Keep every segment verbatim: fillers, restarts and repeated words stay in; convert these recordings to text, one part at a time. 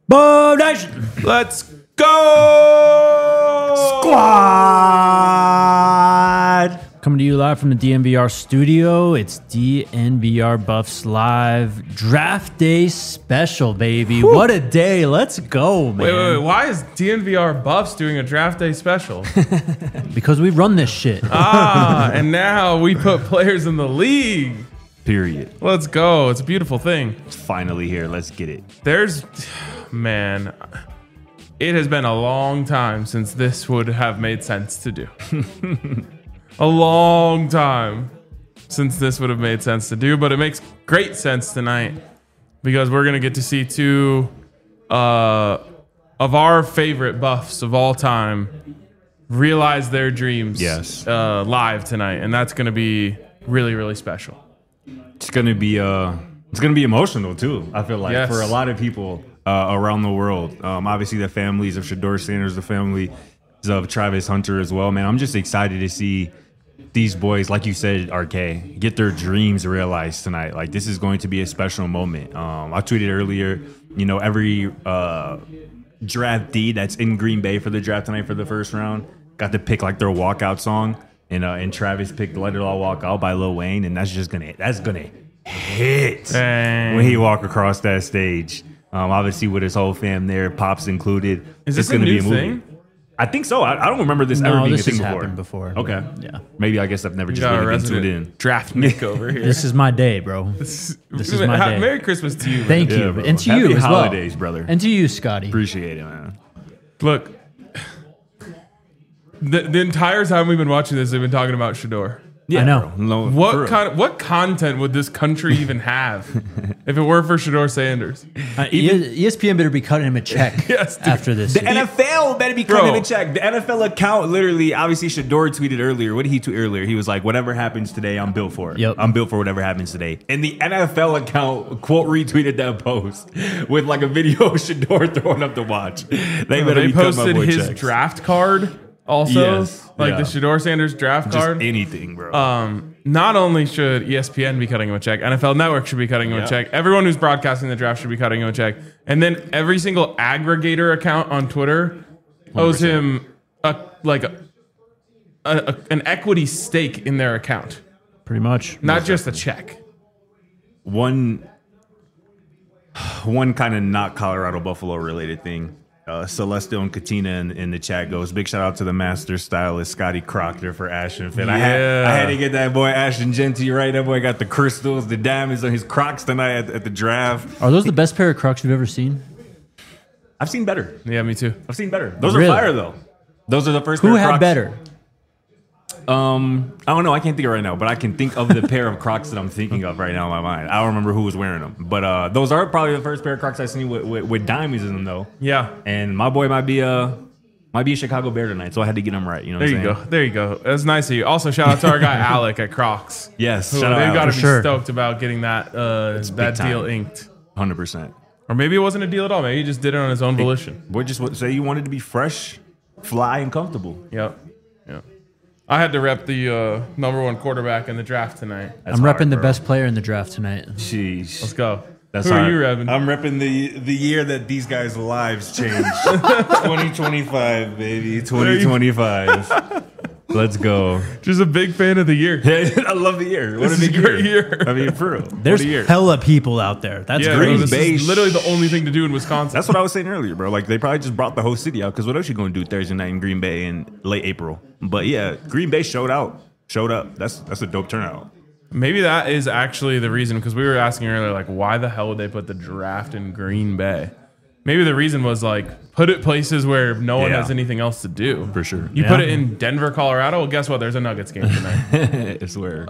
Boom Nation! Let's go! Squad! Coming to you live from the D N V R studio. It's D N V R Buffs Live Draft Day Special, baby. Whew. What a day. Let's go, man. Wait, wait, wait. Why is D N V R Buffs doing a Draft Day Special? Because we run this shit. Ah, and now we put players in the league. Period. Let's go. It's a beautiful thing. It's finally here. Let's get it. There's, man, it has been a long time since this would have made sense to do. A long time since this would have made sense to do, but it makes great sense tonight because we're going to get to see two uh, of our favorite buffs of all time realize their dreams Yes. uh, live tonight, and that's going to be really, really special. It's gonna be uh, it's gonna be emotional too. I feel like Yes. for a lot of people uh, around the world. Um, obviously, the families of Shedeur Sanders, the families of Travis Hunter as well. Man, I'm just excited to see these boys, like you said, R K, get their dreams realized tonight. Like this is going to be a special moment. Um, I tweeted earlier, you know, every uh, draftee that's in Green Bay for the draft tonight for the first round got to pick like their walkout song. And uh, and Travis picked "Let It All Walk Out" by Lil Wayne, and that's just gonna that's gonna hit Dang. when he walk across that stage. Um, obviously with his whole fam there, Pops included. Is it's this a gonna new be a movie. thing? I think so. I, I don't remember this No, ever being this a thing has before. happened before. Okay, Yeah. maybe I guess I've never You just got a really been tuned resident in. draft Nick over here. This is my day, bro. This is my Ha- day. Merry Christmas to you. man. Thank Yeah, you. bro. And to Happy you as well. holidays, brother. And to you, Scotty. Appreciate it, man. Look, the, the entire time we've been watching this, they've been talking about Shedeur. Yeah, I know. bro. No, for What real. kind? What content would this country even have if it were for Shedeur Sanders? Uh, E S P N better be cutting him a check Yes, dude. after this. The N F L better be Bro. cutting a check. The N F L account literally, obviously, Shedeur tweeted earlier. What did he tweet earlier? He was like, "Whatever happens today, I'm built for it. Yep. I'm built for whatever happens today." And the N F L account quote retweeted that post with like a video of Shedeur throwing up the watch. They better They be cutting my posted boy his checks. draft card also, Yes, like yeah. the Shedeur Sanders draft Just card. anything, bro. Um, not only should E S P N be cutting him a check, N F L Network should be cutting him Yeah. a check. Everyone who's broadcasting the draft should be cutting him a check. And then every single aggregator account on Twitter owes one hundred percent. him a like a, a, a an equity stake in their account, Pretty much. not just a check. one one kind of not Colorado Buffalo related thing. Uh, Celestial and Katina in, in the chat goes, big shout out to the master stylist Scotty Proctor for Ashton Fit. I had Yeah. I had to get that boy Ashton Genty right. That boy got the crystals, the diamonds on his Crocs tonight at, at the draft. Are those the best pair of Crocs you've ever seen? I've seen better. Yeah, me too. I've seen better. Those Really? are fire though. Those are the first Who pair of had Crocs. better? Um, I don't know. I can't think of it right now, but I can think of the pair of Crocs that I'm thinking of right now in my mind. I don't remember who was wearing them, but uh, those are probably the first pair of Crocs I've seen with, with, with diamonds in them though. Yeah. And my boy might be a might be a Chicago Bear tonight, so I had to get him right. You know what There I'm you saying? go. There you go. That's nice of you. Also, shout out to our guy Alec at Crocs. Yes, Who, shout out they've got to Alex. be sure. stoked about getting that uh, that time. deal inked. one hundred percent. Or maybe it wasn't a deal at all. Maybe he just did it on his own volition. Boy, just wa- say you wanted to be fresh, fly, and comfortable. Yep. Yep. I had to rep the uh, number one quarterback in the draft tonight. That's I'm hard, repping the bro. best player in the draft tonight. Sheesh. Let's go. That's Who hard. are you repping? I'm repping the the year that these guys' lives changed. twenty twenty-five, baby. twenty twenty-five. Let's go. Just a big fan of the year. I love the year. What This a is big a great year. I mean, for real. There's what a year. hella people out there. That's Yeah, great. bro, this Bay is literally the only thing to do in Wisconsin. That's what I was saying earlier, bro. Like they probably just brought the whole city out because what else you going to do Thursday night in Green Bay in late April? But yeah, Green Bay showed out, showed up. That's that's a dope turnout. Maybe that is actually the reason, because we were asking earlier, like, why the hell would they put the draft in Green Bay? Maybe the reason was like, put it places where no one Yeah. has anything else to do. For sure. You Yeah. put it in Denver, Colorado. Well, guess what? There's a Nuggets game tonight. I swear.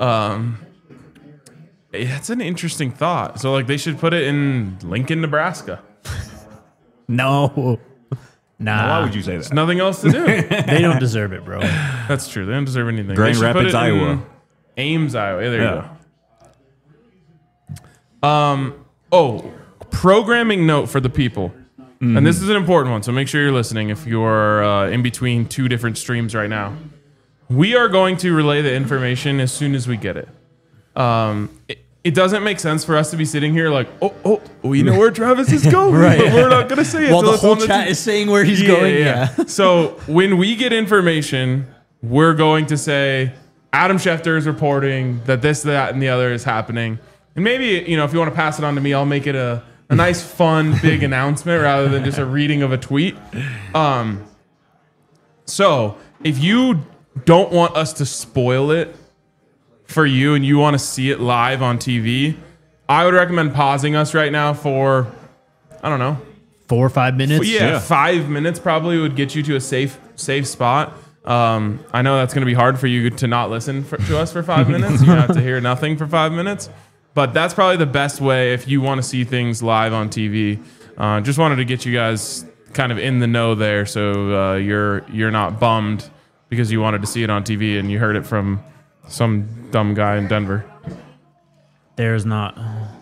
That's an interesting thought. So, like, they should put it in Lincoln, Nebraska. No. Nah. Why would you say that? There's nothing else to do. They don't deserve it, bro. That's true. They don't deserve anything. Grand They should put Rapids, it in Iowa. Ames, Iowa. Yeah, there Yeah. you go. Um. Oh, programming note for the people. Mm-hmm. And this is an important one, so make sure you're listening if you're uh, in between two different streams right now. We are going to relay the information as soon as we get it. Um, it doesn't make sense for us to be sitting here like, oh, oh, we know where Travis is going, Right. but we're not going to say it. While till the it's whole on the chat t- is saying where he's going. Yeah. So when we get information, we're going to say Adam Schefter is reporting that this, that, and the other is happening. And maybe, you know, if you want to pass it on to me, I'll make it a, a nice, fun, big announcement rather than just a reading of a tweet. Um, so if you don't want us to spoil it for you and you want to see it live on T V, I would recommend pausing us right now for, I don't know, Four or five minutes. yeah, Yeah. five minutes probably would get you to a safe safe spot. Um, I know that's going to be hard for you to not listen for, to us for five minutes. You have to hear nothing for five minutes. But that's probably the best way if you want to see things live on T V. Uh, just wanted to get you guys kind of in the know there, so uh, you're you're not bummed because you wanted to see it on T V and you heard it from some dumb guy in Denver. There's not.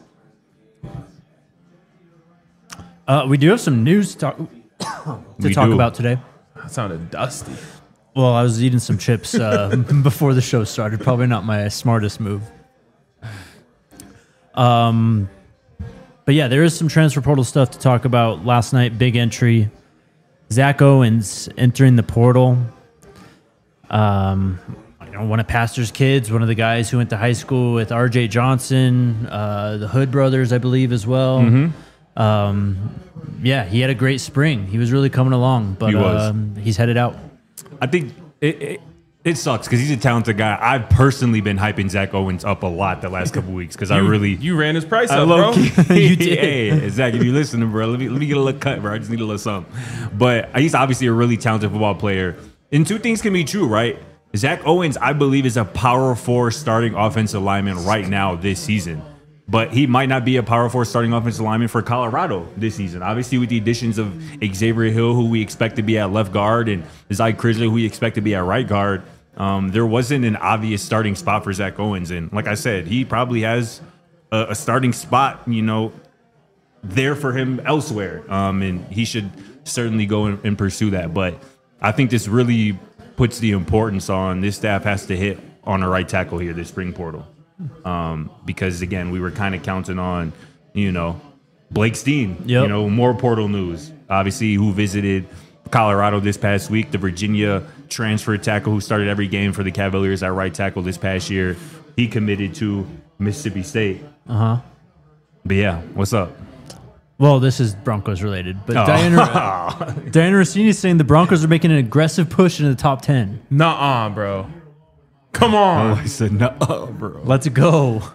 Uh, we do have some news to talk, to We talk do. about today. That sounded dusty. Well, I was eating some chips uh, before the show started. Probably not my smartest move. Um, but yeah, there is some transfer portal stuff to talk about. Last night, big entry. Zach Owens entering the portal. Um, you know, one of Pastor's kids, one of the guys who went to high school with R J Johnson, uh, the Hood brothers, I believe, as well. Mm-hmm. Um, yeah, he had a great spring. He was really coming along, but He was. Um, he's headed out. I think it, it, it sucks because he's a talented guy. I've personally been hyping Zach Owens up a lot the last couple weeks because I You- really. you ran his price I up, bro. low-key- You did. Hey, Zach, if you listening, bro, let me let me get a little cut, bro. I just need a little something. But he's obviously a really talented football player. And two things can be true, right? Zach Owens, I believe, is a power four starting offensive lineman right now this season. But he might not be a power four starting offensive lineman for Colorado this season. Obviously, with the additions of Xavier Hill, who we expect to be at left guard, and Zach Crisler, who we expect to be at right guard, um, there wasn't an obvious starting spot for Zach Owens. And like I said, he probably has a, a starting spot, you know, there for him elsewhere. Um, and he should certainly go and, and pursue that. But I think this really puts the importance on this staff has to hit on a right tackle here, this spring portal. Um, because again, we were kind of counting on, you know, Blake Steen, Yep. you know, more portal news, obviously, who visited Colorado this past week, the Virginia transfer tackle who started every game for the Cavaliers at right tackle this past year. He committed to Mississippi State. Uh huh. But yeah, what's up? Well, this is Broncos related, but Oh. Diana, Diana Rossini is saying the Broncos are making an aggressive push into the top ten. Nuh-uh, bro. Come on. I said, no, bro. Let's go.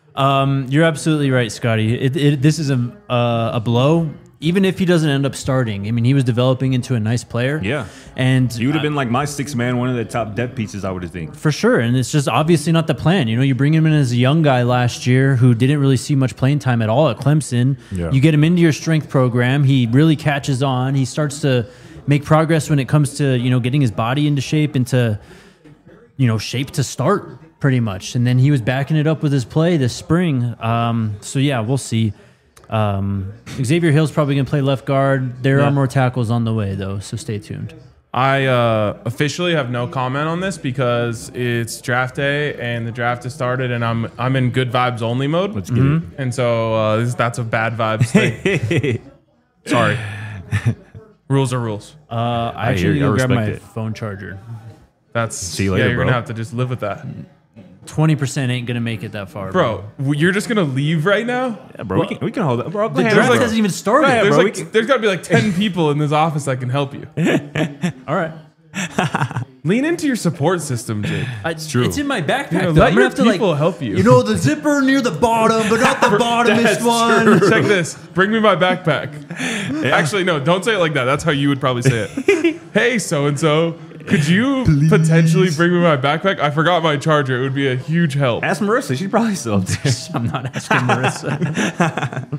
Um, you're absolutely right, Scotty. It, it, this is a uh, a blow. Even if he doesn't end up starting, I mean, he was developing into a nice player. Yeah. and He would have been like my six man, one of the top depth pieces, I would have think. for sure. And it's just obviously not the plan. You know, you bring him in as a young guy last year who didn't really see much playing time at all at Clemson. Yeah. You get him into your strength program. He really catches on. He starts to make progress when it comes to, you know, getting his body into shape, into, you know, shape to start pretty much. And then he was backing it up with his play this spring. Um, so yeah, we'll see. Um, Xavier Hill's probably going to play left guard. There Yeah. are more tackles on the way though, so stay tuned. I uh, officially have no comment on this because it's draft day and the draft has started and I'm I'm in good vibes only mode. Let's get it. And so uh, this, that's a bad vibes thing. Sorry. Rules are rules. Uh, I I actually hear you. need to I grab my respect it. phone charger. That's See you later, yeah. You're bro. gonna have to just live with that, twenty percent ain't going to make it that far. bro. w- You're just gonna leave right now. Yeah, bro, we can, we can hold that. Bro, go The ahead, draft bro. hasn't even started. Go ahead, There's bro, we like can- there's got to be like ten people in this office that can help you. All right. Lean into your support system, Jake. It's true. It's in my backpack. You know, though. let I'm your gonna have to like people help you. You know, the zipper near the bottom, but not the bottomest one. Check this. Bring me my backpack. Actually, no, don't say it like that. That's how you would probably say it. Hey, so and so, could you potentially bring me my backpack? I forgot my charger. It would be a huge help. Ask Marissa. She's probably still up there. I'm not asking Marissa.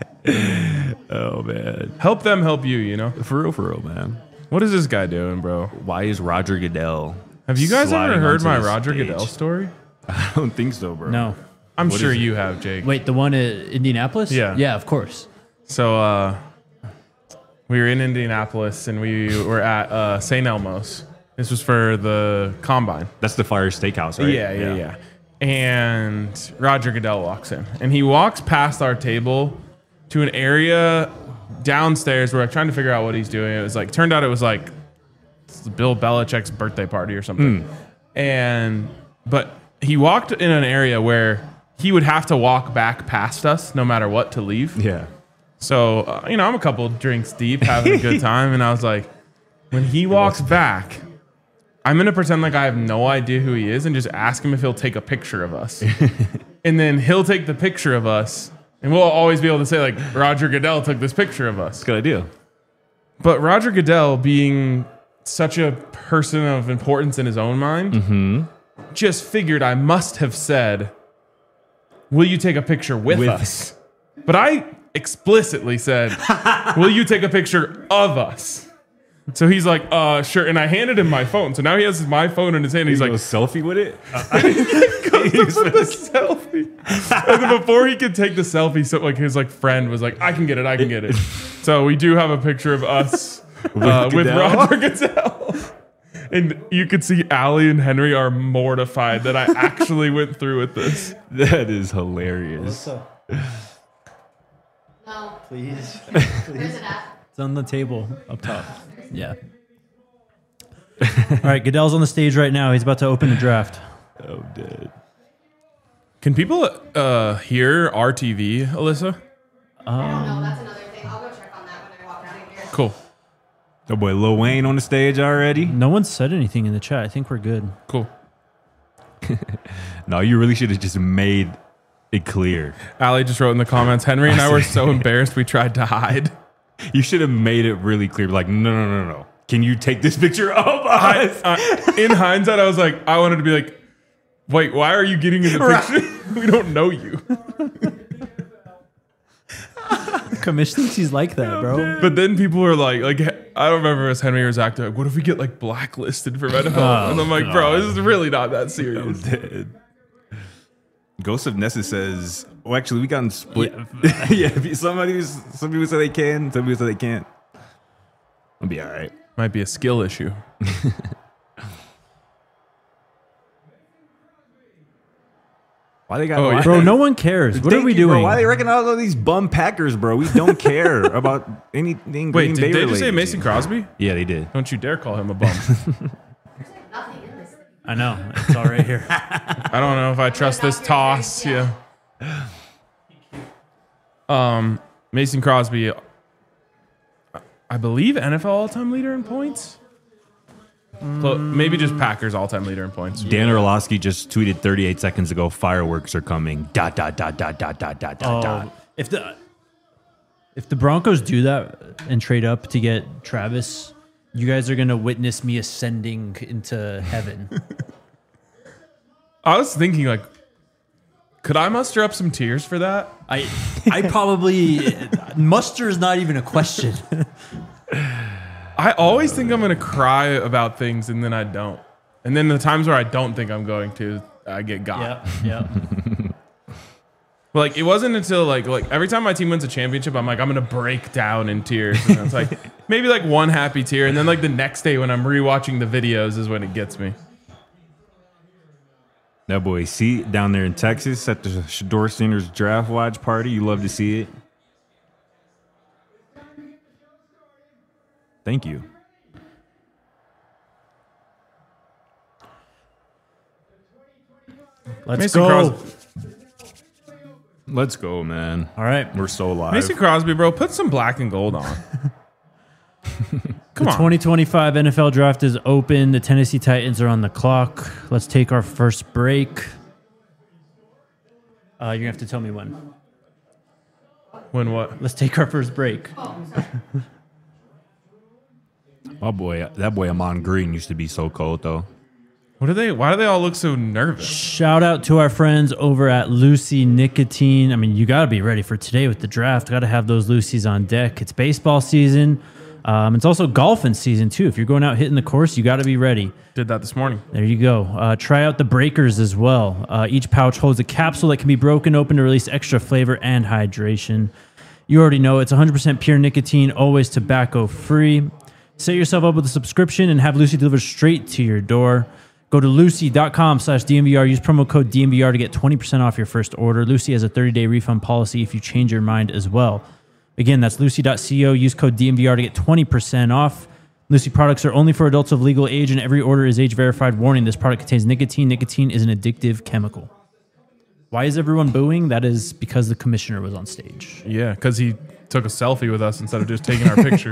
Oh, man. Help them help you, you know? For real, for real, man. What is this guy doing, bro? Why is Roger Goodell? Have you guys sliding ever heard onto my the Roger stage? Goodell story? I don't think so, bro. No. I'm What sure is it? you have, Jake. Wait, the one at Indianapolis? Yeah. Yeah, of course. So uh, we were in Indianapolis and we were at uh, Saint Elmo's. This was for the combine. That's the Fire Steakhouse, right? Yeah, yeah, yeah. and Roger Goodell walks in, and he walks past our table to an area downstairs where I'm trying to figure out what he's doing. It was like, turned out it was like Bill Belichick's birthday party or something. Mm. And, but he walked in an area where he would have to walk back past us no matter what to leave. Yeah. So, uh, you know, I'm a couple drinks deep having a good time. And I was like, when he walks back, I'm going to pretend like I have no idea who he is and just ask him if he'll take a picture of us. And then he'll take the picture of us. And we'll always be able to say, like, Roger Goodell took this picture of us. That's a good idea. But Roger Goodell, being such a person of importance in his own mind, mm-hmm. just figured I must have said, will you take a picture with, with us? But I explicitly said, will you take a picture of us? So he's like, uh, sure. And I handed him my phone. So now he has my phone in his hand. And he's you like, a selfie with it? goes to put the selfie. And then before he could take the selfie, so like his like friend was like, I can get it, I can get it. So we do have a picture of us uh, with Roger Goodell. And you could see Allie and Henry are mortified that I actually went through with this. That is hilarious. No. Please. Where's it at? It's on the table up top. Yeah. All right, Goodell's on the stage right now. He's about to open the draft. Oh, dead. Can people uh, hear R T V, Alyssa? Um, I don't know. That's another thing. I'll go check on that when I walk out of here. Cool. Oh boy, Lil Wayne on the stage already? No one said anything in the chat. I think we're good. Cool. No, you really should have just made it clear. Allie just wrote in the comments, Henry and I were so embarrassed we tried to hide. You should have made it really clear. Like, no, no, no, no. Can you take this picture of us? I, I, in hindsight, I was like, I wanted to be like, wait, why are you getting in the picture? Right. We don't know you. Commish thinks he's like that, bro. But then people were like, like I don't remember as Henry or Zach, they're like, what if we get like blacklisted from N F L? Oh, and I'm like, bro, this is really not that serious. Ghost of Nessa says, oh, actually, we got split. Yeah, yeah somebody, some people say they can, some people say they can't. I'll be all right. Might be a skill issue. Why they got? Oh, why, bro, no one cares. What are we you, doing? Bro. Why they recognize all these bum Packers, bro? We don't care about anything. Wait, Green did Bay they related. just say Mason Crosby? Yeah, they did. Don't you dare call him a bum. Nothing in this thing. I know. It's all right here. I don't know if I trust this toss. Yeah. Um, Mason Crosby, I believe N F L all-time leader in points. Clo- maybe just Packers all-time leader in points. Dan Orlovsky just tweeted thirty-eight seconds ago, fireworks are coming. Dot, dot, dot, dot, dot, dot, dot, Oh, dot. if the if the Broncos do that and trade up to get Travis, you guys are gonna witness me ascending into heaven. I was thinking, like, could I muster up some tears for that? I I probably muster is not even a question. I always think I'm going to cry about things and then I don't. And then the times where I don't think I'm going to, I get got. Yeah, yeah. But like, it wasn't until like like every time my team wins a championship, I'm like, I'm going to break down in tears. And it's like maybe like one happy tear. And then like the next day when I'm rewatching the videos is when it gets me. That boy, see down there in Texas at the Shador Sanders draft watch party. You love to see it. Thank you. Let's Mason go. Crosby. Let's go, man. All right. We're so live. Mason Crosby, bro, put some black and gold on. Come the on. twenty twenty-five N F L draft is open. The Tennessee Titans are on the clock. Let's take our first break. Uh, you're going to have to tell me when. When what? Let's take our first break. Oh boy, that boy Amon Green used to be so cold though. What are they? Why do they all look so nervous? Shout out to our friends over at Lucy Nicotine. I mean, you got to be ready for today with the draft. Got to have those Lucy's on deck. It's baseball season. Um, it's also golfing season too. If you're going out hitting the course, you got to be ready. Did that this morning. There you go. Uh, try out the breakers as well. Uh, each pouch holds a capsule that can be broken open to release extra flavor and hydration. You already know it's one hundred percent pure nicotine, always tobacco free. Set yourself up with a subscription and have Lucy delivered straight to your door. Go to Lucy.com slash DNVR. Use promo code D N V R to get twenty percent off your first order. Lucy has a thirty-day refund policy if you change your mind as well. Again, that's Lucy dot co. Use code D N V R to get twenty percent off. Lucy products are only for adults of legal age, and every order is age-verified. Warning, this product contains nicotine. Nicotine is an addictive chemical. Why is everyone booing? That is because the commissioner was on stage. Yeah, because he took a selfie with us instead of just taking our picture.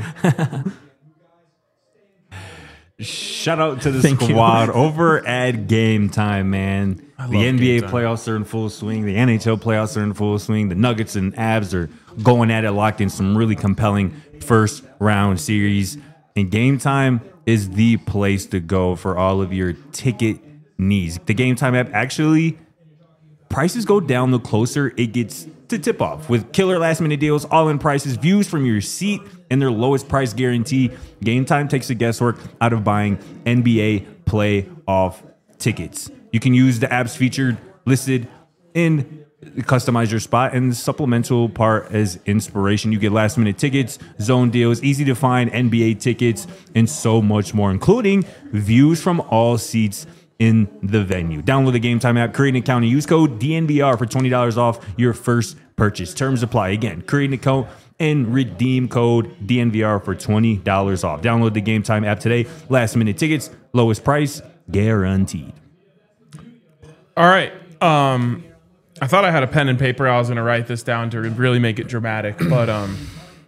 Shout out to the Thank you. squad over at Game Time, man. love The N B A Game Time. playoffs are in full swing. The N H L playoffs are in full swing. The Nuggets and Avs are going at it, locked in some really compelling first round series. And Game Time is the place to go for all of your ticket needs. The Game Time app actually, prices go down the closer it gets to tip off. With killer last minute deals, all in prices, views from your seat, and their lowest price guarantee, Game Time takes the guesswork out of buying N B A playoff tickets. You can use the apps featured listed in customize your spot, and the supplemental part as inspiration. You get last minute tickets, zone deals, easy to find N B A tickets, and so much more, including views from all seats in the venue. Download the Game Time app, create an account, and use code D N V R for twenty dollars off your first purchase. Terms apply. Again, create an account and redeem code D N V R for twenty dollars off. Download the Game Time app today. Last minute tickets, lowest price guaranteed. All right. Um, I thought I had a pen and paper. I was going to write this down to really make it dramatic. But um,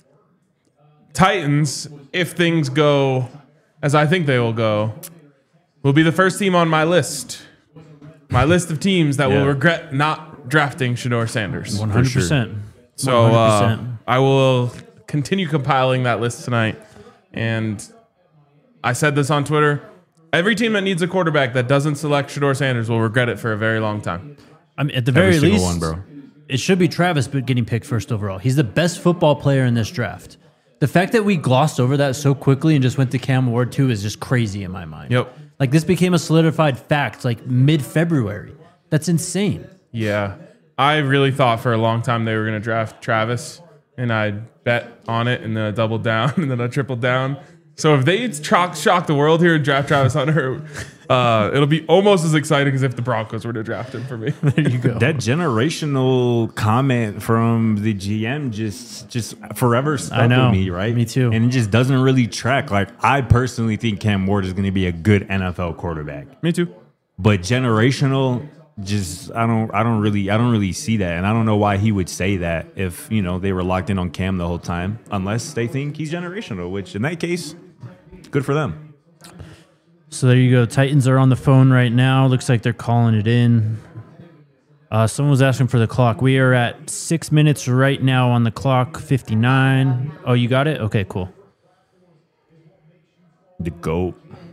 Titans, if things go as I think they will go, will be the first team on my list. My list of teams that Yeah. will regret not drafting Shedeur Sanders. one hundred percent. So uh, one hundred percent. I will continue compiling that list tonight. And I said this on Twitter. Every team that needs a quarterback that doesn't select Shedeur Sanders will regret it for a very long time. I mean, at the very Every single least, one, bro. it should be Travis but getting picked first overall. He's the best football player in this draft. The fact that we glossed over that so quickly and just went to Cam Ward too is just crazy in my mind. Yep. Like this became a solidified fact like mid-February. That's insane. Yeah. I really thought for a long time they were going to draft Travis, and I bet on it, and then I doubled down, and then I tripled down. So if they shock, shock the world here and draft Travis Hunter, uh, it'll be almost as exciting as if the Broncos were to draft him for me. There you go. That generational comment from the G M just just forever stuck I know. with me, right? Me too. And it just doesn't really track. Like, I personally think Cam Ward is going to be a good N F L quarterback, Me too. but generational, just I don't I don't really I don't really see that, and I don't know why he would say that if you know they were locked in on Cam the whole time, unless they think he's generational. Which in that case, good for them. So there you go. Titans are on the phone right now. Looks like they're calling it in. Uh, someone was asking for the clock. We are at six minutes right now on the clock, fifty-nine. Oh, you got it? Okay, cool. The GOAT.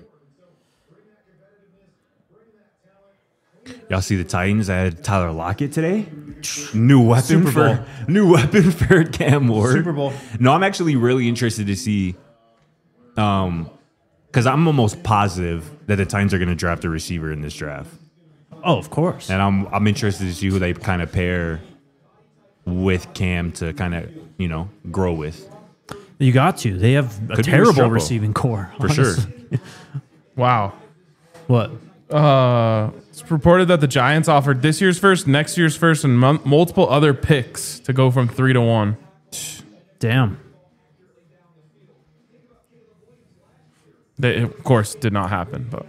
Y'all see the Titans had Tyler Lockett today? New weapon Super Bowl. for new weapon for Cam Ward. Super Bowl. No, I'm actually really interested to see, um, because I'm almost positive that the Titans are going to draft a receiver in this draft, Oh, of course. and I'm I'm interested to see who they kind of pair with Cam to kind of you know grow with. You got to. They have a Could be a terrible struggle. receiving core. For sure. honestly. Wow. What? Uh, it's reported that the Giants offered this year's first, next year's first, and m- multiple other picks to go from three to one. Damn. They, of course, did not happen, but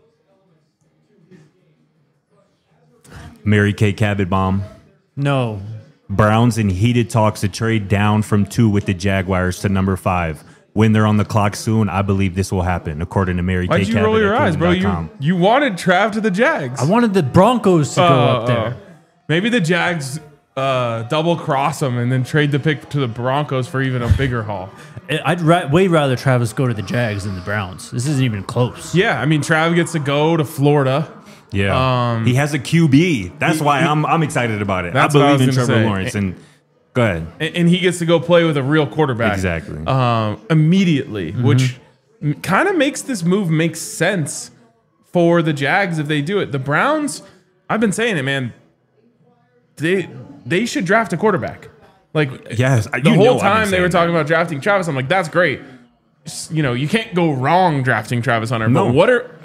Mary Kay Cabot bomb. No. Browns in heated talks to trade down from two with the Jaguars to number five. When they're on the clock soon, I believe this will happen, according to Mary Kay why'd you Cabot roll your at eyes, bro? Cleveland dot You com. you wanted Trav to the Jags. I wanted the Broncos to go Uh, up there. uh, maybe the Jags uh, double cross them and then trade the pick to the Broncos for even a bigger haul. I'd ra- way rather Travis go to the Jags than the Browns. This isn't even close. Yeah, I mean, Trav gets to go to Florida. Yeah, Um, he has a Q B. That's he- why he- I'm I'm excited about it. I That's what I believe in was gonna Trevor say. Lawrence. And go ahead. And, and he gets to go play with a real quarterback. Exactly. Um, immediately, Mm-hmm. which kind of makes this move make sense for the Jags if they do it. The Browns, I've been saying it, man. They they should draft a quarterback. Like Yes, I- the you whole know I've been time they saying were that. talking about drafting Travis. I'm like, that's great. Just, you know, you can't go wrong drafting Travis Hunter. No. But what are how,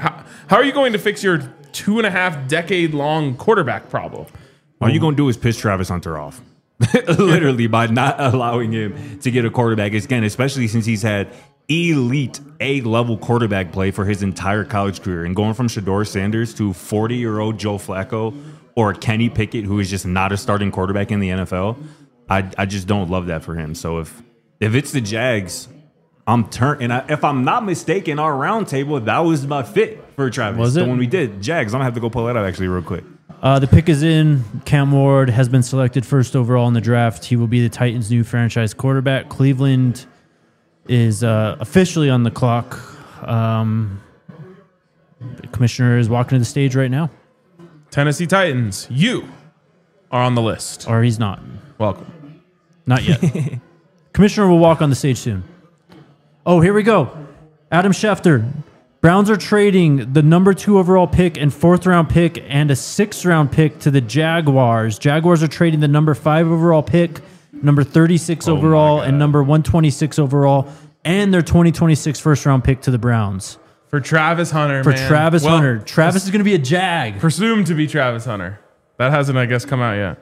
How are you going to fix your two and a half decade long quarterback problem? All you're gonna do is piss Travis Hunter off, literally, by not allowing him to get a quarterback again, especially since he's had elite A level quarterback play for his entire college career, and going from Shador Sanders to forty year old Joe Flacco or Kenny Pickett, who is just not a starting quarterback in the N F L. I I just don't love that for him. So if if it's the Jags, I'm turn and I, if I'm not mistaken, our roundtable that was my fit for Travis. Was it? The one we did Jags. I'm gonna have to go pull that up actually real quick. Uh, the pick is in. Cam Ward has been selected first overall in the draft. He will be the Titans' new franchise quarterback. Cleveland is uh, officially on the clock. Um, the commissioner is walking to the stage right now, Tennessee Titans, you are on the list. or he's not. Welcome. Not yet. Commissioner will walk on the stage soon. Oh, here we go. Adam Schefter. Browns are trading the number two overall pick and fourth round pick and a sixth round pick to the Jaguars. Jaguars are trading the number five overall pick, number thirty-six Oh my overall, God. and number one twenty-six overall, and their twenty twenty-six first round pick to the Browns. For Travis Hunter, For man. Travis Well, Hunter. Travis is going to be a Jag. presumed to be Travis Hunter. That hasn't, I guess, come out yet.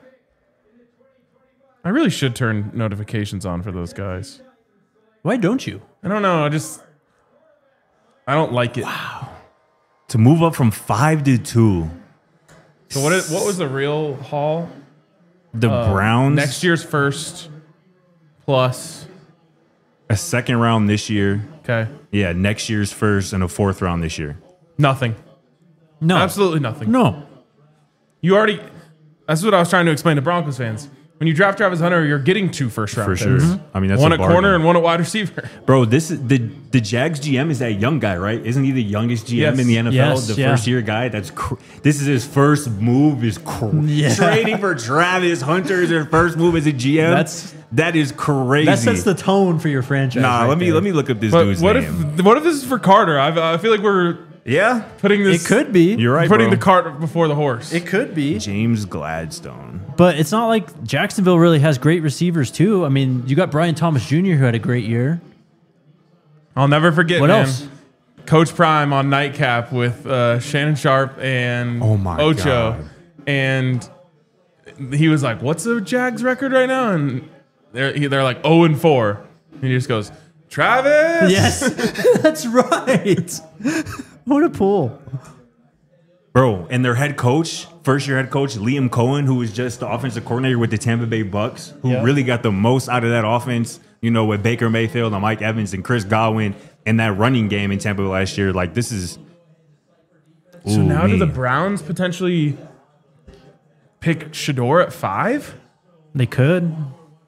I really should turn notifications on for those guys. Why don't you? I don't know. I just, I don't like it. To move up from five to two, So what? Is, what was the real haul? the Browns Next year's first plus. a second round this year. Okay. Yeah, next year's first and a fourth round this year. Nothing. No. Absolutely nothing. No. You already. That's what I was trying to explain to Broncos fans. When you draft Travis Hunter, you're getting two first round For picks. sure. I mean, that's one a at bargain. corner and one at wide receiver. Bro, this is the the Jags G M is that young guy, right? Isn't he the youngest G M Yes. in the N F L? Yes, the yeah. first year guy. That's cr- this is his first move. Is cr- Yeah. trading for Travis Hunter is his first move as a G M. That's- that is crazy. That sets the tone for your franchise. nah. right let me there. let me look up this But dude's what name. if what if this is for Carter? I, I feel like we're yeah, putting this. It could be. you're right. putting bro. the cart before the horse. It could be. James Gladstone. But it's not like Jacksonville really has great receivers, too. I mean, you got Brian Thomas Junior, who had a great year. I'll never forget. What man, else? Coach Prime on Nightcap with uh, Shannon Sharp and Oh my Ocho, God. and he was like, "What's the Jags record right now?" And they're he- they're like zero and four, and he just goes, "Travis." Yes, that's right. What a pull. Bro, and their head coach, first year head coach, Liam Cohen, who was just the offensive coordinator with the Tampa Bay Bucks, who Yeah. really got the most out of that offense, you know, with Baker Mayfield and Mike Evans and Chris Godwin and that running game in Tampa last year. Like, this is. So Ooh, now do me. the Browns potentially pick Shador at five? They could.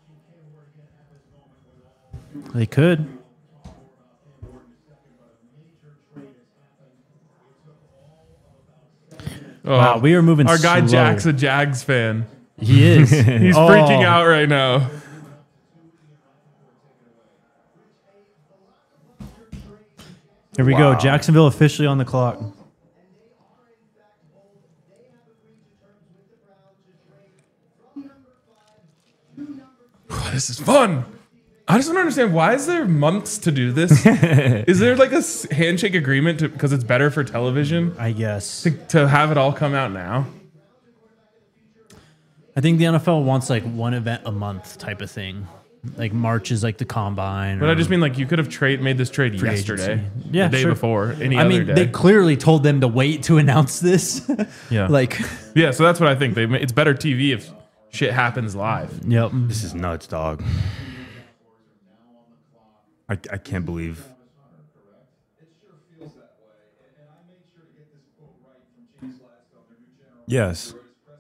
They could. Wow, we are moving Our guy slow. Jack's a Jags fan. He is. He's Oh. freaking out right now. Here we Wow. go. Jacksonville officially on the clock. This is fun. I just don't understand, why is there months to do this? Is there like a s- handshake agreement to, because it's better for television I guess. to, to have it all come out now? I think the N F L wants like one event a month type of thing. Like March is like the combine. But or I just mean, like, you could have trade made this trade free yesterday, agency. Yeah, the day sure. before, any I other mean, day. they clearly told them to wait to announce this. Yeah. Like, yeah, so that's what I think. They ma- it's better T V if shit happens live. yep. This is nuts, dog. I, I can't believe. Yes.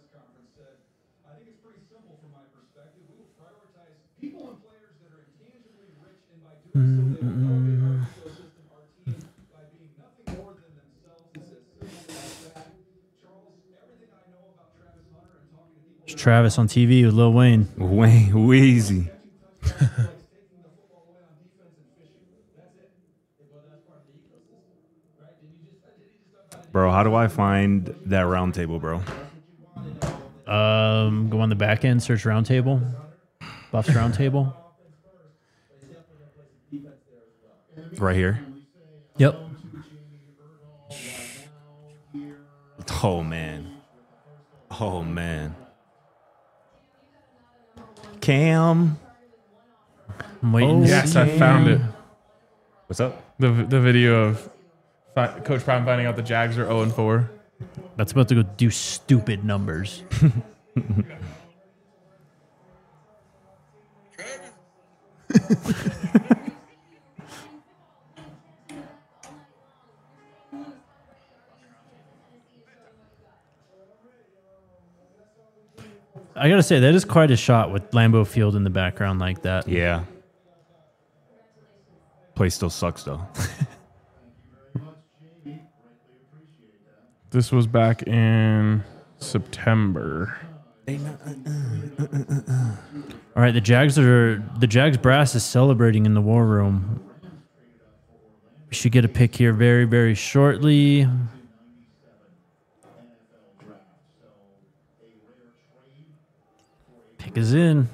It's Travis on T V with Lil Wayne. Wayne Weezy. Bro, how do I find that round table, bro? Um, go on the back end, search Roundtable, Buffs Roundtable. Right here. Yep. Oh man. Oh man. Cam. I'm waiting. Oh, to Yes, see. I found it. What's up? The the video of fi- Coach Prime finding out the Jags are zero and four. That's about to go do stupid numbers. I gotta say that is quite a shot with Lambeau Field in the background like that. Yeah. Place still sucks though. This was back in September. All right, the Jags are the Jags brass is celebrating in the war room. We should get a pick here very, very shortly. Pick is in.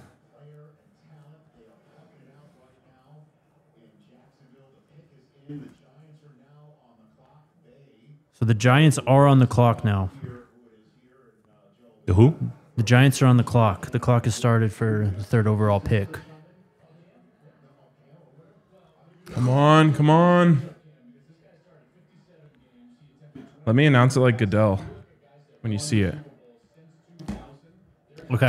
So the Giants are on the clock now. The who? The Giants are on the clock. The clock has started for the third overall pick. Come on, come on. Let me announce it like Goodell when you see it. Okay.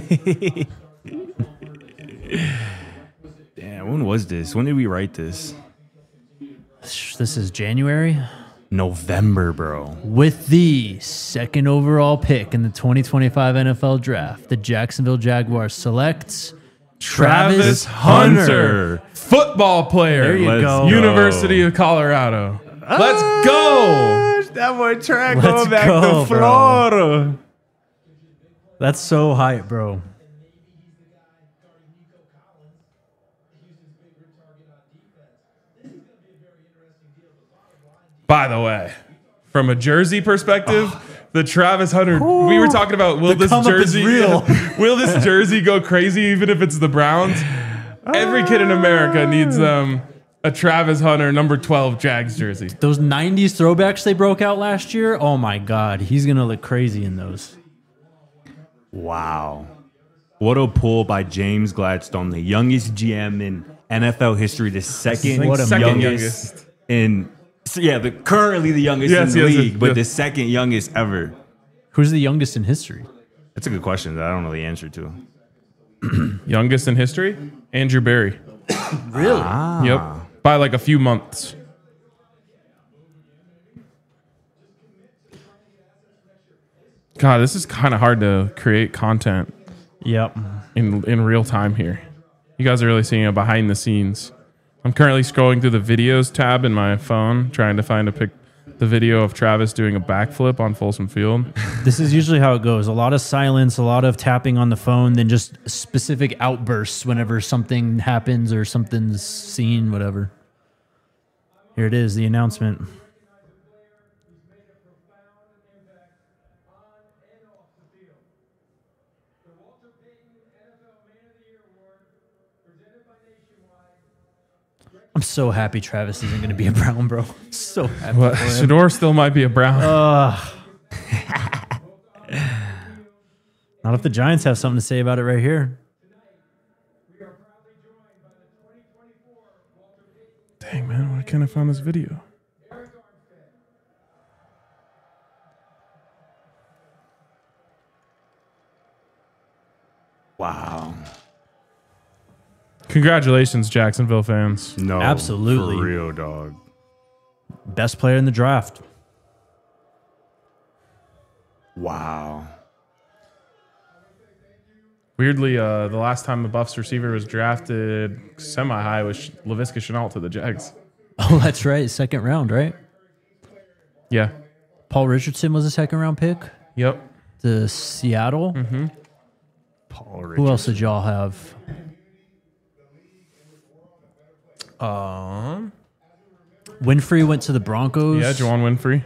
Damn, when was this? When did we write this? This is January. November, bro. With the second overall pick in the twenty twenty-five N F L Draft, the Jacksonville Jaguars selects Travis, Travis Hunter, football player. There you Let's go. go. University of Colorado. Let's go. That boy track Let's going back go, to Florida. bro. That's so hype, bro. By the way, from a jersey perspective, the Travis Hunter, we were talking about will The this come up is jersey real. will this jersey go crazy even if it's the Browns? Every kid in America needs um, a Travis Hunter number twelve Jags jersey. Those nineties throwbacks they broke out last year, oh my God, he's going to look crazy in those. Wow. What a pull by James Gladstone, the youngest G M in N F L history, the second, What a Second youngest, youngest. in so yeah, the currently the youngest Yes, in the yes, league, yes, but yes. the second youngest ever. Who's the youngest in history? That's a good question that I don't know the answer to. Youngest in history? Andrew Barry. Really? Yep. By like a few months. God, this is kind of hard to create content Yep. in in real time here. You guys are really seeing a behind the scenes. I'm currently scrolling through the videos tab in my phone, trying to find a pic, the video of Travis doing a backflip on Folsom Field. This is usually how it goes. A lot of silence, a lot of tapping on the phone, then just specific outbursts whenever something happens or something's seen, whatever. Here it is, the announcement. I'm so happy Travis isn't going to be a Brown, bro. So happy But for him. Shador still might be a Brown. Not if the Giants have something to say about it right here. Dang, man, why can't I find this video? Wow. Congratulations, Jacksonville fans. No. Absolutely. For real, dog. Best player in the draft. Wow. Weirdly, uh, the last time the Buffs receiver was drafted semi-high was Laviska Shenault to the Jags. Oh, that's right. Second round, right? Yeah. Paul Richardson was a second round pick Yep. to Seattle. Paul Who else did y'all have? Um. Winfrey went to the Broncos. Yeah, Juwan Winfrey.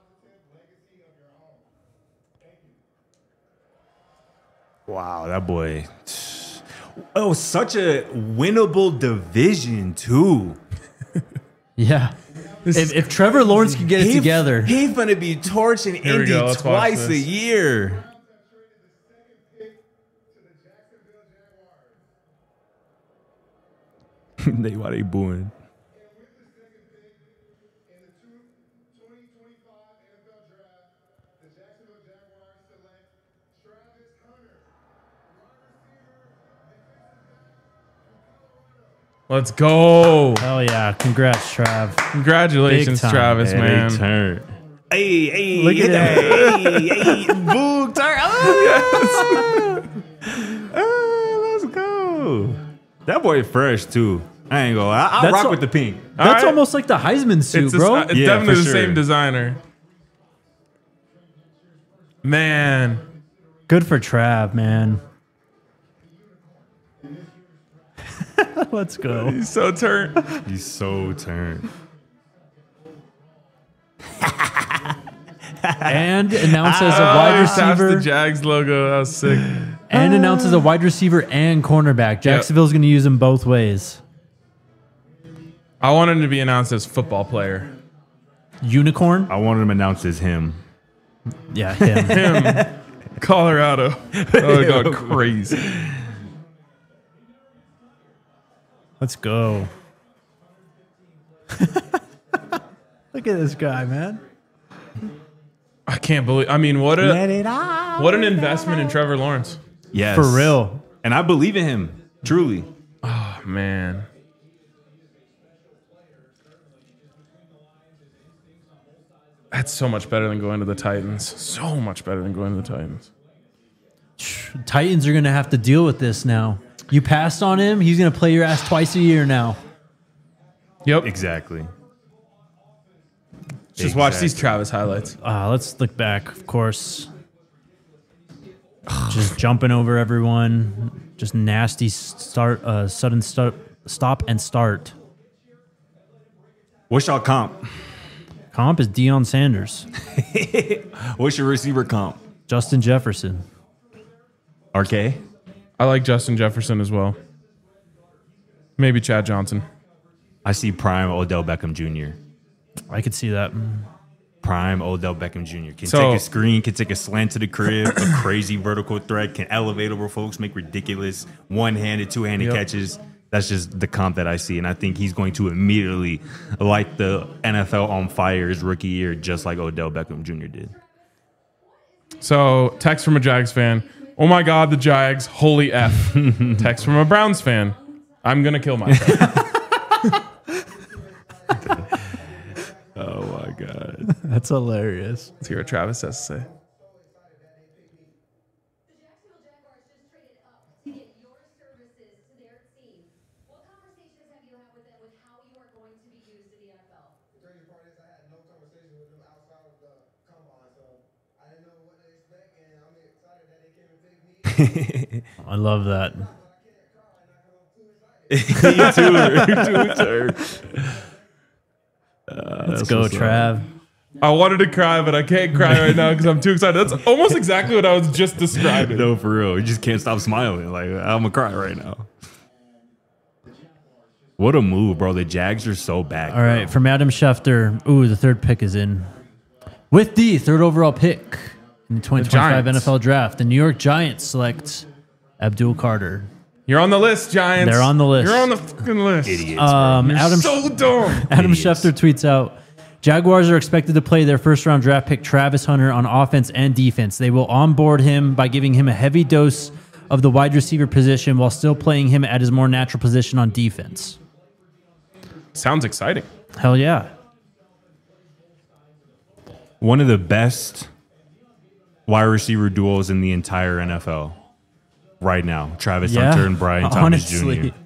Wow, that boy. Oh, such a winnable division, too. Yeah. If, if Trevor Lawrence can get it He- together, He's gonna be torching Here we Indy go, let's watch twice a this. year. they why they booing? Let's go. hell yeah! Congrats, Trav. Congratulations, Big time. Travis, Hey, man. they turn. Hey, hey, Look at hey, hey, hey, boo, turn. Oh, oh, let's go. That boy fresh too. I ain't gonna. I, I'll That's rock all- with the pink. That's right. almost like the Heisman suit, It's, a- bro. it's Yeah, definitely for the sure. same designer. Man, Good for Trav, man. Let's go. he's so turned. He's so turned. And announces a Oh, wide he taps receiver. the Jags logo. That was sick. And announces a wide receiver and cornerback. Jacksonville's going to use them both ways. I want him to be announced as football player. Unicorn? I wanted him announced as him. Yeah, him. Him, Colorado. Oh, it got crazy. Let's go. Look at this guy, man. I can't believe. I mean, what a what an investment in Trevor Lawrence. Yes, For real. And I believe in him truly. Oh, man. That's so much better than going to the Titans. So much better than going to the Titans. Titans are going to have to deal with this now. You passed on him, he's going to play your ass twice a year now. Yep. Exactly. Just watch these Exactly. Travis highlights. Uh, let's look back, of course. Just jumping over everyone. Just nasty start, uh, sudden start, stop and start. What's y'all comp? Comp is Deion Sanders, What's your receiver comp? Justin Jefferson. R K? I like Justin Jefferson as well. Maybe Chad Johnson. I see prime Odell Beckham Junior I could see that. Prime Odell Beckham Junior Can So- take a screen, can take a slant to the crib, a crazy vertical threat, can elevate over folks, make ridiculous one-handed, two-handed Yep. catches. That's just the comp that I see. And I think he's going to immediately light the N F L on fire his rookie year, just like Odell Beckham Junior did. So, text from a Jags fan. Oh my God, the Jags. Holy F. Text from a Browns fan. I'm going to kill myself. Oh, my God. That's hilarious. Let's hear what Travis has to say. The Jacksonville Jaguars just traded up to get your services to their team. What conversations have you had with them with how you are going to be used in the N F L? The crazy part is I had no conversation with them outside of the combine, so I didn't know what to expect, and I'm excited that they came and picked me. I love that. you too. You too, sir. Let's go, Trav. I wanted to cry, but I can't cry right now because I'm too excited. That's almost exactly what I was just describing. No, for real. You just can't stop smiling. Like, I'm going to cry right now. What a move, bro. The Jags are so back. All right, from Adam Schefter. Ooh, the third pick is in. With the third overall pick in the twenty twenty-five Giants. N F L Draft, the New York Giants select Abdul Carter. You're on the list, Giants. They're on the list. You're on the fucking list. Idiots. Um, You're Adam so dumb. Adam idiots. Schefter tweets out, Jaguars are expected to play their first round draft pick Travis Hunter on offense and defense. They will onboard him by giving him a heavy dose of the wide receiver position while still playing him at his more natural position on defense. Sounds exciting. Hell yeah. One of the best wide receiver duos in the entire N F L right now. Travis Yeah, Hunter and Brian Thomas honestly. Junior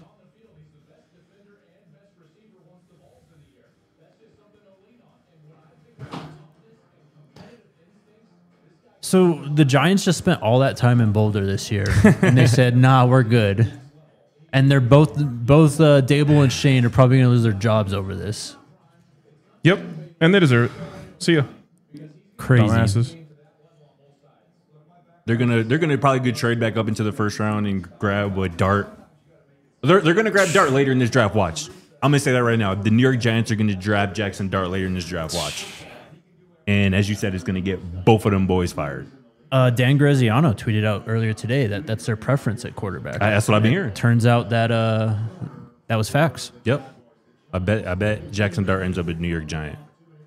So the Giants just spent all that time in Boulder this year, and they said, "Nah, we're good." And they're both both uh, Dable and Shane are probably going to lose their jobs over this. Yep. And they deserve it. See ya. Crazy. Dumbasses. They're gonna they're gonna probably go trade back up into the first round and grab a Dart. They're they're gonna grab Dart later in this draft. Watch. I'm gonna say that right now. The New York Giants are gonna draft Jackson Dart later in this draft. Watch. And as you said, it's gonna get both of them boys fired. Uh, Dan Graziano tweeted out earlier today that that's their preference at quarterback. I, that's what I've been It hearing. Turns out that uh, that was facts. Yep. I bet. I bet Jackson Dart ends up a New York Giant.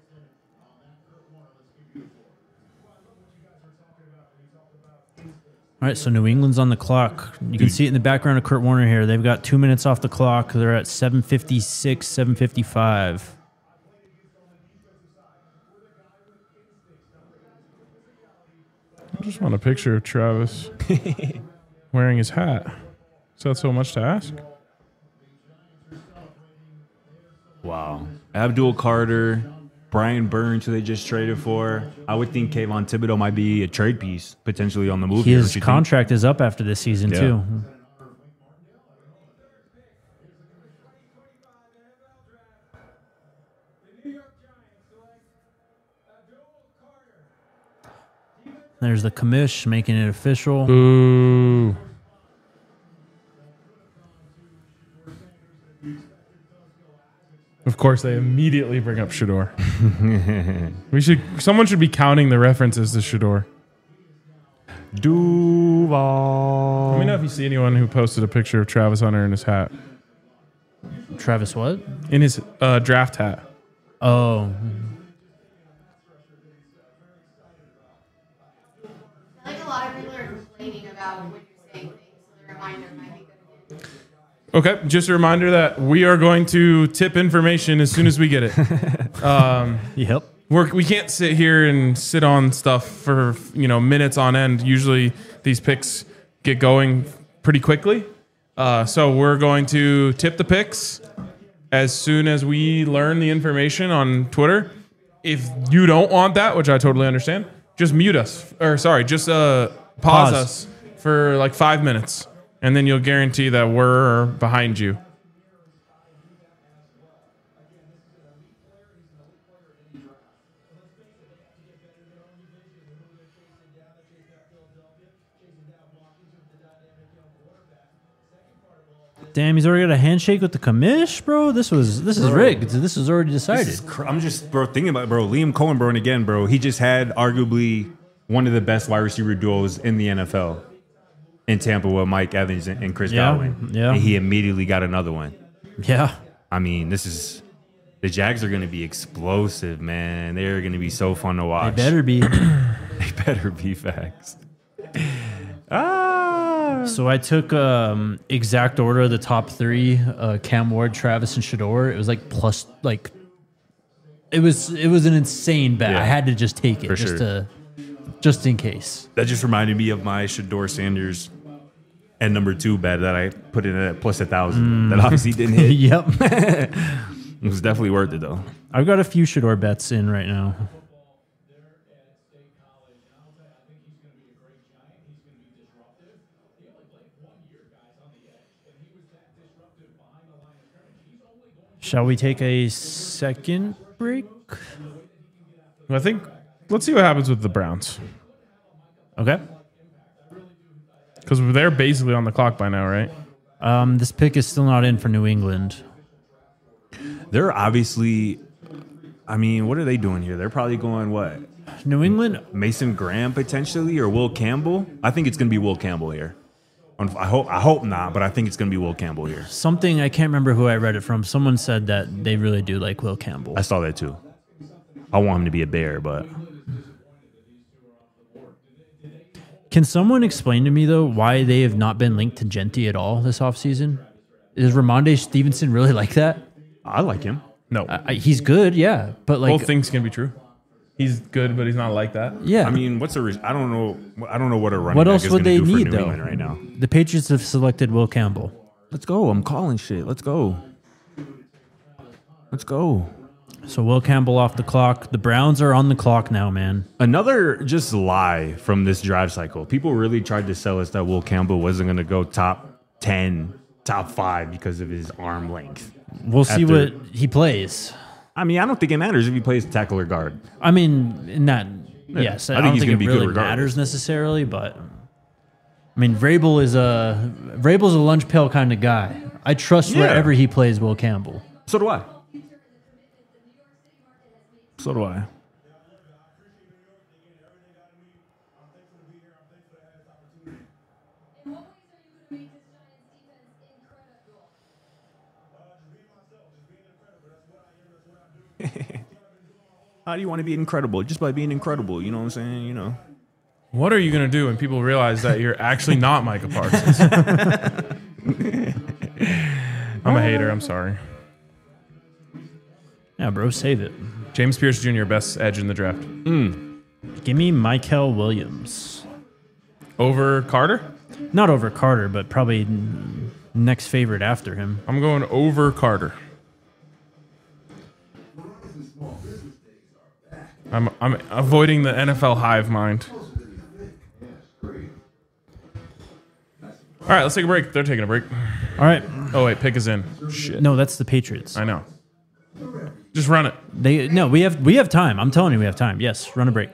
All right, so New England's on the clock. You can Dude. see it in the background of Kurt Warner here. They've got two minutes off the clock. They're at seven fifty-six, seven fifty-five. I just want a picture of Travis wearing his hat. Is that so much to ask? Wow. Abdul Carter, Brian Burns, who they just traded for. I would think Kayvon Thibodeau might be a trade piece potentially on the move. here, His don't you think? contract is up after this season, Yeah. too. There's the commish making it official. Boo. Of course, they immediately bring up Shador. we should. Someone should be counting the references to Shador. Duval. Let me know if you see anyone who posted a picture of Travis Hunter in his hat, Travis, what? in his uh, draft hat. Oh, I think a lot of people are complaining about when you're saying things, so the reminder might be good again. Okay, just a reminder that we are going to tip information as soon as we get it. um, yep. We're, we can't sit here and sit on stuff for you know minutes on end. Usually these picks get going pretty quickly. Uh, so we're going to tip the picks as soon as we learn the information on Twitter. If you don't want that, which I totally understand, just mute us. Or sorry, just uh, pause, Pause. us for like five minutes. And then you'll guarantee that we're behind you. Damn, he's already got a handshake with the commish, bro. This was this is rigged. This is already decided. This is cr- I'm just, bro, thinking about it, bro. Liam Cohen, bro, and again, bro, he just had arguably one of the best wide receiver duos in the N F L in Tampa with Mike Evans and and Chris Yeah, Godwin. yeah. And he immediately got another one. Yeah. I mean, this is, the Jags are going to be explosive, man. They're going to be so fun to They watch. better be. They better be facts. Ah. So I took um, exact order of the top three: uh, Cam Ward, Travis, and Shador. It was like plus, like it was it was an insane bet. Yeah. I had to just take it For just sure. to just in case. That just reminded me of my Shador Sanders and number two bet that I put in at plus a thousand. That obviously didn't hit. Yep. It was definitely worth it though. I've got a few Shador bets in right now. Shall we take a second break? I think, let's see what happens with the Browns. Okay. Because they're basically on the clock by now, right? Um, this pick is still not in for New England. They're obviously, I mean, what are they doing here? They're probably going what? New England, Mason Graham potentially or Will Campbell? I think it's going to be Will Campbell here. I hope I hope not, but I think it's going to be Will Campbell here. something, I can't remember who I read it from. Someone said that they really do like Will Campbell. I saw that too. I want him to be a Bear, but Can someone explain to me, though, why they have not been linked to Genti at all this offseason? Is Ramondre Stevenson really like that? I like him. No. I, I- he's good, yeah. But, like, Both things can be true. He's good, but he's not like that. yeah. I mean, what's a? re- I don't know. I don't know what a running What back else is would gonna they do for need, New though? England right now. The Patriots have selected Will Campbell. Let's go. I'm calling shit. Let's go. Let's go. So Will Campbell off the clock. The Browns are on the clock now, man. Another just lie from this drive cycle. People really tried to sell us that Will Campbell wasn't going to go top ten, top five because of his arm length. We'll see After- what he plays. I mean, I don't think it matters if he plays tackle or guard. I mean, in that, yes, I, I think don't he's think gonna it be good really regardless. matters necessarily, but I mean, Vrabel is a Vrabel's a lunch pail kind of guy. I trust Yeah. wherever he plays Will Campbell. So do I. So do I. In what ways are you going to make this Giants defense incredible? How do you want to be incredible? Just by being incredible. You know what I'm saying? You know. What are you going to do when people realize that you're actually not Micah Parsons? I'm a hater. I'm sorry. Yeah, bro, save it. James Pierce Junior, best edge in the draft. Give me Michael Williams. Over Carter? Not over Carter, but probably n- next favorite after him. I'm going over Carter. I'm I'm avoiding the N F L hive mind. All right, let's take a break. They're taking a break. All right. Oh wait, pick is in. Shit. No, that's the Patriots. I know. Just run it. They no, we have we have time. I'm telling you, we have time. Yes, run a break.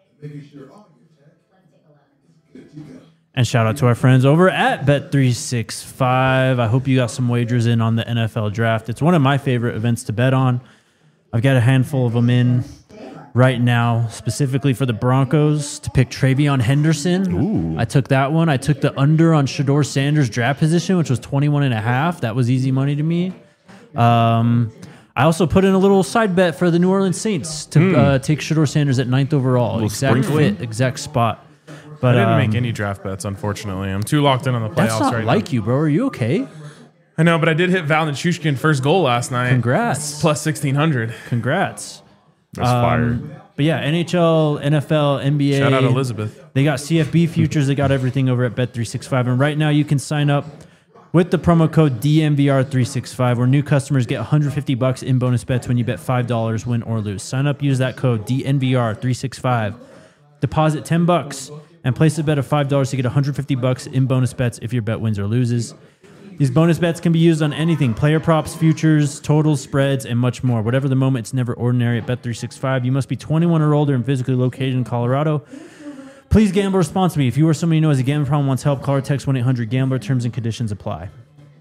And shout out to our friends over at Bet three sixty-five. I hope you got some wagers in on the N F L draft. It's one of my favorite events to bet on. I've got a handful of them in right now, specifically for the Broncos to pick Travion Henderson. Ooh. I took that one. I took the under on Shador Sanders' draft position, which was twenty-one and a half. That was easy money to me. Um, I also put in a little side bet for the New Orleans Saints to uh, take Shador Sanders at ninth overall. Exact sprinkling. fit, exact spot. But I didn't um, make any draft bets, unfortunately. I'm too locked in on the playoffs that's not right like now. you, bro. Are you okay? I know, but I did hit Val Nichushkin first goal last night. Congrats. Plus sixteen hundred. Congrats. That's Um, fire. But yeah, N H L, N F L, N B A. Shout out Elizabeth. They got C F B futures. They got everything over at Bet three sixty-five. And right now you can sign up with the promo code D M V R three sixty-five, where new customers get one hundred fifty bucks in bonus bets when you bet five dollars, win or lose. Sign up, use that code D N V R three sixty-five. Deposit ten bucks and place a bet of five dollars to get one hundred fifty bucks in bonus bets if your bet wins or loses. These bonus bets can be used on anything: player props, futures, totals, spreads, and much more. Whatever the moment, it's never ordinary at Bet three sixty-five. You must be twenty-one or older and physically located in Colorado. Please gamble responsibly. If you or somebody you know has a gambling problem, wants help, call or text one eight hundred gambler. Terms and conditions apply.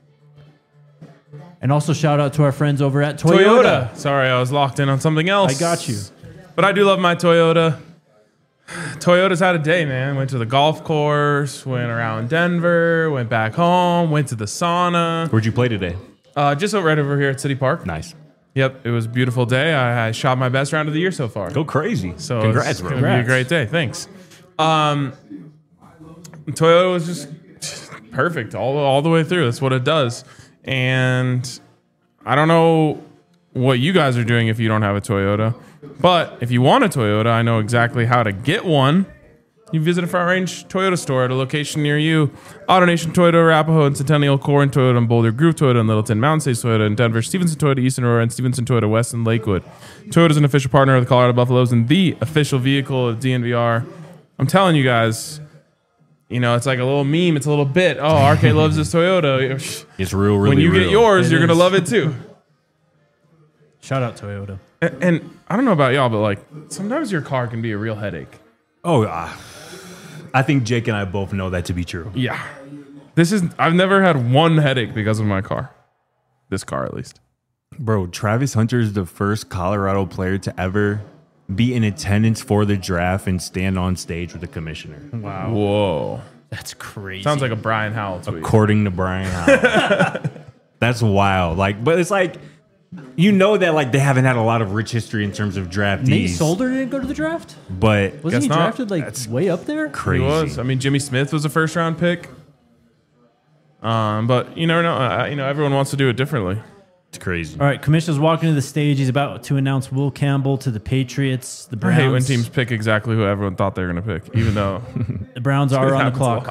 And also shout out to our friends over at Toyota. Toyota. Sorry, I was locked in on something else. I got you. But I do love my Toyota. Toyota's had a day, man. Went to the golf course, went around Denver, went back home, went to the sauna. Where'd you play today? Uh, just over- right over here at City Park. Nice. Yep, it was a beautiful day. I, I shot my best round of the year so far. Go crazy. So Congrats, it's bro. gonna be a Congrats. great day. Thanks. Um, Toyota was just perfect all all the way through. That's what it does. And I don't know what you guys are doing if you don't have a Toyota, but if you want a Toyota, I know exactly how to get one. You visit a Front Range Toyota store at a location near you. AutoNation Toyota, Arapahoe and Centennial, Corin Toyota and Boulder, Groove Toyota and Littleton, Mountain States Toyota in Denver, Stevenson Toyota, Eastern Aurora, and Stevenson Toyota West in Lakewood. Toyota is an official partner of the Colorado Buffaloes and the official vehicle of D N V R. I'm telling you guys, you know, it's like a little meme. It's a little bit. Oh, R K loves this Toyota. It's real, really When you real. get yours, It you're going to is. love it too. Shout out Toyota. And, and I don't know about y'all, but like sometimes your car can be a real headache. Oh, uh, I think Jake and I both know that to be true. Yeah. This is, I've never had one headache because of my car. This car, at least. Bro, Travis Hunter is the first Colorado player to ever be in attendance for the draft and stand on stage with the commissioner. Wow. Whoa. That's crazy. Sounds like a Brian Howell tweet. According to Brian Howell. That's wild. Like, but it's like, you know that like they haven't had a lot of rich history in terms of draftees. Nate Solder didn't go to the draft? But Wasn't Guess he not. drafted like way up there? crazy. He was. I mean, Jimmy Smith was a first round pick. Um, but you never know. Uh, you know, everyone wants to do it differently. It's crazy. All right, Commissioner's walking to the stage. He's about to announce Will Campbell to the Patriots. The I Browns. hate when teams pick exactly who everyone thought they were going to pick, even though The Browns it are on the happens a clock. lot.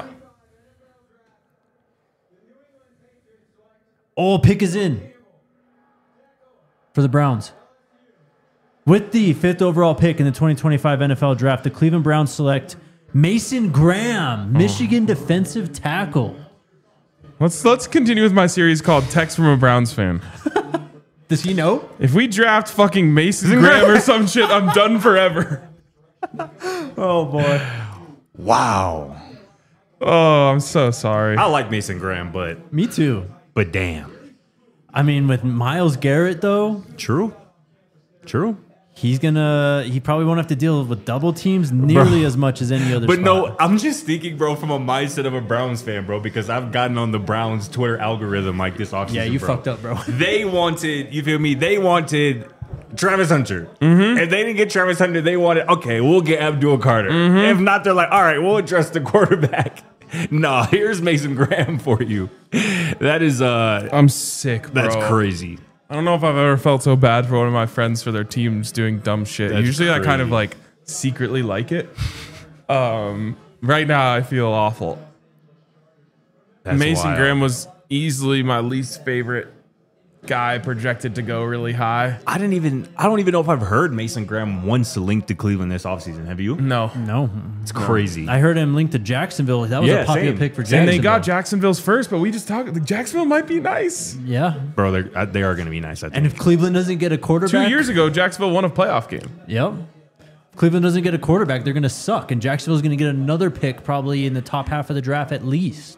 Oh, pick is in for the Browns. With the fifth overall pick in the twenty twenty-five N F L Draft, the Cleveland Browns select Mason Graham, Michigan defensive tackle. Let's let's continue with my series called Text from a Browns Fan. Does he know? If we draft fucking Mason Graham or some shit, I'm done forever. Oh, boy. Wow. Oh, I'm so sorry. I like Mason Graham, but Me too. but damn. I mean, with Myles Garrett though, True. True. he's gonna he probably won't have to deal with double teams nearly as much as any other. But spot. no, I'm just thinking, bro, from a mindset of a Browns fan, bro, because I've gotten on the Browns Twitter algorithm like this offseason. yeah, you bro. fucked up, bro. They wanted, you feel me? They wanted Travis Hunter. Mm-hmm. If they didn't get Travis Hunter, they wanted, okay, we'll get Abdul Carter. Mm-hmm. If not, they're like, all right, we'll address the quarterback. No, here's Mason Graham for you. That is, uh, I'm sick, bro. that's crazy. I don't know if I've ever felt so bad for one of my friends for their teams doing dumb shit. That's Usually I kind of crazy. like secretly like it. Um, right now I feel awful. That's Mason wild. Graham was easily my least favorite guy projected to go really high. I didn't even, I don't even know if I've heard Mason Graham once linked to Cleveland this offseason. Have you? No. No, It's crazy. I heard him linked to Jacksonville. That was Yeah, a popular same. pick for And Jacksonville. And they got Jacksonville's first, but we just talked. Like, Jacksonville might be nice. Yeah, Bro, they're, uh, they are going to be nice, I think. and if Cleveland doesn't get a Two quarterback, years ago, Jacksonville won a playoff game. yep. If Cleveland doesn't get a quarterback, they're going to suck, and Jacksonville's going to get another pick probably in the top half of the draft at least.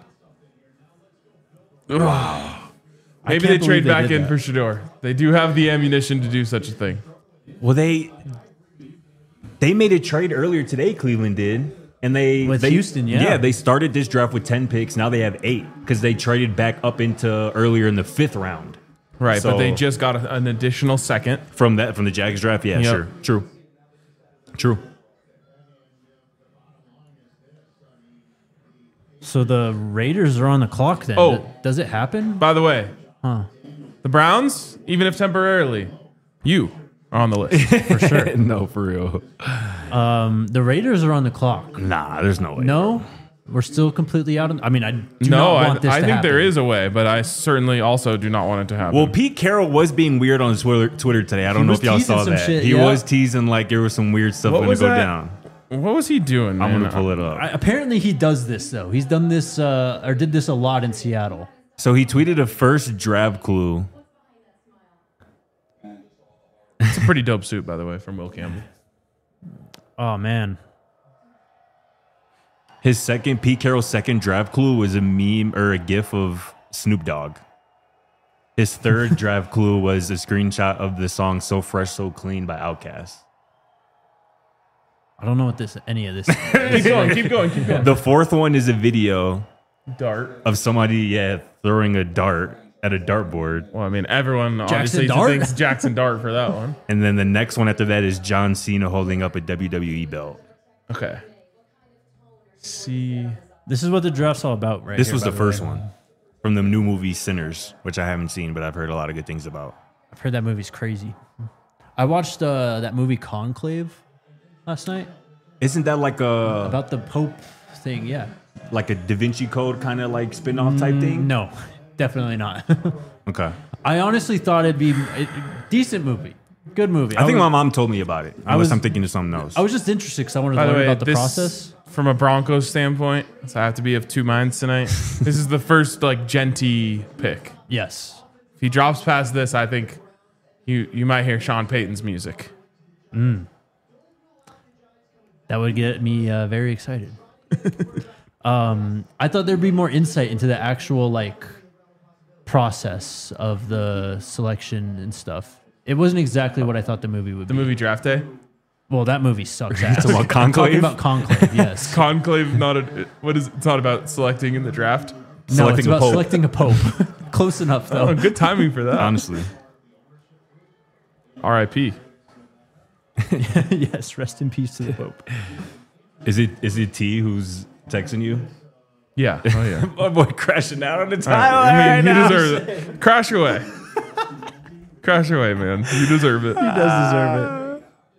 Maybe can't they trade believe they back did in that. for Shador. They do have the ammunition to do such a thing. Well, they they made a trade earlier today. Cleveland did, and they With they, Houston, yeah. yeah. They started this draft with ten picks. Now they have eight because they traded back up into earlier in the fifth round. Right, So- but they just got a, an additional second. From that, from the Jags draft, yeah, Yep. sure, true, true. So the Raiders are on the clock then. Oh. Does it happen? By the way, Huh. the Browns, even if temporarily, you are on the list. For sure. No, for real. Um, the Raiders are on the clock. Nah, there's no way. No, we're still completely out of. I mean, I do no, not I, want this I to think happen. there is a way, but I certainly also do not want it to happen. Well, Pete Carroll was being weird on Twitter, Twitter today. I don't He know was if y'all teasing saw some that. shit, he yeah. was teasing like there was some weird stuff What going to was go that? down. what was he doing, man? I'm gonna pull it up. I, apparently, he does this though. He's done this uh, or did this a lot in Seattle. So he tweeted a first draft clue. It's a pretty dope suit, by the way, from Will Campbell. Oh man, His second, Pete Carroll's second draft clue was a meme or a gif of Snoop Dogg. His third draft clue was a screenshot of the song "So Fresh, So Clean" by Outkast. I don't know what this any of this. is. Keep going, keep going, keep going. The fourth one is a video Dart. of somebody, yeah, throwing a dart at a dartboard. Well, I mean, everyone Jackson obviously Dart? thinks Jackson Dart for that one. And then the next one after that is John Cena holding up a W W E belt. Okay. See. This is what the draft's all about, right? This here, was by the first way. one from the new movie Sinners, which I haven't seen, but I've heard a lot of good things about. I've heard that movie's crazy. I watched uh, that movie Conclave last night Isn't that like a about the Pope thing. Yeah. like a Da Vinci Code kind of like spin-off type thing? No, definitely not. Okay. I honestly thought it'd be a decent movie, good movie. I think was, my mom told me about it. Unless was- I'm thinking of something else. I was just interested because I wanted to By the learn way, about the this, process. from a Broncos standpoint, so I have to be of two minds tonight. This is the first like Genty pick. Yes. If he drops past this, I think you you might hear Sean Payton's music. That would get me uh, very excited. um, I thought there'd be more insight into the actual like process of the selection and stuff. It wasn't exactly what I thought the movie would The be. movie Draft Day. Well, that movie sucks ass. about I'm talking Conclave? about Conclave, yes. Conclave, not a what is it's not about selecting in the draft. No, it's Selecting a about pope. selecting a pope. Close enough, though. Oh, good timing for that. Honestly. R I P Yes, rest in peace to the pope. Is it is it T who's texting you? Yeah. Oh yeah. My boy crashing out on the I timeline. mean, you deserve it. Crash away. Crash away, man. You deserve it. He does deserve it.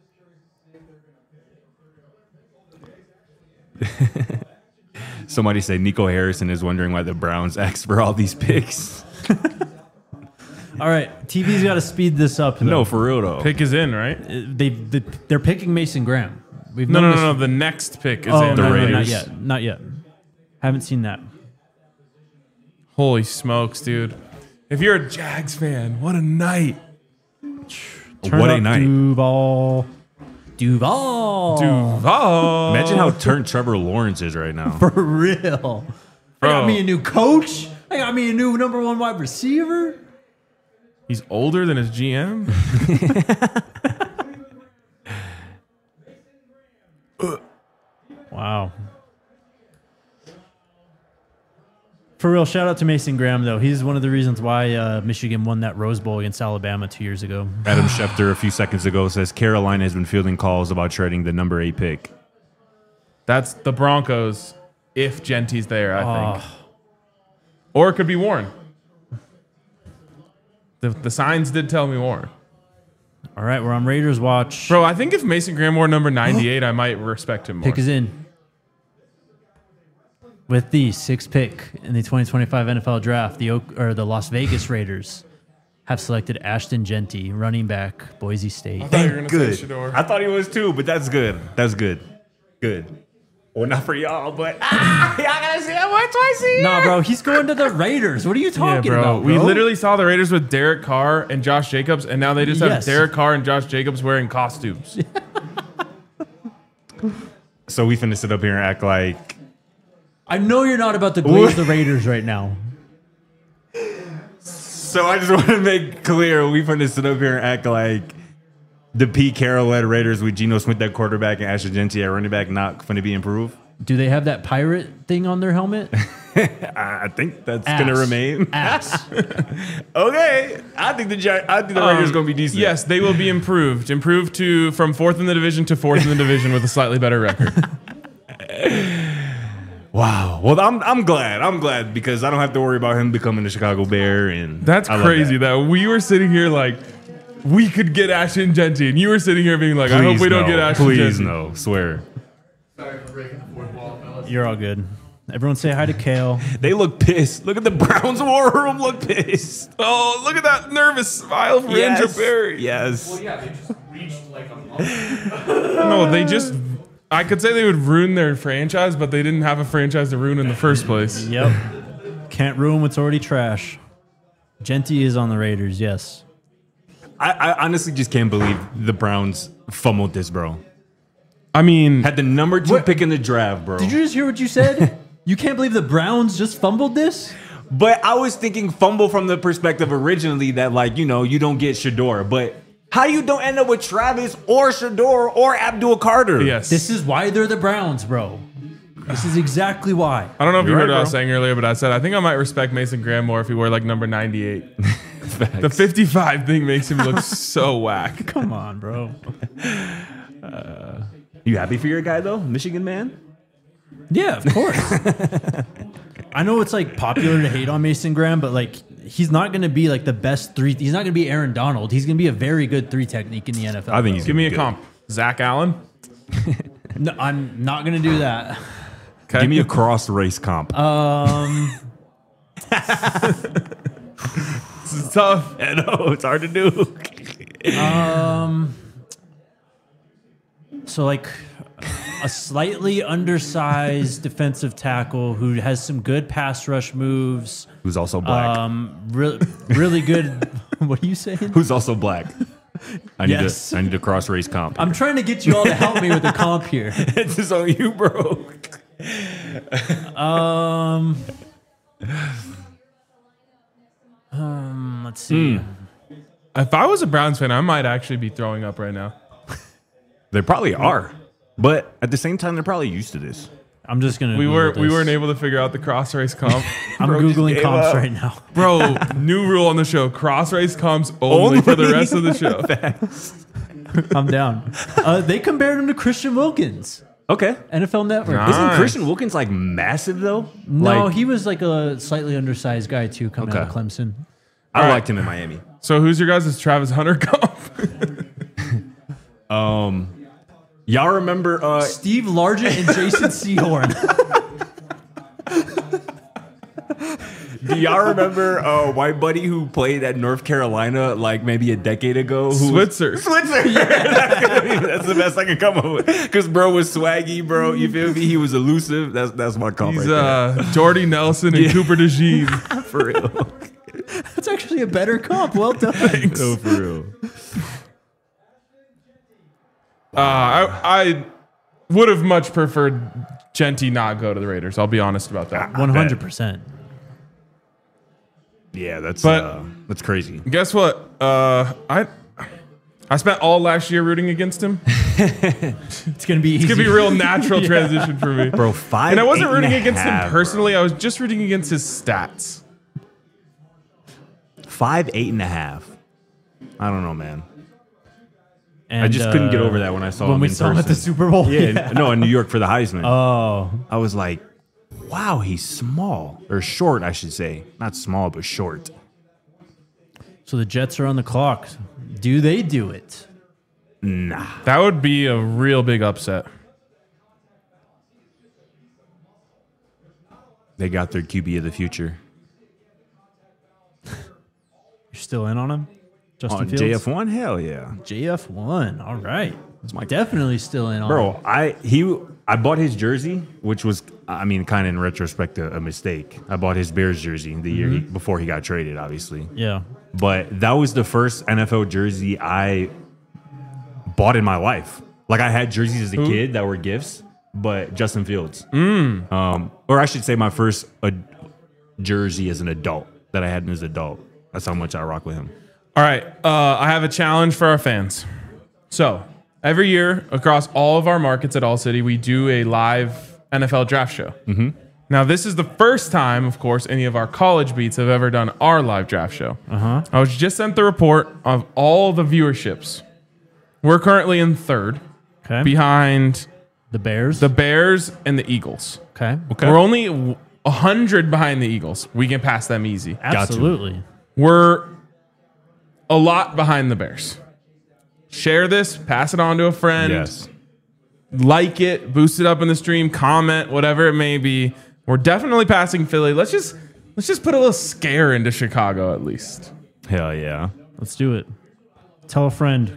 Somebody said Nico Harrison is wondering why the Browns asked for all these picks. All right, T V's got to speed this up. Though. No, for real though. Pick is in, right? Uh, they, they they're picking Mason Graham. We've No, known no, this- no, no. The next pick is Oh, in. The no, no, not Raiders. yet. Not yet. Haven't seen that. Holy smokes, dude. If you're a Jags fan, what a night. Turn What a up night. Duval. Duval. Duval. Imagine how turned Trevor Lawrence is right now. For real. I got Bro. me a new coach. I got me a new number one wide receiver. He's older than his G M. Wow. For real, shout out to Mason Graham, though. He's one of the reasons why uh, Michigan won that Rose Bowl against Alabama two years ago. Adam Schefter a few seconds ago says Carolina has been fielding calls about trading the number eight pick. That's the Broncos if Genty's there, I think. Oh. Or it could be Warren. The, the signs did tell me Warren. All right, we're on Raiders watch. Bro, I think if Mason Graham wore number ninety-eight, I might respect him more. Pick is in. With the sixth pick in the twenty twenty-five N F L Draft, the Oak, or the Las Vegas Raiders have selected Ashton Genty, running back, Boise State. I thought you were going to Good. say Shador. I thought he was too, but that's good. That's good. Good. Well, not for y'all, but ah, y'all gotta see that one twice a year. Nah, bro, he's going to the Raiders. What are you Yeah, talking bro. about, We bro? literally saw the Raiders with Derek Carr and Josh Jacobs, and now they just have Yes. Derek Carr and Josh Jacobs wearing costumes. So we finna sit up here and act like I know you're not about to glaze the Raiders right now. So I just want to make clear we finna sit up here and act like the Pete Carroll led Raiders with Geno Smith at quarterback and Ashton Genty at running back not finna be improved. Do they have that pirate thing on their helmet? I think that's Ass. gonna remain. Ass. Okay, I think the Gi- I think the Raiders Um, gonna be decent. Yes, they will be improved. Improved to from fourth in the division to fourth in the division with a slightly better record. Wow. Well, I'm I'm glad. I'm glad because I don't have to worry about him becoming a Chicago Bear. And That's I love crazy that. that. we were sitting here like we could get Ashton Genty, and you were sitting here being like, I hope Please we don't no. get Ashton Please Genty. no. Swear. You're all good. Everyone say hi to Kale. They look pissed. Look at the Browns war room. Look pissed. Oh, look at that nervous smile for Andrew Berry. Yes. Yeah, they just reached like a month. No, they just. I could say they would ruin their franchise, but they didn't have a franchise to ruin in the first place. Yep. Can't ruin what's already trash. Genty is on the Raiders, yes. I, I honestly just can't believe the Browns fumbled this, bro. I mean, Had the number two What? pick in the draft, bro. Did you just hear what you said? You can't believe the Browns just fumbled this? But I was thinking fumble from the perspective originally that, like, you know, you don't get Shador. But how you don't end up with Travis or Shador or Abdul Carter? yes. This is why they're the Browns, bro. This is exactly why. I don't know if you You're heard right, what I was bro. saying earlier, but I said I think I might respect Mason Graham more if he wore like number ninety-eight. The fifty-five thing makes him look so whack. Come on, bro. You happy for your guy, though? Michigan man? Yeah, of course. I know it's like popular to hate on Mason Graham, but like he's not going to be like the best three. He's not going to be Aaron Donald. He's going to be a very good three technique in the N F L. I think he's Give me a good. comp. Zach Allen. No, I'm not going to do that. Okay. Give me a cross race comp. Um, This is tough. I know, it's hard to do. um. So like a slightly undersized defensive tackle who has some good pass rush moves. Who's also black. Um, re- really good. What are you saying? Who's also black. I need Yes. a, I need a cross race comp. I'm trying to get you all to help me with the comp here. It's just on you, bro. Um, um, let's see. If I was a Browns fan, I might actually be throwing up right now. They probably are. But at the same time, they're probably used to this. I'm just gonna. We Google were we this. weren't able to figure out the cross race comp. I'm Bro just googling gave comps up. right now. Bro, new rule on the show: cross race comps only, for the Only. rest of the show. I'm down. Uh, they compared him to Christian Wilkins, Okay. N F L Network. Nice. Isn't Christian Wilkins like massive though? No, Like, he was like a slightly undersized guy too, coming out of Okay. Clemson. I All right. liked him in Miami. So who's your guys' Travis Hunter comp? Um, y'all remember? Uh, Steve Largent and Jason Sehorn. do y'all remember uh, white buddy who played at North Carolina like maybe a decade ago? Who Switzer. Switzer. that's, gonna be- that's the best I can come up with. Because bro was swaggy, bro. You feel me? He was elusive. That's that's my comp He's right uh, Jordy Nelson and Cooper DeJean. there. For real. That's actually a better comp. Well done. No, for real. Uh, I, I would have much preferred Genty not go to the Raiders. I'll be honest about that. One hundred percent. Yeah, that's But- uh, that's crazy. Guess what? Uh, I I spent all last year rooting against him. It's gonna be easy. It's gonna be a real natural transition for me, Bro, five. And I wasn't eight and rooting a against half, him personally. I was just rooting against his stats. bro. Five, eight and a half. I don't know, man. And, I just couldn't get uh, over that when I saw when him we in saw him at the person. Super Bowl. Yeah, no, in New York for the Heisman. Oh, I was like, wow, he's small or short, I should say. Not small, but short. so the Jets are on the clock. Do they do it? Nah. That would be a real big upset. They got their Q B of the future. You're still in on him, Justin On Fields. J F one? Hell yeah. J F one. All right. my- Definitely still in on him. Bro, I he I bought his jersey, which was I mean, kind of in retrospect a, a mistake. I bought his Bears jersey the year he, before he got traded, obviously. Yeah. But that was the first N F L jersey I bought in my life. Like I had jerseys as a kid that were gifts, but Justin Fields. Um, or I should say my first ad- jersey as an adult that I had as an adult. That's how much I rock with him. All right, uh, I have a challenge for our fans. So every year across all of our markets at All City, we do a live N F L draft show. Mm-hmm. Now, this is the first time, of course, any of our college beats have ever done our live draft show. Uh-huh. I was just sent the report of all the viewerships. We're currently in third, Okay. behind the Bears. the Bears and the Eagles. okay. We're only one hundred behind the Eagles. We can pass them easy. Absolutely. We're a lot behind the Bears. Share this, pass it on to a friend. Yes. Like it, boost it up in the stream, comment, whatever it may be. We're definitely passing Philly. Let's just let's just put a little scare into Chicago at least. Hell yeah. Let's do it. Tell a friend.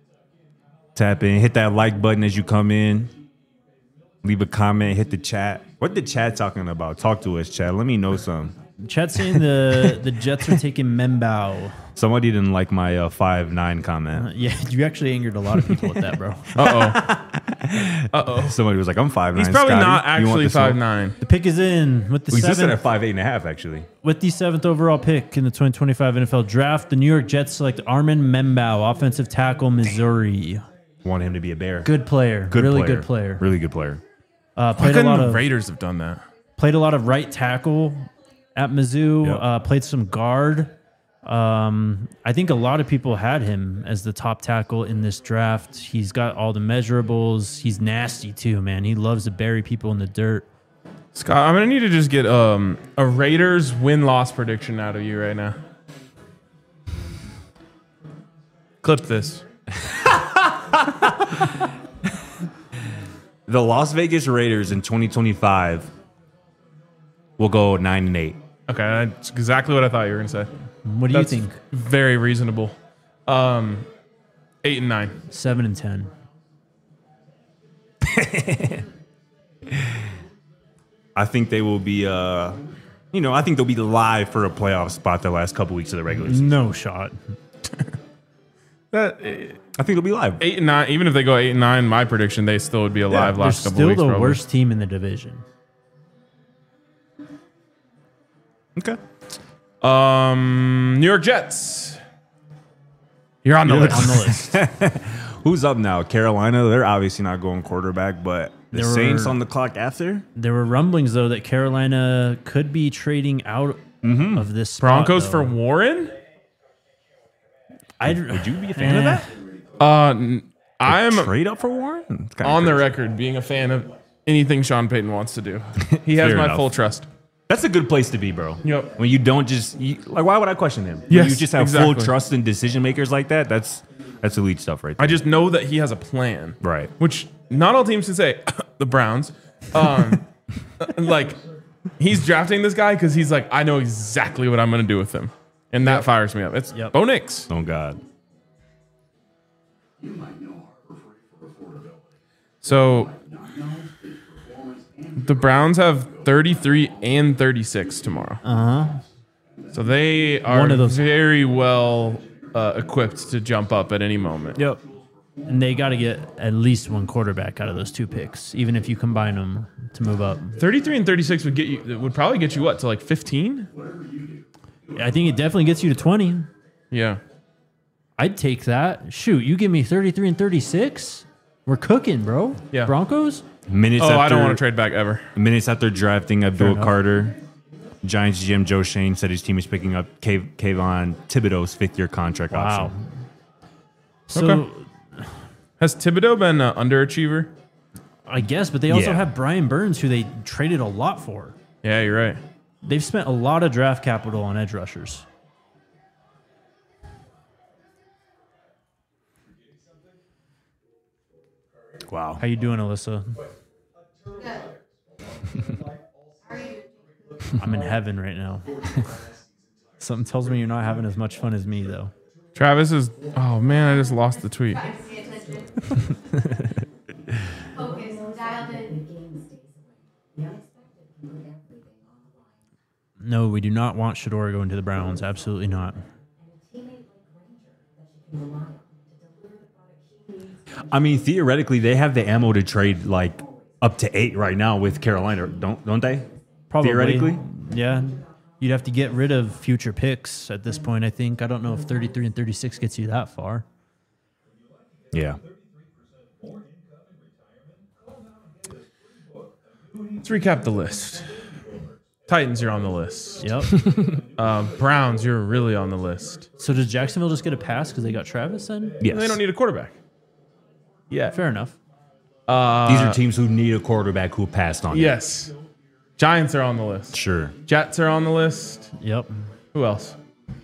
Tap in, hit that like button as you come in. Leave a comment, hit the chat. What the chat talking about? Talk to us, chat. Let me know something. Chat saying the the Jets are taking Membao. Somebody didn't like my uh, five nine comment. Yeah, you actually angered a lot of people with that, bro. Uh oh. Somebody was like, "I'm five nine." He's probably Scotty. not You want actually the smoke?" five nine. The pick is in with the He's listed seventh at five eight and a half, actually. with the seventh overall pick in the twenty twenty-five N F L Draft. The New York Jets select Armin Membao, offensive tackle, Missouri. Want him to be a bear. Good player, Good really player. good player. Really good player. Uh, Why played a couldn't lot the of Raiders have done that? played a lot of right tackle at Mizzou. Yep. Uh, played some guard. Um, I think a lot of people had him as the top tackle in this draft. He's got all the measurables. He's nasty too, man. He loves to bury people in the dirt. Scott, I'm gonna need to just get um, a Raiders win-loss prediction out of you right now. Clip this. The Las Vegas Raiders in twenty twenty-five will go nine and eight. Okay, that's exactly what I thought you were gonna say. What do That's you think? very reasonable. Um, eight and nine. Seven and ten. I think they will be. Uh, you know, I think they'll be live for a playoff spot the last couple weeks of the regular season. No shot. That I think they'll be live. eight and nine. Even if they go eight and nine, my prediction they still would be alive They're last couple still weeks. the probably. worst team in the division. Okay. Um, New York Jets. You're on the You're list. On the list. Who's up now? Carolina. They're obviously not going quarterback, but the There Saints were- on the clock after. There were rumblings though that Carolina could be trading out of this spot, Broncos though. for Warren. I'd, Would you be a fan of Eh, that? Uh, n- I'm Trade up for Warren? It's kinda on the crazy. record being a fan of anything Sean Payton wants to do. He has Fair my enough. full trust. That's a good place to be, bro. Yep. When you don't just you, like, why would I question him? When Yes, you just have exactly. full trust in decision makers like that. That's that's elite stuff, right there. I just know that he has a plan. Right. Which not all teams can say. The Browns. Um, like, he's drafting this guy because he's like, I know exactly what I'm going to do with him. And that fires me up. It's Yep. Bo Nix. Oh God. So the Browns have thirty-three and thirty-six tomorrow. Uh huh. So they are One of those- very well uh, equipped to jump up at any moment. Yep. And they got to get at least one quarterback out of those two picks, even if you combine them to move up. thirty-three and thirty-six would get you would probably get you what to like fifteen? I think it definitely gets you to twenty. Yeah. I'd take that. Shoot, you give me thirty-three and thirty-six. We're cooking, bro. Yeah. Broncos? Minutes Oh, after, I don't want to trade back ever. Minutes after drafting Abdul enough. Carter, Giants G M Joe Shane said his team is picking up Kav- Kayvon Thibodeau's fifth-year contract Wow. option. So Okay. Has Thibodeau been an underachiever? I guess, but they also Yeah. have Brian Burns, who they traded a lot for. Yeah, you're right. They've spent a lot of draft capital on edge rushers. Wow. How you doing, Alyssa? Good. How are you? I'm in heaven right now. Something tells me you're not having as much fun as me, though. Travis is. Oh man, I just lost the tweet. Trying to pay attention. Focus. Dialed in. No, we do not want Shador going to the Browns. Absolutely not. I mean, theoretically, they have the ammo to trade like up to eight right now with Carolina, don't don't they? Probably. Theoretically? Yeah. You'd have to get rid of future picks at this point, I think. I don't know if thirty-three and thirty-six gets you that far. Yeah. Let's recap the list. Titans, you're on the list. Yep. Uh, Browns, you're really on the list. So does Jacksonville just get a pass because they got Travis then? Yes. They don't need a quarterback. Yeah. Fair enough. Uh, These are teams who need a quarterback who passed on it. Yes. Giants are on the list. Sure. Jets are on the list. Yep. Who else?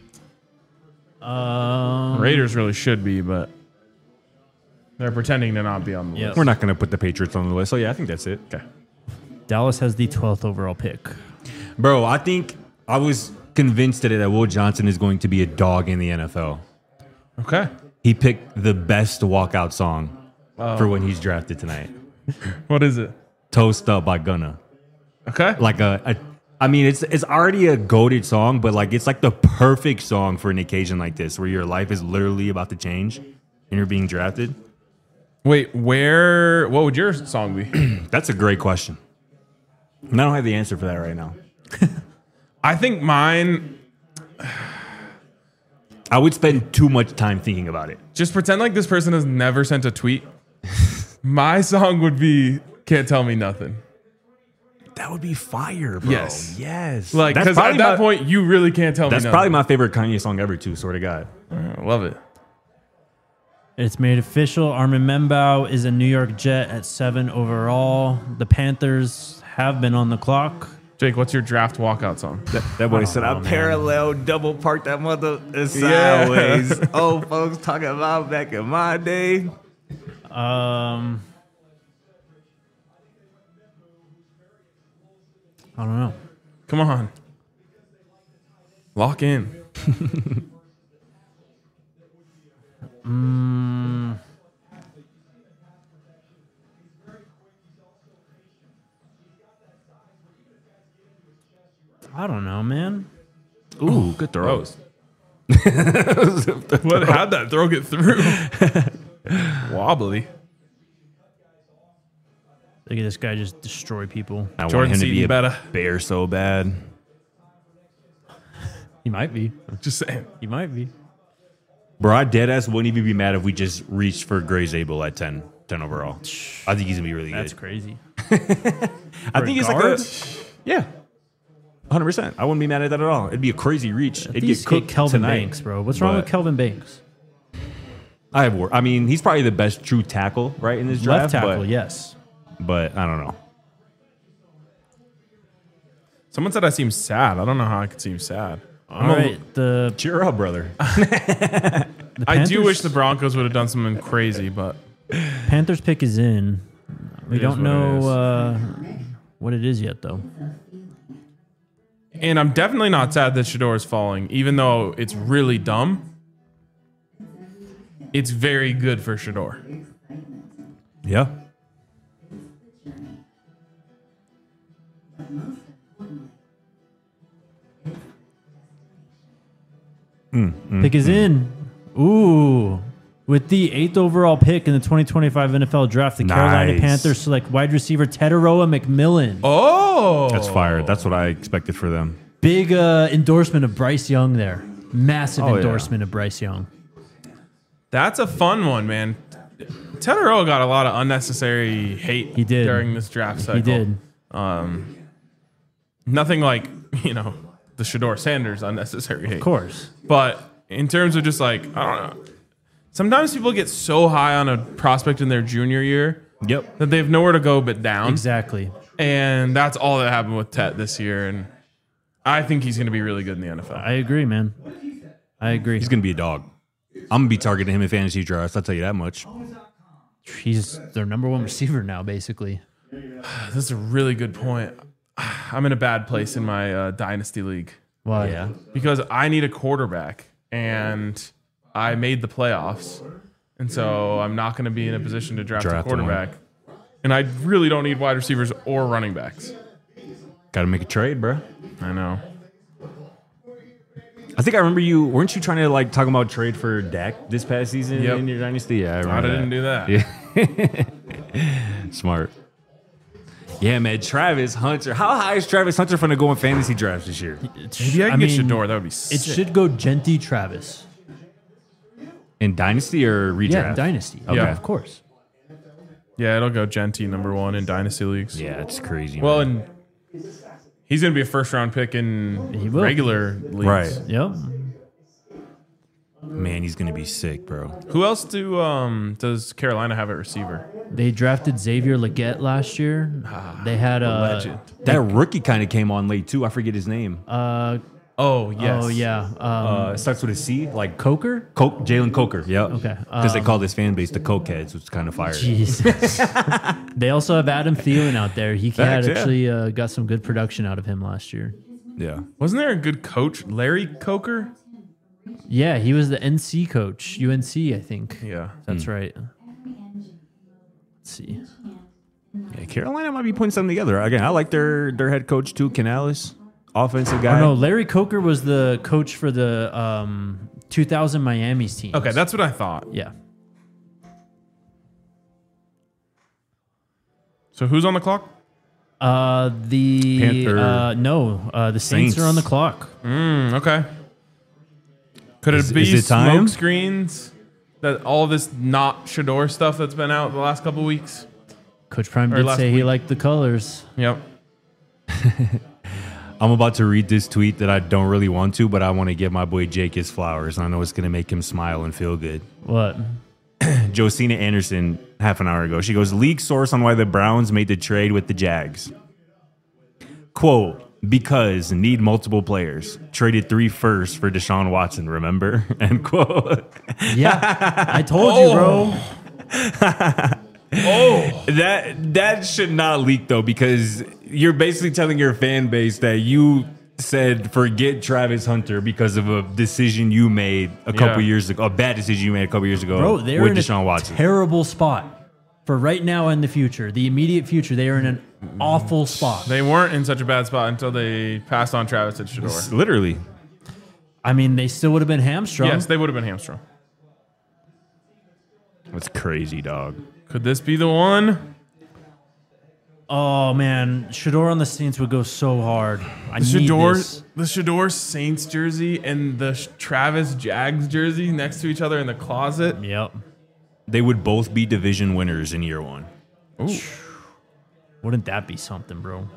Um, Raiders really should be, but they're pretending to not be on the Yeah. list. We're not going to put the Patriots on the list. So, yeah, I think that's it. Okay. Dallas has the twelfth overall pick. Bro, I think I was convinced today that Will Johnson is going to be a dog in the N F L. Okay. He picked the best walkout song for when he's drafted tonight. What is it? Toast Up by Gunna. Okay. Like a, a I mean, it's it's already a goated song, but like it's like the perfect song for an occasion like this where your life is literally about to change and you're being drafted. Wait, where? What would your song be? That's a great question. And I don't have the answer for that right now. I think mine. I would spend too much time thinking about it. Just pretend like this person has never sent a tweet. My song would be "Can't Tell Me Nothing." That would be fire, bro. Yes. Yes. Like, that's because at probably that my, point, you really can't tell that's me. probably nothing. my favorite Kanye song ever, too. Swear to God. I love it. It's made official. Armin Membow is a New York Jet at seven overall. The Panthers have been on the clock. Jake, what's your draft walkout song? That boy I said, don't I know, man. parallel double parked that mother Yeah. sideways. Old folks talking about back in my day. Um, I don't know. Come on. Lock in. Mm, I don't know, man. Ooh, good throw. Rose. What? How'd that throw get through? Wobbly. Look at this guy just destroy people. I Jordan want him to be Seaton a better. bear so bad. He might be. Just saying. He might be. Bro, I deadass wouldn't even be mad if we just reached for Gray Zabel at ten, ten overall. I think he's going to be really That's good. crazy. I think he's like a, Guards? yeah, one hundred percent. I wouldn't be mad at that at all. It'd be a crazy reach. It'd These get cooked hate Kelvin tonight. Banks, bro. What's wrong with But Kelvin Banks? I have. wor- I mean, he's probably the best true tackle right in this Left draft. tackle, but, yes. but I don't know. Someone said I seem sad. I don't know how I could seem sad. All I'm a- right, the, Cheer up, brother. the I do Panthers- wish the Broncos would have done something crazy, but Panthers pick is in. We It is don't what it know is. uh, what it is yet, though. and I'm definitely not sad that Shador is falling, even though it's really dumb. It's very good for Shador. Yeah. Pick is in. Ooh. With the eighth overall pick in the twenty twenty-five N F L draft, the Carolina Nice. Panthers select wide receiver Teteroa McMillan. Oh, That's fire. That's what I expected for them. Big uh, endorsement of Bryce Young there. Massive Oh, yeah. endorsement of Bryce Young. That's a fun one, man. Tedero got a lot of unnecessary hate He did. during this draft cycle. He did. Nothing like, you know, the Shador Sanders unnecessary hate. Of course. But in terms of just like, I don't know. Sometimes people get so high on a prospect in their junior year Yep. that they have nowhere to go but down. Exactly. And that's all that happened with Tet this year. And I think he's going to be really good in the N F L. I agree, man. I agree. He's gonna be a dog. I'm gonna be targeting him in fantasy drafts. I'll tell you that much. He's their number one receiver now, basically. This is a really good point. I'm in a bad place in my uh, dynasty league Why? Yeah. because I need a quarterback, and I made the playoffs, and so I'm not going to be in a position to draft, Draft a one. quarterback. And I really don't need wide receivers or running backs. Got to make a trade, bro. I know. I think I remember you. Weren't you trying to like talk about trade for Dak this past season Yep. in your dynasty? Yeah, I I remember didn't do that. Yeah. Smart. Yeah, man. Travis Hunter. How high is Travis Hunter going to go in fantasy drafts this year? It's, Maybe I can get Shador. That would be It sick. should go Genty Travis. In dynasty or redraft? Yeah, Dynasty. Okay. Yeah, of course. Yeah, it'll go Genty number one in dynasty leagues. Yeah, it's crazy. Well, man. and he's going to be a first round pick in He will. regular leagues. Right. Yep. man, he's gonna be sick, bro. Who else do um does Carolina have at receiver? They drafted Xavier Leggett last year. They had a Legend. That rookie kind of came on late too. I forget his name. Uh, Oh yes. Oh yeah. Um, Uh, it starts with a C, like Coker. Coke, Jalen Coker. Yep. Okay, Because they um, call this fan base the Coke Heads, which is kind of fire. Jeez. They also have Adam Thielen out there. He had Facts, yeah. actually uh, got some good production out of him last year. Yeah. Wasn't there a good coach, Larry Coker? Yeah, he was the N C coach, U N C, I think. Yeah. That's right. Let's see. Yeah, Carolina might be putting something together. Again, I like their their head coach too, Canales, offensive guy. Oh no, Larry Coker was the coach for the um, two thousand Miami's team. Okay, that's what I thought. yeah. So who's on the clock? Uh, the Panther- uh, no, uh, the Saints, Saints. are on the clock. Mm, okay. Could it Is- be is it smoke time? screens? That all this not Shador stuff that's been out the last couple weeks? Coach Prime Or did last say he week. liked the colors. Yep. I'm about to read this tweet that I don't really want to, but I want to give my boy Jake his flowers. I know it's gonna make him smile and feel good. What? Josina Anderson, half an hour ago, she goes, leak source on why the Browns made the trade with the Jags. Quote, because need multiple players. Traded three firsts for Deshaun Watson, remember? End quote. Yeah, I told you, bro. That that should not leak though, because you're basically telling your fan base that you said forget Travis Hunter because of a decision you made a couple Yeah. years ago, a bad decision you made a couple years ago Bro, they're with in Deshaun a Watson. terrible spot for right now and the future. The immediate future, they are in an awful spot. They weren't in such a bad spot until they passed on Travis and Shador. Literally. I mean, they still would have been hamstrung. Yes, they would have been hamstrung. That's crazy, dog. Could this be the one? Oh man, Shador on the Saints would go so hard. I The need Shador, this. the Shador Saints jersey and the Sh- Travis Jags jersey next to each other in the closet. Yep. They would both be division winners in year one. Ooh. Wouldn't that be something, bro?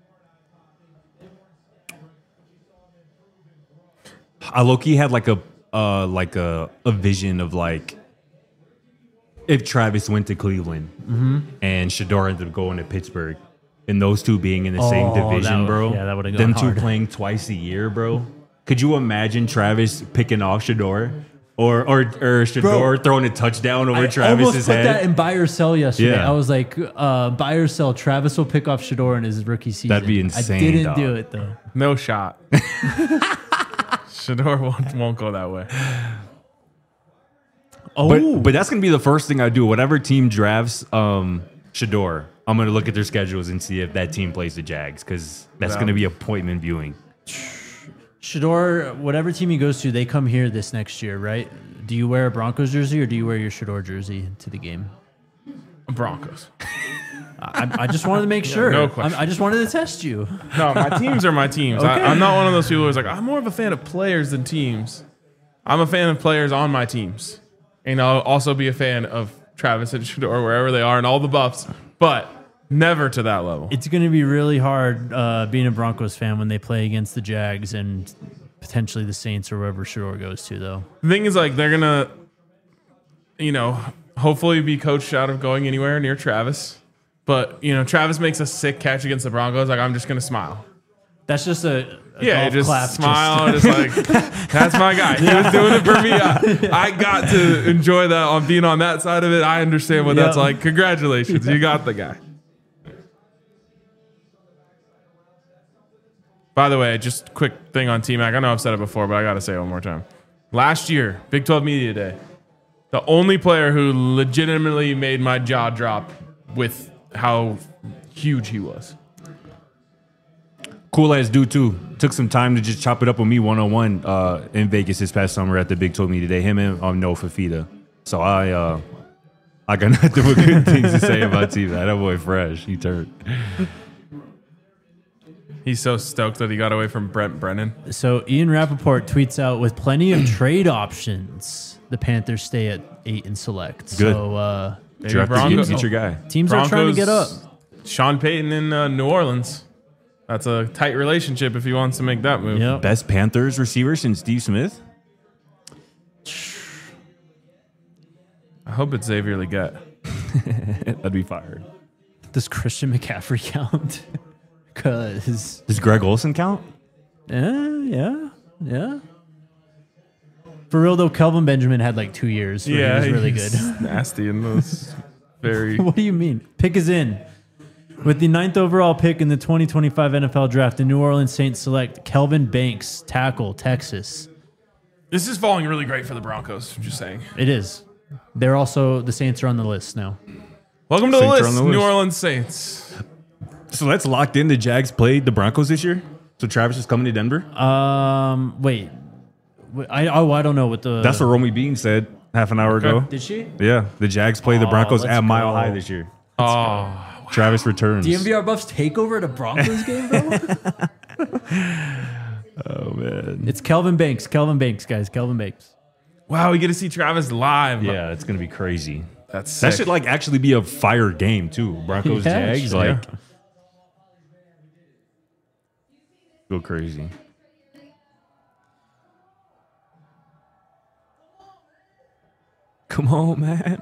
I low-key had like a uh like a, a vision of like if Travis went to Cleveland Mm-hmm. and Shador ended up going to Pittsburgh, and those two being in the same Oh, that division, would- bro. yeah, that would've Them gone two hard. playing twice a year, bro. Could you imagine Travis picking off Shador, or or or Shador Bro, throwing a touchdown over I Travis's almost put head? that in buy or sell yesterday. Yeah. I was like, uh, buy or sell. Travis will pick off Shador in his rookie season. That'd be insane, I didn't dog. do it though. No shot. Shador won't, won't go that way. Oh, But but that's gonna be the first thing I do. Whatever team drafts um, Shador, I'm gonna look at their schedules and see if that team plays the Jags, because that's Yeah. gonna be appointment viewing. Shador, whatever team he goes to, they come here this next year, right? Do you wear a Broncos jersey or do you wear your Shador jersey to the game? Broncos. I, I just wanted to make sure. no I'm- question. I just wanted to test you. No, my teams are my teams. Okay. I, I'm not one of those people who's like, I'm more of a fan of players than teams. I'm a fan of players on my teams. And I'll also be a fan of Travis and Shador wherever they are and all the buffs, but never to that level. It's going to be really hard uh, being a Broncos fan when they play against the Jags and potentially the Saints or wherever Shador goes to, though. The thing is, like, they're going to, you know, hopefully be coached out of going anywhere near Travis. But, you know, Travis makes a sick catch against the Broncos. Like, I'm just going to smile. That's just a, a Yeah, golf just clap. smile, just, like, that's my guy. He was doing it for me. I, I got to enjoy that on being on that side of it. I understand what that's Yeah. like. Congratulations. You got the guy. By the way, just quick thing on T-Mac. I know I've said it before, but I got to say it one more time. Last year, Big twelve Media Day, the only player who legitimately made my jaw drop with how huge he was. Cool as dude too. Took some time to just chop it up with me one on one uh in Vegas this past summer at the Big twelve Media Day. Him and um, Noah Fafita. So I uh I got nothing but good things to say about T-Mac. That boy fresh. He turned. He's so stoked that he got away from Brent Brennan. So Ian Rappaport tweets out, with plenty of trade options, the Panthers stay at eight and select. Good. So uh, Maybe Draft the Broncos- future guy. teams are trying to get up. Sean Payton in uh, New Orleans. That's a tight relationship if he wants to make that move. Yep. Best Panthers receiver since Steve Smith. I hope it's Xavier Legette. That'd be fired. Does Christian McCaffrey count? Because, Does Greg Olson count? yeah, yeah, yeah. For real, though, Kelvin Benjamin had like two years where Yeah, he was really he's good. nasty in those. Very. What do you mean? Pick is in. With the ninth overall pick in the twenty twenty-five N F L Draft, the New Orleans Saints select Kelvin Banks, tackle, Texas. This is falling really great for the Broncos. I'm just saying. It is. They're also, the Saints are on the list now. Welcome to the Saints are list, on the New list. Orleans Saints. So that's locked in. The Jags played the Broncos this year. So Travis is coming to Denver. Um, wait. Wait, I oh, I don't know what the. That's what Romy Bean said half an hour ago. Did she? Yeah, the Jags play the Oh, Broncos let's at Mile go. High this year. Oh, Travis returns. D M V R Buffs take over at a Broncos game, bro? Oh man. It's Kelvin Banks. Kelvin Banks, guys. Kelvin Banks. wow, we get to see Travis live. Yeah, it's gonna be crazy. That's sick. That should like actually be a fire game too. Broncos Yeah, Jags sure. like go crazy. Come on, man.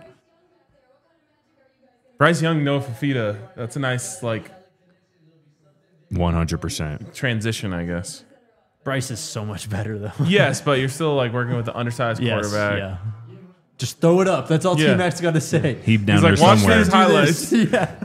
Bryce Young, Noah Fafita. That's a nice like One hundred percent. transition, I guess. Bryce is so much better, though. Yes, but you're still like working with the undersized Yes, quarterback. yeah. Just throw it up. That's all Yeah. T-Mac's got to say. Heap down He's there like, watch somewhere. these highlights. yeah.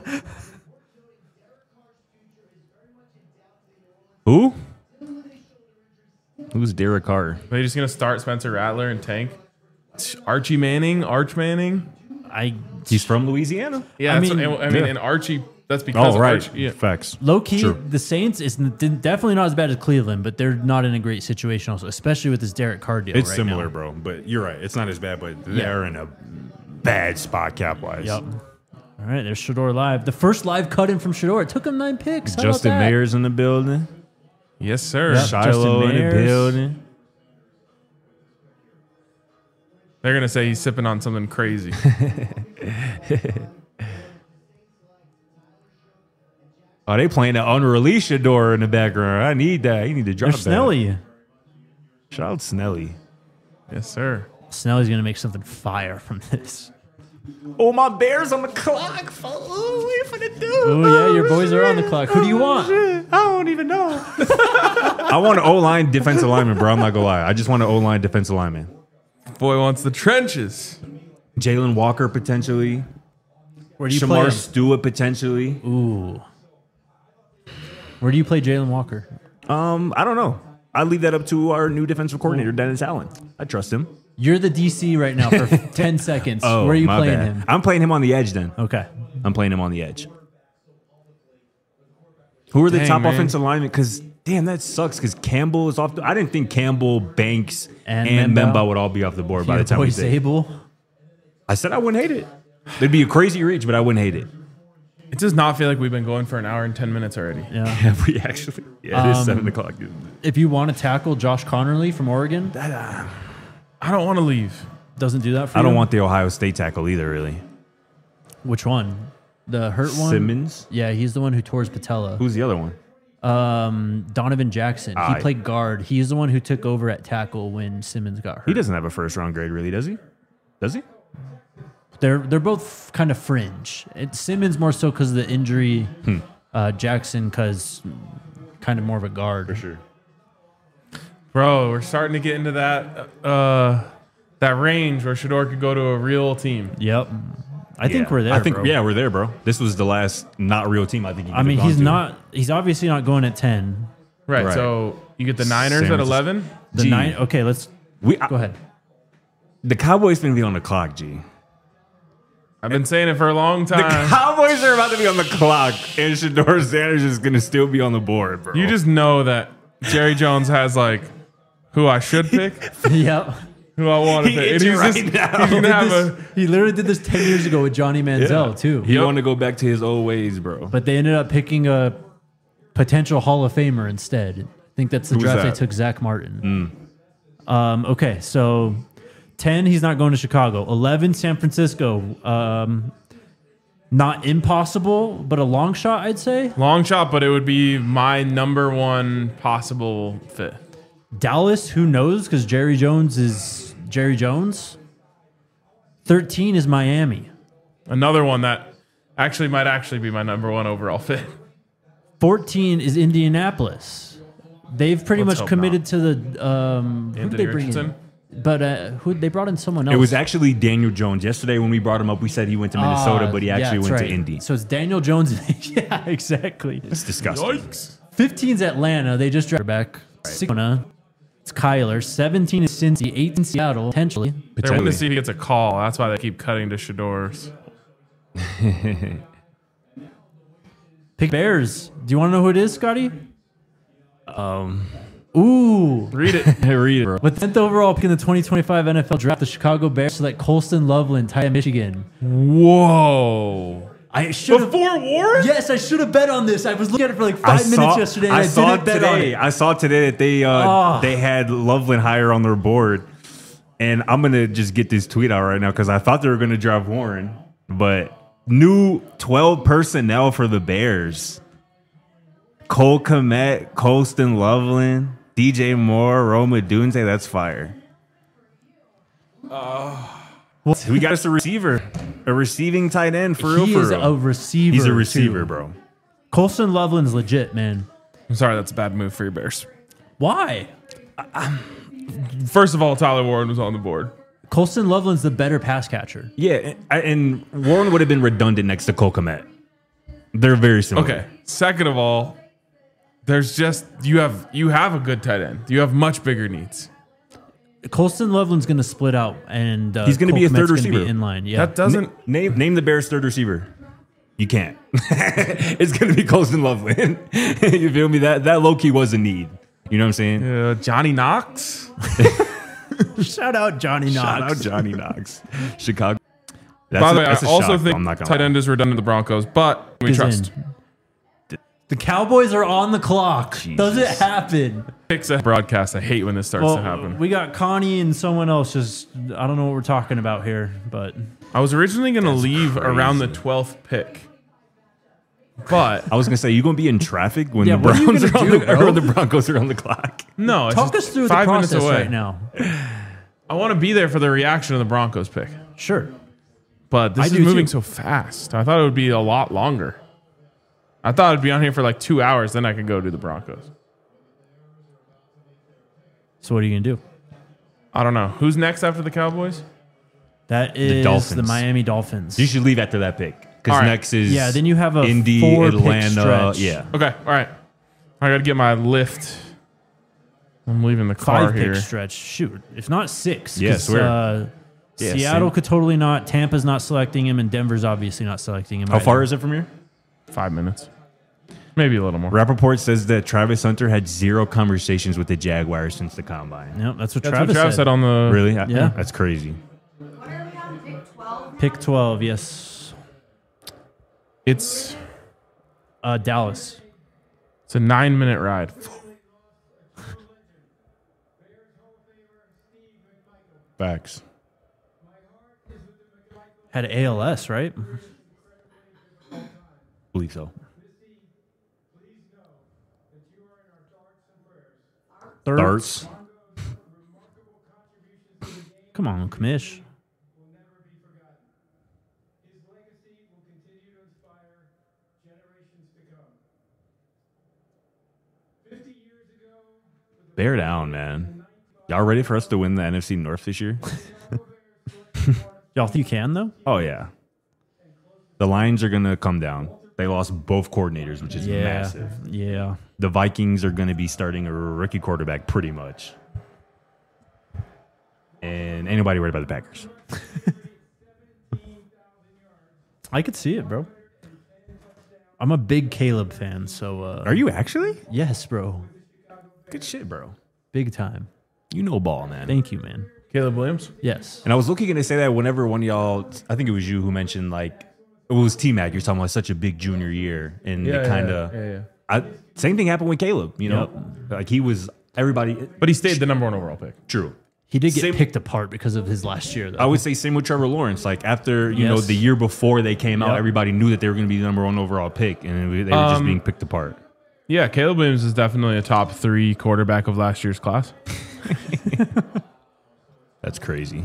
Who? Who's Derek Carr? Are they just gonna start Spencer Rattler and Tank? Archie Manning, Arch Manning. I He's from Louisiana. Yeah, I that's mean- what- I mean, Yeah. and Archie. That's because Oh of right, Archie. Yeah. facts. low key, Sure. the Saints is n- definitely not as bad as Cleveland, but they're not in a great situation, also, especially with this Derek Carr deal. It's right similar, now. bro. But you're right. It's not as bad, but Yeah. they're in a bad spot cap wise. Yep. All right, there's Shador live. The first live cut in from Shador. It took him nine picks. How Justin about that? Mayer's in the building. Yes, sir. Yep. Shiloh in the Mayers. building. They're gonna say he's sipping on something crazy. Oh, they playing the unreleased Shador in the background. I need that. You need to drop There's that. Snelly. Shout out Snelly. Yes, sir. Snelly's gonna make something fire from this. Oh, my Bears on the clock. Oh, what you finna do? Oh yeah, your boys are on the clock. Who do you want? I don't even know. I want an O-line defensive lineman, bro. I'm not gonna lie. I just want an O-line defensive lineman. Boy wants the trenches. Jalen Walker potentially. Where do you play Shamar him? Stewart potentially. Ooh. Where do you play Jalen Walker? Um, I don't know. I leave that up to our new defensive coordinator, Dennis Allen. I trust him. You're the D C right now for ten seconds. Oh, Where are you my playing bad. him? I'm playing him on the edge then. Okay. I'm playing him on the edge. Who are the Dang, top man. offensive linemen? Because damn, that sucks. Because Campbell is off. The, I didn't think Campbell, Banks, And and, Memba. Memba would all be off the board by Your the time boy we did. Zabel. I said I wouldn't hate it. It'd be a crazy reach, but I wouldn't hate it. It does not feel like we've been going for an hour and ten minutes already. Yeah. Have we actually? Yeah, it is Um, seven o'clock. isn't it? If you want to tackle Josh Connerly from Oregon, I don't want to leave. doesn't do that for I you. don't want the Ohio State tackle either, really. Which one? The hurt one? Simmons? Yeah, he's the one who tore his patella. Who's the other one? Um, Donovan Jackson. He Aye. played guard. He's the one who took over at tackle when Simmons got hurt. He doesn't have a first round grade, really, does he? Does he? They're they're both kind of fringe. It, Simmons more so because of the injury. Hmm. Uh, Jackson because kind of more of a guard. For sure. Bro, we're starting to get into that uh, that range where Shador could go to a real team. Yep. I think Yeah. we're there. I think bro. yeah, we're there, bro. This was the last not real team I think. He I mean, could've he's gone to. not. He's obviously not going at ten. Right, Right. so you get the Niners San at Francisco. eleven. The G. nine. Okay, let's We go ahead. the Cowboys gonna be on the clock, G. I've been saying it for a long The time. Cowboys are about to be on the clock, and Shador Sanders is gonna still be on the board, bro. You just know that Jerry Jones has like who I should pick, Yep. who I want to He pick. And is he's right just now. he's gonna have a He literally did this ten years ago with Johnny Manziel too. He want to go back to his old ways, bro. But they ended up picking a potential Hall of Famer instead. I think that's the Who's draft that? they took Zach Martin. Um, okay, so ten, he's not going to Chicago. eleven, San Francisco. Um, not impossible, but a long shot, I'd say. long shot, but it would be my number one possible fit. Dallas, who knows? Because Jerry Jones is Jerry Jones. thirteen is Miami. Another one that actually might actually be my number one overall fit. fourteen is Indianapolis. They've pretty Let's much hope committed to the. Um, who Anthony they bring Richardson? in? But uh, who they brought in someone else. It was actually Daniel Jones. Yesterday when we brought him up, we said he went to Minnesota, Ah, but he yeah, actually that's went right. to Indy. So it's Daniel Jones. Yeah, exactly. It's disgusting. Yikes! fifteen's Atlanta. They just drafted back. sixteen, it's Kyler. seventeen is Cincy. eighteen Seattle. Potentially. They're waiting to see if he gets a call. That's why they keep cutting to Shador's. Pick Bears. Do you want to know who it is, Scotty? Um, Ooh. Read it. read it, bro. With tenth overall pick in the twenty twenty-five N F L draft, the Chicago Bears select Colston Loveland, tight end Michigan. Whoa! I should have. Before Warren? Yes, I should have bet on this. I was looking at it for like five I minutes saw, yesterday, and I I, saw didn't bet on today. it. I saw today that they uh, Ah. they had Loveland higher on their board, and I'm gonna just get this tweet out right now because I thought they were gonna drive Warren, but new twelve personnel for the Bears: Cole Kmet, Colston Loveland, D J Moore, Roma Dunze. That's fire. We got us a receiver, a receiving tight end for real. He for is real. a receiver. He's a receiver, too. bro. Colston Loveland's legit, man. I'm sorry, that's a bad move for your Bears. Why? First of all, Tyler Warren was on the board. Colston Loveland's the better pass catcher. Yeah, and, and Warren would have been redundant next to Cole Kmet. They're very similar. Okay. Second of all, there's just you have you have a good tight end. You have much bigger needs. Colston Loveland's going to split out, and uh, He's gonna be a Cole third Kmet's gonna receiver. Be in line, yeah. That doesn't. Name name the Bears' third receiver. You can't. It's gonna be Colston Loveland. You feel me? That that low key was a need. You know what I'm saying? Uh, Johnny Knox. Shout out Johnny Knox. Shout out Johnny Knox. Chicago. That's By the a- way, I that's a also shock, think I'm not gonna tight lie. end is redundant to the Broncos, but we Is trust. in. The Cowboys are on the clock. Does it Jesus. happen? Picks a broadcast. I hate when this starts Well, to happen. we got Connie and someone else. Just I don't know what we're talking about here, but I was originally going to leave crazy. around the twelfth pick, but I was gonna say, you gonna be in traffic when Yeah, the what are you Browns gonna are on do, the, bro? or the Broncos are on the clock. no. It's talk just us through the five minutes process away. right now. I want to be there for the reaction of the Broncos pick, Sure. but this I is do moving too. so fast. I thought it would be a lot longer. I thought I'd be on here for like two hours, then I could go do the Broncos. So what are you gonna do? I don't know who's next after the Cowboys. That is the, Dolphins. Miami Dolphins. You should leave after that pick because All right. next is Yeah, then you have a Indy, four-pick Atlanta. stretch. Yeah, Okay, all right. I got to get my lift. I'm leaving the car Five here. pick stretch. Shoot, if not six. Yeah, 'cause, swear. Uh, Yeah, Seattle same. could totally not. Tampa's not selecting him, and Denver's obviously not selecting him. How far is it from here? Five minutes, maybe a little more. Rappaport says that Travis Hunter had zero conversations with the Jaguars since the combine. Yep, that's what That's Travis, what Travis said. on the. Really? Yeah. That's crazy. What are we on, pick twelve? Pick twelve. Yes. It's Uh, Dallas. it's a nine minute ride. Facts. Had A L S, right? believe so. Thirds. Darts. Come on, Kamish. Bear down, man. Y'all ready for us to win the N F C North this year? Y'all think you can, though? Oh, yeah. The Lions are going to come down. They lost both coordinators, which is Yeah. massive. Yeah. The Vikings are going to be starting a rookie quarterback pretty much. And ain't nobody worried about the Packers. I could see it, bro. I'm a big Caleb fan, so. Uh, Are you actually? Yes, bro. Good shit, bro. Big time. You know ball, man. Thank you, man. Caleb Williams. Yes. And I was looking going to say that whenever one of y'all, I think it was you who mentioned, like, it was T-Mac, you're talking about such a big junior year. And Yeah, it kind of, yeah, yeah, yeah. I same thing happened with Caleb, you know? Like, he was, everybody, But he stayed the number one overall pick. true. He did get Same- picked apart because of his last year, though. I would say same with Trevor Lawrence. Like, after, you know, Yes. the year before they came out, Yep. everybody knew that they were going to be the number one overall pick. And they were just Um, being picked apart. Yeah, Caleb Williams is definitely a top three quarterback of last year's class. That's crazy.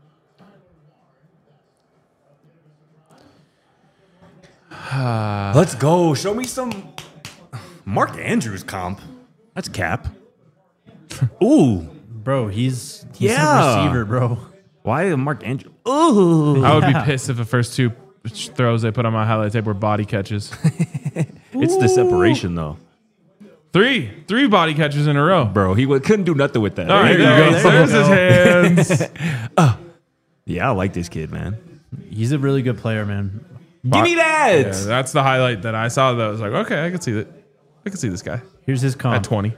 Let's go. Show me some Mark Andrews comp. That's cap. Ooh. Bro, he's, he's Yeah. a receiver, bro. Why Mark Andrews? Ooh. I would be Yeah. pissed if the first two throws they put on my highlight tape were body catches. It's the separation, though. Three, three body catches in a row. Bro, he w- couldn't do nothing with that. All right, There you there, go. there's his hands. Yeah, I like this kid, man. He's a really good player, man. Give me that. Yeah, that's the highlight that I saw. That I was like, okay, I can see that. I can see this guy Here's his at comp. twenty.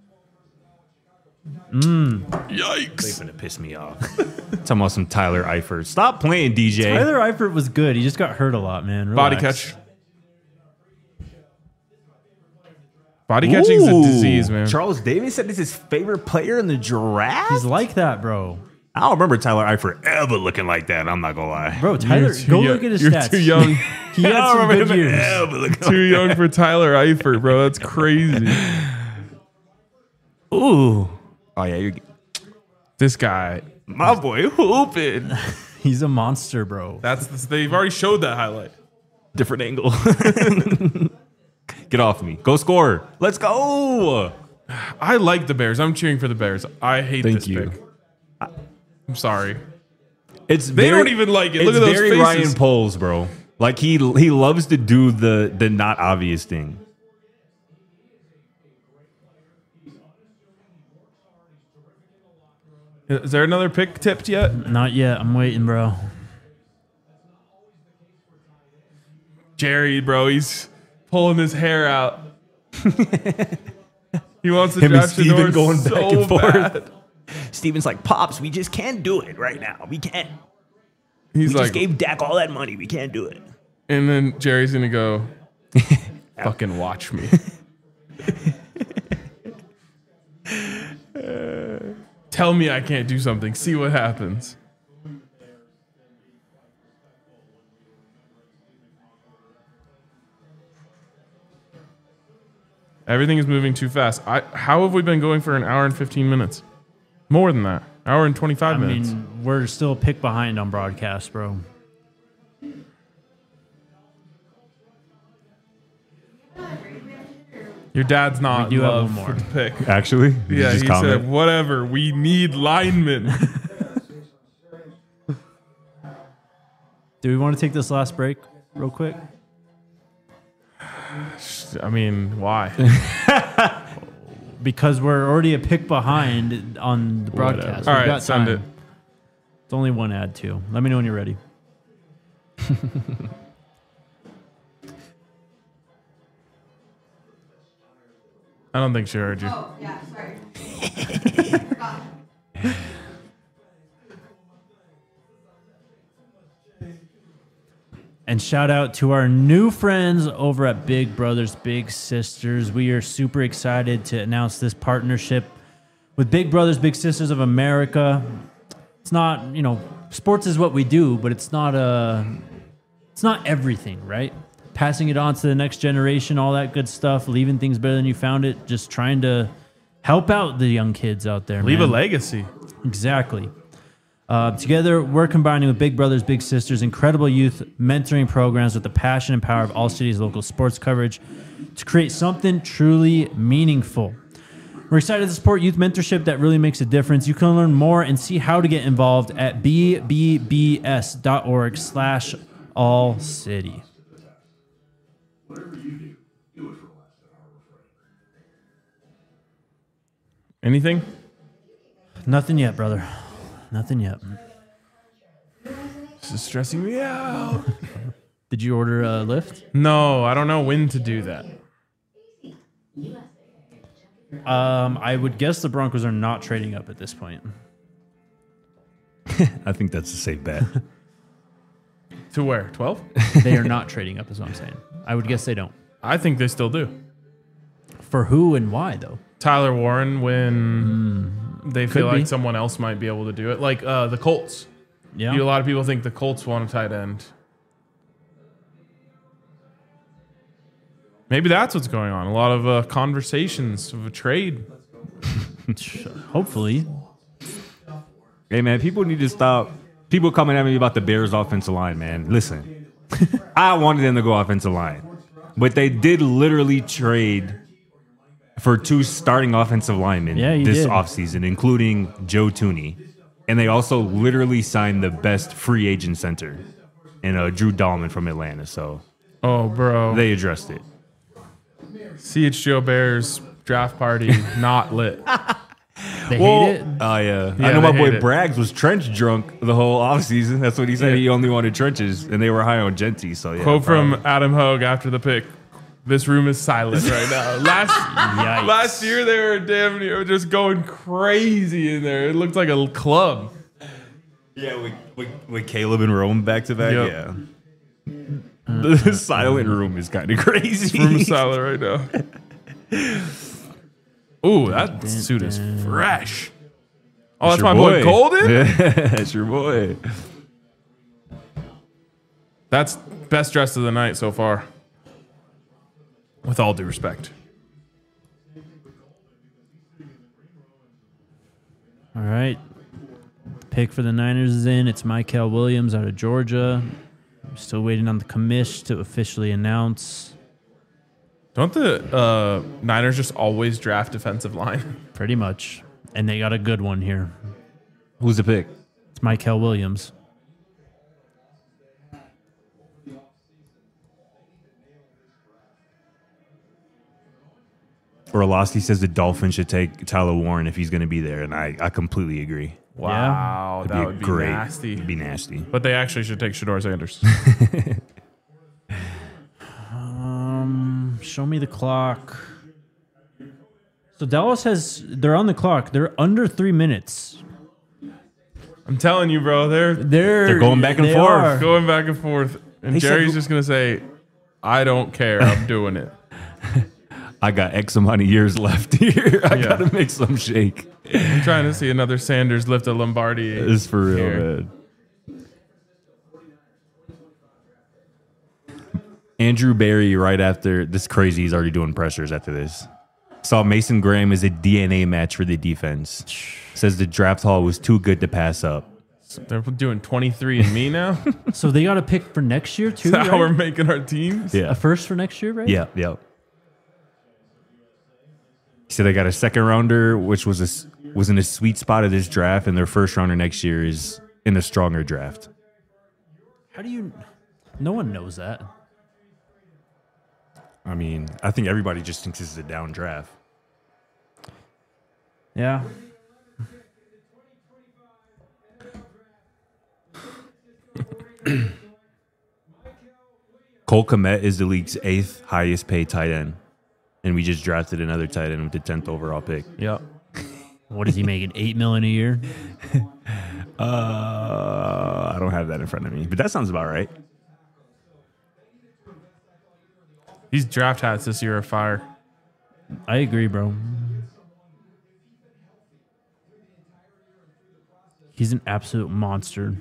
They Yikes! finna piss me off. Talking about some Tyler Eifert. Stop playing, D J. Tyler Eifert was good. He just got hurt a lot, man. Body Relax. catch. Body catching's a Ooh. disease, man. Charles Davis said this is his favorite player in the draft. He's like that, bro. I don't remember Tyler Eifert ever looking like that. I'm not gonna lie. Bro, Tyler, You're too go young- look at his you're stats. too young. He had I some don't remember good him years. ever looking Too young for Tyler Eifert, bro. That's crazy. Ooh. Oh yeah, you're This guy. my boy hooping. He's a monster, bro. That's the, they've already showed that highlight. Different angle. Get off me. Go score. Let's go. I like the Bears. I'm cheering for the Bears. I hate Thank this you. pick. I'm sorry. It's They very, don't even like it. Look it's at those very faces. Ryan Poles, bro. Like he he loves to do the the not obvious thing. Is there another pick tipped yet? Not yet. I'm waiting, bro. Jerry, bro, he's pulling his hair out. He wants to Him and draft Steven Shador going so back and forth. bad. Steven's like, Pops, we just can't do it right now. We can't. He's We like, just gave Dak all that money. We can't do it. and then Jerry's gonna go, fucking watch me. Tell me I can't do something. See what happens. Everything is moving too fast. I, how have we been going for an hour and fifteen minutes? More than that. Hour and twenty-five I minutes. mean, we're still a pick behind on broadcast, bro. Your dad's not We do in have love one for more. the pick. Actually, Did you Yeah, just he comment? said, whatever. We need linemen. Do we want to take this last break real quick? I mean, why? Because we're already a pick behind on the broadcast. Whatever. We've All right, got send time. it. It's only one ad, too. Let me know when you're ready. I don't think she heard you. Oh, yeah, sorry. Forgot. And shout out to our new friends over at Big Brothers Big Sisters. We are super excited to announce this partnership with Big Brothers Big Sisters of America. It's not, you know, sports is what we do, but it's not a, it's not everything, right? Passing it on to the next generation, all that good stuff, leaving things better than you found it, just trying to help out the young kids out there. Leave man. a legacy. Exactly. Uh, together, we're combining with Big Brothers Big Sisters incredible youth mentoring programs with the passion and power of All City's local sports coverage to create something truly meaningful. We're excited to support youth mentorship that really makes a difference. You can learn more and see how to get involved at b b b s dot org slash all city. Anything? Nothing yet, brother. Nothing yet. This is stressing me out. Did you order a Lyft? No, I don't know when to do that. Um, I would guess the Broncos are not trading up at this point. I think that's a safe bet. To where? twelve? They are not trading up, is what I'm saying. I would guess they don't. I think they still do. For who and why, though? Tyler Warren when they feel Could like be. someone else might be able to do it. Like uh, the Colts. Yeah. You, a lot of people think the Colts want a tight end. Maybe that's what's going on. A lot of uh, conversations of a trade. Hopefully. Hey, man, people need to stop. People coming at me about the Bears offensive line, man. Listen, I wanted them to go offensive line, but they did literally trade for two starting offensive linemen Yeah, you this did. offseason, including Joe Tooney. And they also literally signed the best free agent center in uh, Drew Dahlman from Atlanta. So Oh, bro. they addressed it. C H G O Bears draft party not lit. They Well, hate it. Oh, yeah. Yeah, I know my they boy hate it. Braggs was trench drunk the whole offseason. That's what he said. Yeah. He only wanted trenches, and they were high on Genty. So, yeah. Quote probably. from Adam Hogue after the pick. This room is silent right now. Last Yikes. last year they were damn near just going crazy in there. It looked like a club. Yeah, with, with, with Caleb and Rome back to back. Yep. Yeah. The silent room is kind of crazy. Room is silent right now. Ooh, that suit is fresh. Oh, that's, your my boy, Golden? Yeah, that's your boy. That's best dress of the night so far. With all due respect. All right. Pick for the Niners is in. It's Michael Williams out of Georgia. I'm still waiting on the commish to officially announce. Don't the uh, Niners just always draft defensive line? Pretty much. And they got a good one here. Who's the pick? It's Michael Williams. Orlowski says the Dolphins should take Tyler Warren if he's going to be there, and I, I completely agree. Wow, It'd that be would be great. nasty. It'd be nasty. But they actually should take Shador Sanders. Um, show me the clock. So Dallas has, they're on the clock. They're under three minutes. I'm telling you, bro, they're They're, They're going back and they forth. are. going back and forth. And They said- Jerry's just going to say, I don't care. I'm doing it. I got X amount of years left here. I Yeah. got to make some shake. I'm trying to see another Sanders lift a Lombardi. It's for real, here. man. Andrew Barry, right after this, crazy. He's already doing pressers after this. Saw Mason Graham as a D N A match for the defense. Says the draft haul was too good to pass up. They're doing twenty-three and me now. So they got a pick for next year too, That's how we're right? making our teams. A first for next year, right? Yeah, yeah. He said they got a second rounder, which was a, s- was in a sweet spot of this draft, and their first rounder next year is in a stronger draft. How do you? No one knows that. I mean, I think everybody just thinks this is a down draft. Yeah. Cole Kmet is the league's eighth highest paid tight end, and we just drafted another tight end with the tenth overall pick. Yep. What is he making? Eight million a year? Uh, I don't have that in front of me, but that sounds about right. These draft hats this year are fire. I agree, bro. He's an absolute monster.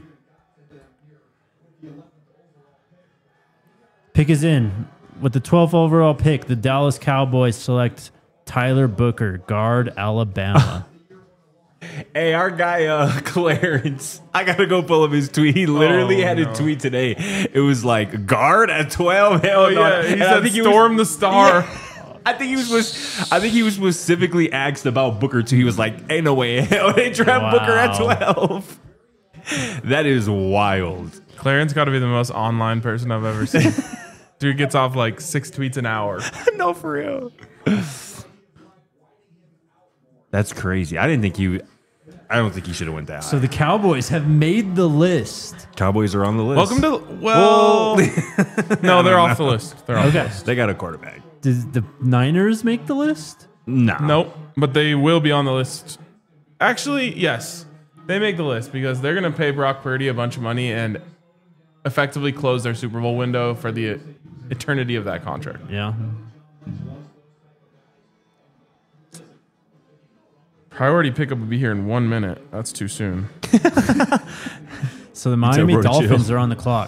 Pick is in. With the twelfth overall pick, the Dallas Cowboys select Tyler Booker, guard, Alabama. Hey, our guy uh, Clarence, I gotta go pull up his tweet. He literally Oh, had no. a tweet today. It was like guard at twelve. Hell Oh no. yeah, he And I said think he was- storm the star. Yeah. I think he was. was- I think he was specifically asked about Booker too. He was like, "Ain't no way in hell they draft Booker at Wow. twelve." That is wild. Clarence got to be the most online person I've ever seen. Dude gets off like six tweets an hour. No, for real. That's crazy. I didn't think he. I don't think he should have went that high. So the Cowboys have made the list. Cowboys are on the list. Welcome to well, no, they're off the list. They're off. Okay. They got a quarterback. Did the Niners make the list? Nah. Nope, but they will be on the list. Actually, yes, they make the list because they're going to pay Brock Purdy a bunch of money and effectively close their Super Bowl window for the eternity of that contract. Yeah. Priority pickup will be here in one minute. That's too soon. So the Miami bro, chill. Dolphins are on the clock.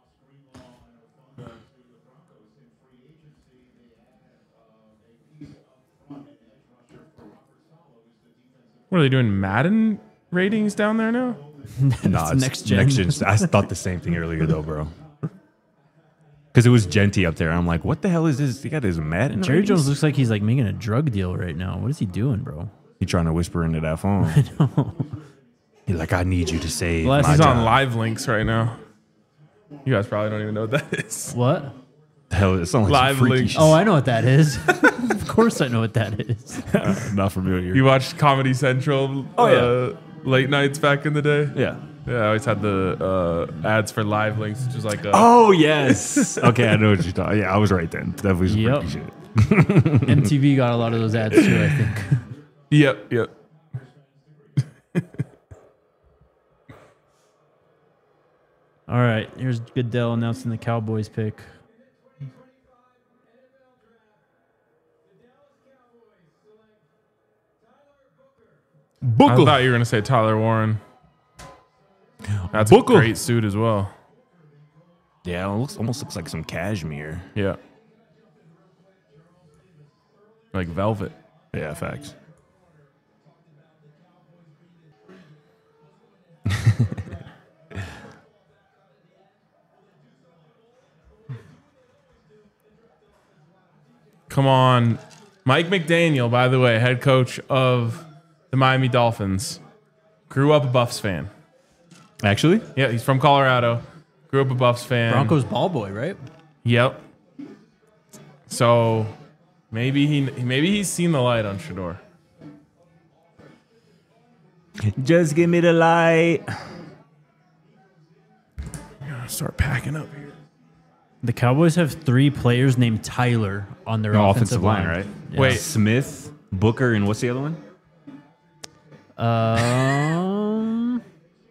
What are they doing? Madden ratings down there now? Nah, It's it's next gen. Next gen. I thought the same thing earlier though, bro. Because it was Genty up there. I'm like, what the hell is this? He got his Madden. Jerry ratings? Jones looks like he's like making a drug deal right now. What is he doing, bro? He trying to whisper into that phone. He's like, I need you to save Well, my He's job. on live links right now. You guys probably don't even know what that is. What? The hell, it sounds like Live some freaky links. shit. Oh, I know what that is. Of course I know what that is. Not familiar. You watched Comedy Central Oh, yeah. uh, late nights back in the day? yeah. Yeah, I always had the uh, ads for live links, which is like a, Oh yes. Okay, I know what you're talking. Yeah, I was right then. Definitely some Yep. freaky shit. M T V got a lot of those ads too, I think. Yep, yep. All right, here's Goodell announcing the Cowboys pick. I thought you were gonna say Tyler Warren. That's Booker. a great suit as well. Yeah, it looks almost looks like some cashmere. Yeah, like velvet. Yeah, facts. Come on, Mike McDaniel. By the way, head coach of the Miami Dolphins, grew up a Buffs fan. Actually, Yeah, he's from Colorado. Grew up a Buffs fan. Broncos ball boy, right? Yep. So maybe he maybe he's seen the light on Shador. just give me the light. Start packing up here. The Cowboys have three players named Tyler on their offensive, line, right? Yeah. Wait. Smith, Booker, and what's the other one? Um,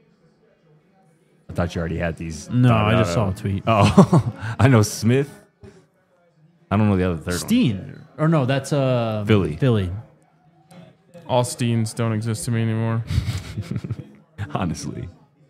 I thought you already had these. no, thought I out. just saw a tweet. Oh, I know Smith. I don't know the other third Steen. Or no, that's uh Philly. Philly. All Steens don't exist to me anymore. one. Honestly,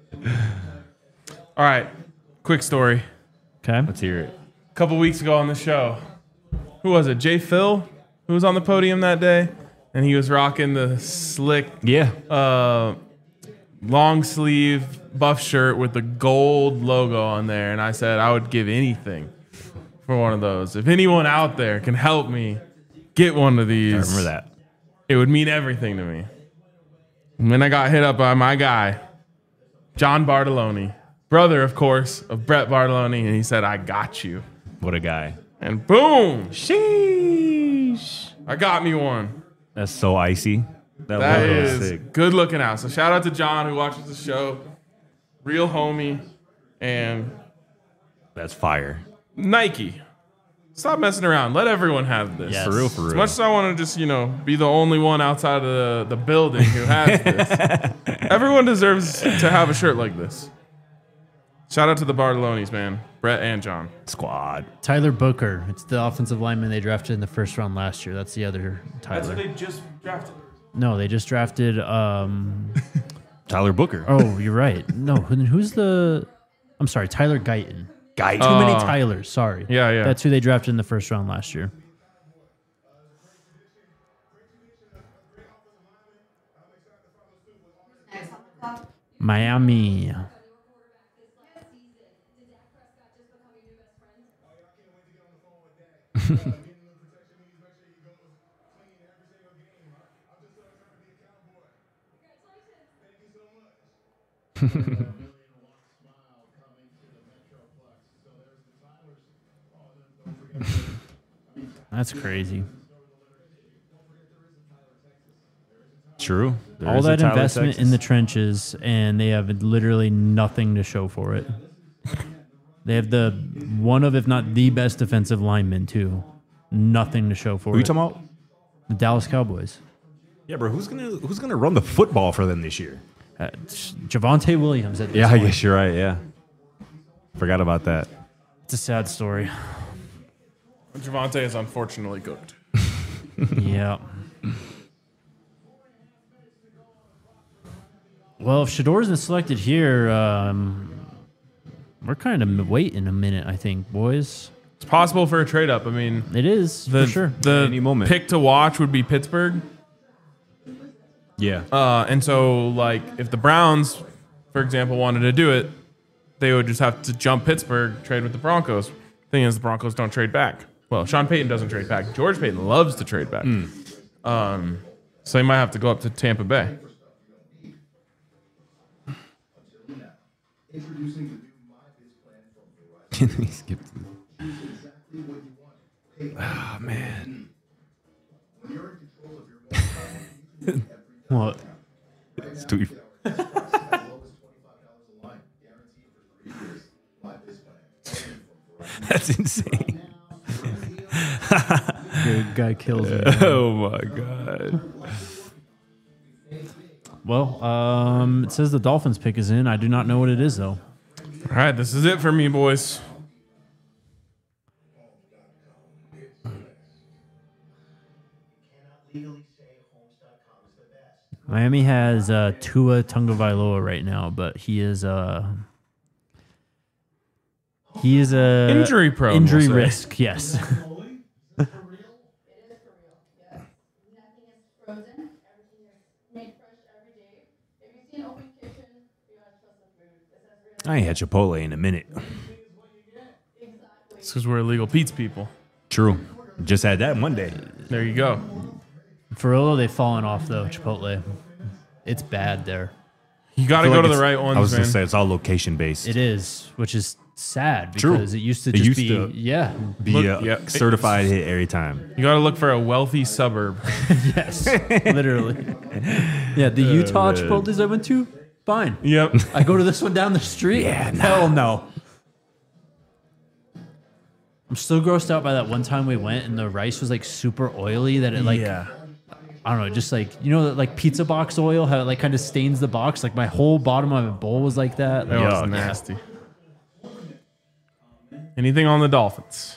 All right, quick story. Okay. let's hear it. A couple weeks ago on the show, who was it? Jay Phil, who was on the podium that day, and he was rocking the slick, Yeah, uh, long sleeve buff shirt with the gold logo on there. And I said I would give anything for one of those. If anyone out there can help me get one of these, I remember that. it would mean everything to me. And then I got hit up by my guy, John Bartoloni, brother, of course, of Brett Bartoloni, and he said, I got you. What a guy. And boom, Sheesh. I got me one. That's so icy. That, That logo is sick. good looking out. So shout out to John who watches the show. Real homie. And That's fire. Nike. Stop messing around. Let everyone have this. Yes. For real, for As real. much as I want to just, you know, be the only one outside of the, the building who has this, everyone deserves to have a shirt like this. Shout out to the Bartolonis, man. Brett and John. Squad. Tyler Booker. It's the offensive lineman they drafted in the first round last year. That's the other Tyler. just drafted. No, they just drafted. Um, Tyler Booker. oh, you're right. No, who, who's the? I'm sorry, Tyler Guyton. Guy. Too many Oh. Tylers. Sorry. Yeah, yeah. That's who they drafted in the first round last year. Next on the clock. Miami. That's crazy. True. There All is a that Tyler, investment Texas. in the trenches, and they have literally nothing to show for it. They have the one of, if not the best defensive lineman, too. Nothing to show for Who you it. talking about? The Dallas Cowboys. Yeah, bro. Who's gonna Who's gonna run the football for them this year? Uh, Javonte Williams at this Yeah, I point. guess you're right. Yeah, forgot about that. It's a sad story. Javante is unfortunately cooked. Yeah. Well, if Shador isn't selected here, um, we're kind of waiting a minute, I think, boys. It's possible for a trade up. I mean, It is, the, for sure. the Any moment. pick to watch would be Pittsburgh. Yeah. Uh, and so, like, if the Browns, for example, wanted to do it, they would just have to jump Pittsburgh, trade with the Broncos. Thing is, the Broncos don't trade back. Well, Sean Payton doesn't trade back. George Payton loves to trade back. Um, so they might have to go up to Tampa Bay. He skipped. Oh man. What? It's too. That's insane. Good guy kills me. Oh my god. Well, um, it says the Dolphins pick is in. I do not know what it is, though. All right, this is it for me, boys. Miami has uh, Tua Tagovailoa right now, but he is uh, he is a Injury prone, injury we'll say. risk. Yes. It is for real. Yes. Nothing is frozen. Everything is made fresh every day. If you see an open kitchen, you gotta trust the food. This is real. I ain't had Chipotle in a minute. Exactly. It's because we're illegal Pete's people. True. Just had that Monday. There you go. For real, though, they've fallen off though. Chipotle, it's bad there. You got to I go feel to like the it's- right ones, I was man. gonna say it's all location based. It is, which is sad True. because it used to It just used be to- yeah, Be Look, a yeah. certified hit every time. You got to look for a wealthy suburb. yes, literally. Yeah, the Utah man. Chipotles I went to, fine. Yep. I go to this one down the street. Yeah, nah. Hell no. I'm still grossed out by that one time we went and the rice was like super oily that it like yeah. I don't know, just like you know like pizza box oil, how it like kind of stains the box. Like my whole bottom of my bowl was like that. That Like, was nasty. Anything on the Dolphins?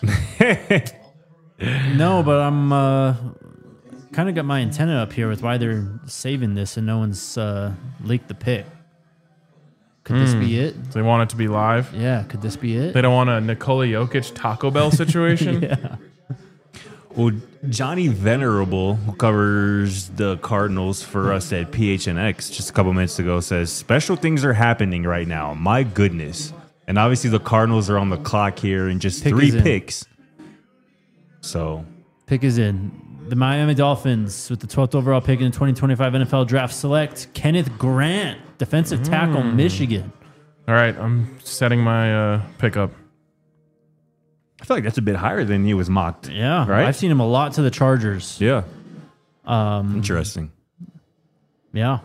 no, but I'm uh, kind of got my antenna up here with why they're saving this and no one's uh, leaked the pick. Could this be it? They want it to be live. Yeah, could this be it? They don't want a Nikola Jokic Taco Bell situation. yeah. Well, Johnny Venerable, who covers the Cardinals for us at P H N X just a couple minutes ago, says special things are happening right now. My goodness. And obviously the Cardinals are on the clock here in just Pick three is in. picks. So Pick is in. The Miami Dolphins with the twelfth overall pick in the twenty twenty-five N F L Draft select Kenneth Grant, defensive tackle, Michigan. All right, I'm setting my uh, pickup. I feel like that's a bit higher than he was mocked. Yeah, Right? I've seen him a lot to the Chargers. Yeah. Um, Interesting. yeah.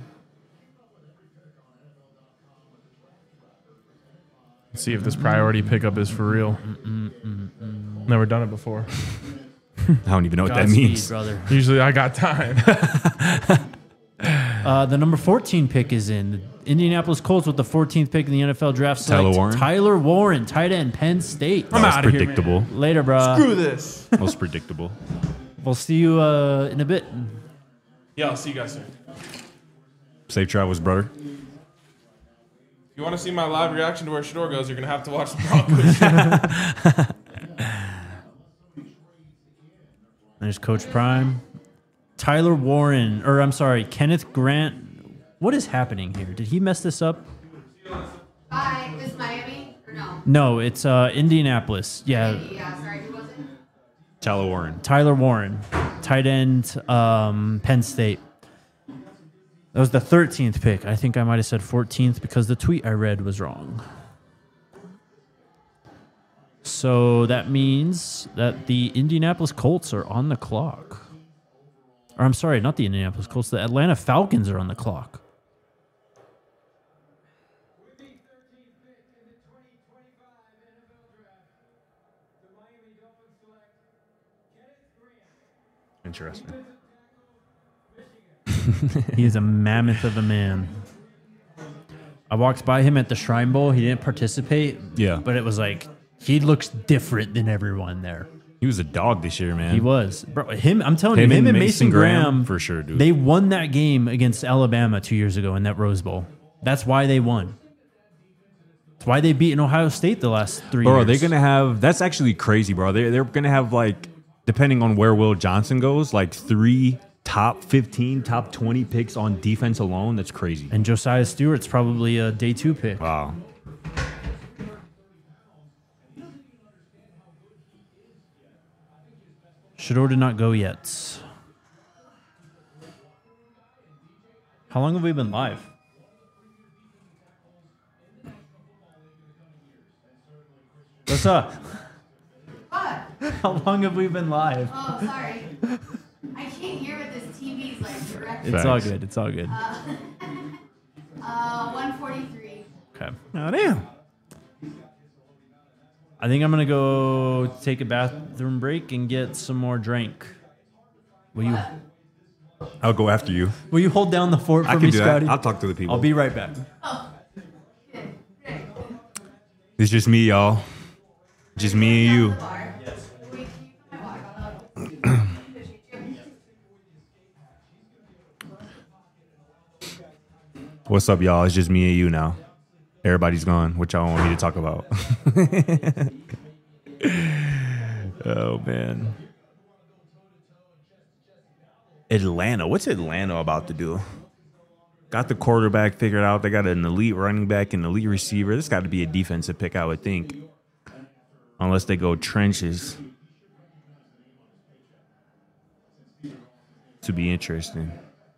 Let's see if this priority pickup is for real. Never done it before. I don't even know what that Godspeed, means. brother. Usually I got time. Uh, the number fourteen pick is in. The Indianapolis Colts with the fourteenth pick in the N F L draft. Select Tyler Warren? Tyler Warren, tight end, Penn State. I'm That was outta here, predictable. Later, bro. Screw this. Most predictable. We'll see you uh, in a bit. Yeah, I'll see you guys soon. Safe travels, brother. If you want to see my live reaction to where Shador goes, you're going to have to watch the Broncos. There's Coach Prime. Tyler Warren, or I'm sorry, Kenneth Grant. What is happening here? Did he mess this up? Hi, this is Miami or no? No, it's uh, Indianapolis. Yeah, Yeah, sorry, who was it? Tyler Warren. Tyler Warren, tight end, um, Penn State. That was the thirteenth pick. I think I might have said fourteenth because the tweet I read was wrong. So that means that the Indianapolis Colts are on the clock. Or I'm sorry, not the Indianapolis Colts. The Atlanta Falcons are on the clock. Interesting. He is a mammoth of a man. I walked by him at the Shrine Bowl. He didn't participate. Yeah. But it was like, he looks different than everyone there. He was a dog this year, man. He was. Bro, him, I'm telling Him you, him and and Mason, Mason Graham, Graham, for sure, dude. They won that game against Alabama two years ago in that Rose Bowl. That's why they won. That's why they beat in Ohio State the last three Bro, years. they're going to have, that's actually crazy, bro. They're, they're going to have, like, depending on where Will Johnson goes, like three top fifteen, top twenty picks on defense alone. That's crazy. And Josiah Stewart's probably a day two pick. Wow. Shador did not go yet. How long have we been live? What's up? What? How long have we been live? Oh, sorry. I can't hear what this T V's like directly. It's all Thanks. good. It's all good. Uh, one forty-three. Okay. Oh, damn. I think I'm gonna go take a bathroom break and get some more drink. Will you? I'll go after you. Will you hold down the fort for I me, can do Scotty? that. I'll talk to the people. I'll be right back. It's just me, y'all. Just me and you. What's up, y'all? It's just me and you now. Everybody's gone. What y'all want me to talk about? Oh, man. Atlanta. What's Atlanta about to do? Got the quarterback figured out. They got an elite running back and elite receiver. This got to be a defensive pick, I would think. Unless they go trenches. To be interesting.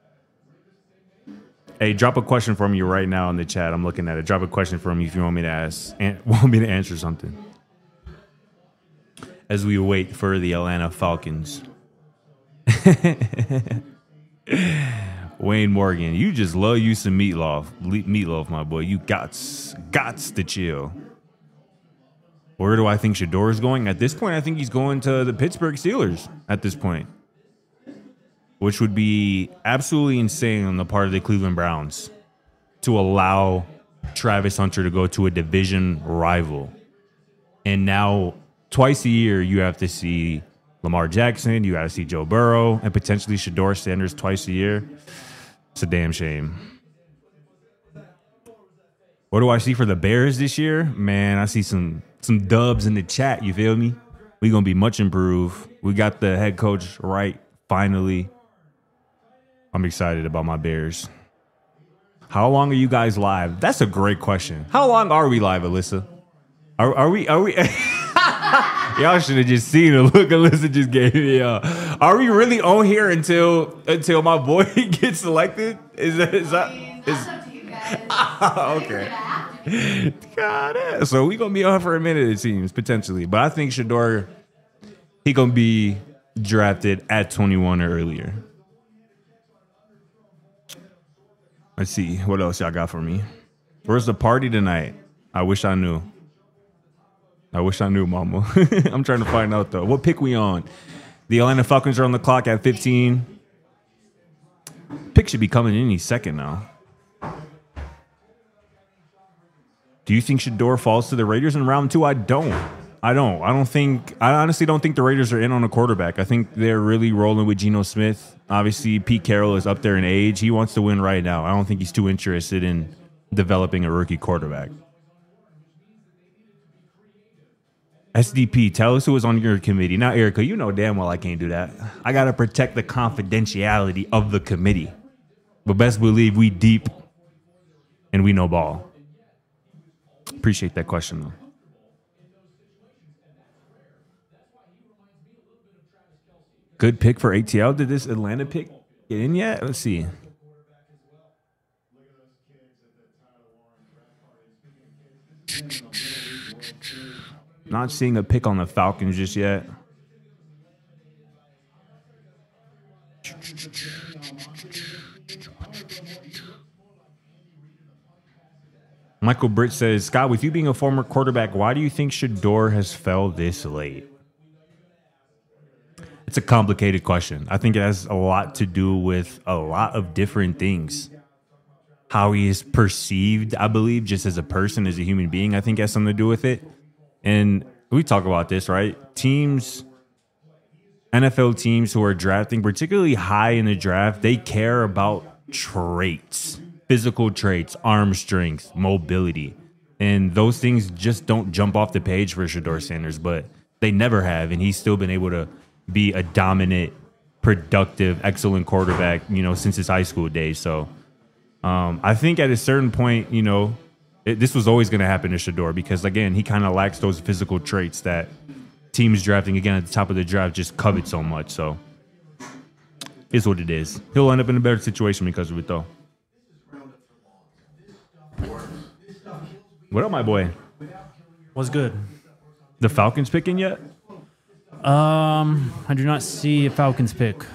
Hey, drop a question for me right now in the chat. I'm looking at it. Drop a question for me if you want me to ask, and want me to answer something. As we wait for the Atlanta Falcons. Wayne Morgan, you just love you some meatloaf. Le- meatloaf, my boy. You gots, gots to chill. Where do I think Shador is going? At this point, I think he's going to the Pittsburgh Steelers at this point. Which would be absolutely insane on the part of the Cleveland Browns to allow Travis Hunter to go to a division rival. And now, twice a year, you have to see Lamar Jackson, you got to see Joe Burrow, and potentially Shador Sanders twice a year. It's a damn shame. What do I see for the Bears this year? Man, I see some some dubs in the chat, you feel me? We're going to be much improved. We got the head coach right, finally. I'm excited about my Bears. How long are you guys live? That's a great question. How long are we live, Alyssa? Are, are we? Are we? Y'all should have just seen the look Alyssa just gave me. Uh, are we really on here until until my boy gets selected? Is that is that? I mean, Is, that's up to you guys. okay. Have to be. God, eh. So we gonna be on for a minute, it seems, potentially. But I think Shador, he gonna be drafted at twenty-one or earlier. Let's see what else y'all got for me. Where's the party tonight? I wish I knew. I wish I knew, mama. I'm trying to find out though. What pick we on? The Atlanta Falcons are on the clock at fifteen. Pick should be coming in any second now. Do you think Shador falls to the Raiders in round two? I don't. I don't. I don't think. I honestly don't think the Raiders are in on a quarterback. I think they're really rolling with Geno Smith. Obviously, Pete Carroll is up there in age. He wants to win right now. I don't think he's too interested in developing a rookie quarterback. S D P, tell us who was on your committee. Now, Erica, you know damn well I can't do that. I got to protect the confidentiality of the committee. But best believe we deep and we know ball. Appreciate that question, though. Good pick for A T L. Did this Atlanta pick get in yet? Let's see. Not seeing a pick on the Falcons just yet. Michael Britt says, Scott, with you being a former quarterback, why do you think Shador has fell this late? It's a complicated question. I think it has a lot to do with a lot of different things. How he is perceived, I believe, just as a person, as a human being, I think has something to do with it. And we talk about this, right? Teams, N F L teams who are drafting, particularly high in the draft, they care about traits, physical traits, arm strength, mobility. And those things just don't jump off the page for Shador Sanders, but they never have. And he's still been able to be a dominant, productive, excellent quarterback, you know, since his high school days. So um, I think at a certain point, you know, It, this was always going to happen to Shador because, again, he kind of lacks those physical traits that teams drafting, again, at the top of the draft just covet so much. So, it's what it is. He'll end up in a better situation because of it, though. What up, my boy? What's good? The Falcons picking yet? Um, I do not see a Falcons pick.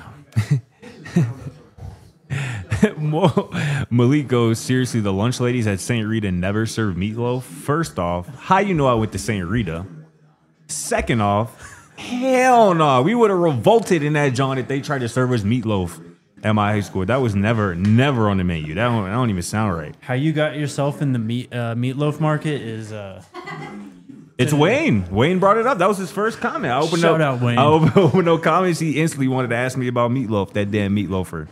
Malik goes, seriously, the lunch ladies at Saint Rita never serve meatloaf? First off, how you know I went to Saint Rita? Second off, hell no. We would have revolted in that joint if they tried to serve us meatloaf at my high school. That was never, never on the menu. That don't, that don't even sound right. How you got yourself in the meat uh, meatloaf market is... Uh, it's Wayne. Wayne brought it up. That was his first comment. I opened Shout up, out, Wayne. I opened, opened no comments. He instantly wanted to ask me about meatloaf, that damn meatloafer.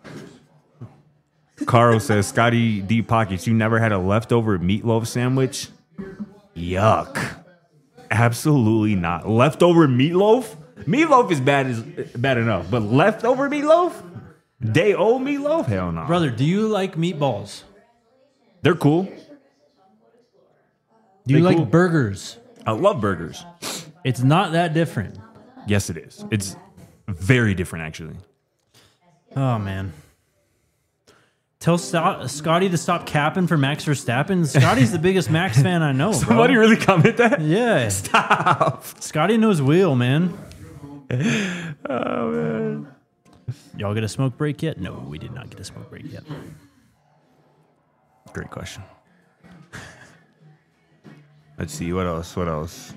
Carl says, Scotty Deep Pockets, you never had a leftover meatloaf sandwich? Yuck. Absolutely not. Leftover meatloaf? Meatloaf is bad is bad enough, but leftover meatloaf? Day old meatloaf? Hell no. brother, do you like meatballs? They're cool. Do you They like cool. burgers? I love burgers. It's not that different. Yes, it is. It's very different, actually. Oh, man. Tell Sto- Scotty to stop capping for Max Verstappen. Scotty's the biggest Max fan I know, bro. Somebody really comment that? Yeah. Stop. Scotty knows wheel, man. Oh, man. Y'all get a smoke break yet? No, we did not get a smoke break yet. Great question. Let's see. What else? What else?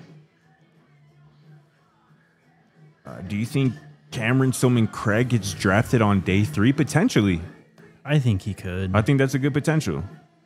Uh, do you think Cameron Stillman Craig gets drafted on day three? Potentially. I think he could. I think that's a good potential.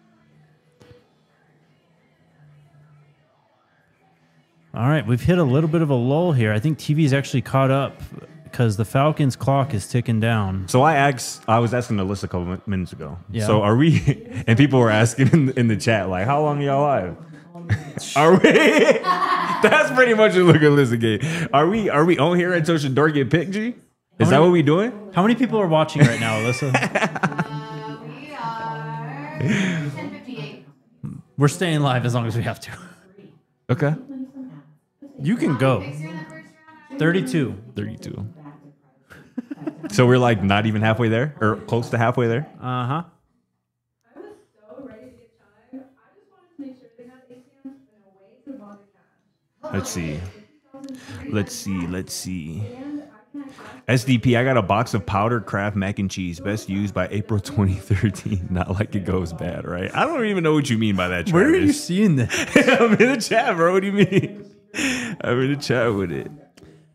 All right, we've hit a little bit of a lull here. I think T V's actually caught up because the Falcons' clock is ticking down. So I asked, I was asking Alyssa a couple minutes ago. Yeah. So are we, and people were asking in, in the chat, like, how long are y'all live? Are we? That's pretty much a look at Alyssa game. Are we, are we on here until Shador get picked, G? Is many- that what we doing? How many people are watching right now, Alyssa? We are ten fifty-eight. We're staying live as long as we have to. Okay. You can go. thirty-two. thirty-two. So we're like not even halfway there, or close to halfway there. Uh huh. I was so ready to get time. I just wanted to make sure they had A T Ms and a way to bother cash. Let's see. Let's see. Let's see. S D P, I got a box of powdered Kraft mac and cheese, best used by April twenty thirteen. Not like it goes bad, right? I don't even know what you mean by that, Travis. Where are you seeing this? I'm in the chat, bro. What do you mean? I'm in the chat with it.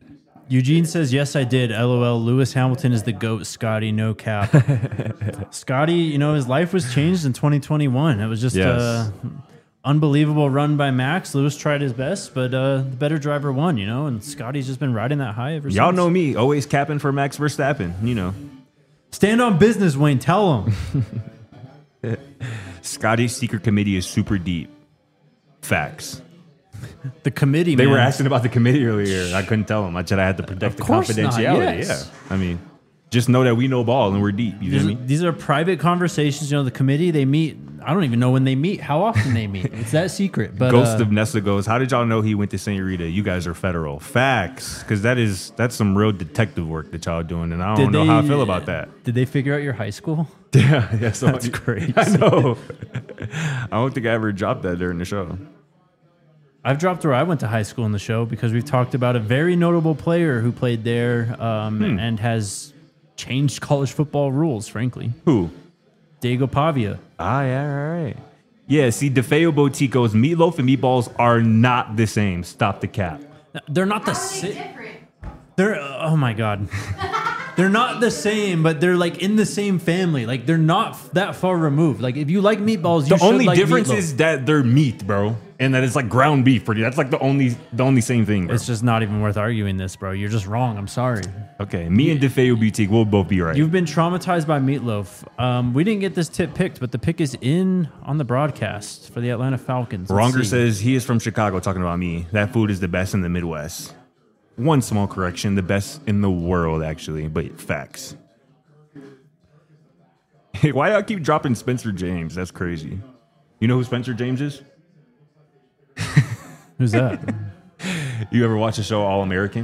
Eugene says, yes, I did. LOL. Lewis Hamilton is the GOAT, Scotty. No cap. Scotty, you know, his life was changed in twenty twenty-one. It was just Yes. a unbelievable run by Max. Lewis tried his best, but uh, the better driver won, you know, and Scotty's just been riding that high ever since. Y'all know me, always capping for Max Verstappen. You know, Stand on business, Wayne. Tell him. Scotty's secret committee is super deep. Facts. The committee, They man. were asking about the committee earlier. I couldn't tell them. I said I had to protect Of the course not, confidentiality. yes. Yeah. I mean, just know that we know ball and we're deep. You These, know me? these are private conversations. You know, the committee, they meet. I don't even know when they meet, how often they meet. It's that secret. But Ghost uh, of Nessa goes, how did y'all know he went to Saint Rita? You guys are federal. Facts. Because that is that's some real detective work that y'all doing. And I don't did know how I they- feel about that. Did they figure out your high school? Yeah, yeah, so That's crazy. I know. I don't think I ever dropped that during the show. I've dropped where I went to high school in the show because we've talked about a very notable player who played there um, Hmm. and has changed college football rules, frankly. Who? Diego Pavia. Ah, yeah, all right. Yeah, see, DeFeo Boutique goes, meatloaf and meatballs are not the same. Stop the cap. They're not the How are they same. different? They're oh my god. They're not the same, but they're like in the same family. Like they're not f- that far removed. Like if you like meatballs, you The should only like difference meatloaf. is that they're meat, bro, and that it's like ground beef for you. That's like the only the only same thing, bro. It's just not even worth arguing this, bro. You're just wrong. I'm sorry. Okay, me and DeFeo Boutique will both be right. You've been traumatized by meatloaf. Um, we didn't get this tip picked, but the pick is in on the broadcast for the Atlanta Falcons. Let's Ronger see. says he is from Chicago, talking about me. That food is the best in the Midwest. One small correction, the best in the world, actually, but facts. Why do I keep dropping Spencer James? That's crazy. You know who Spencer James is? Who's that? You ever watch the show All American?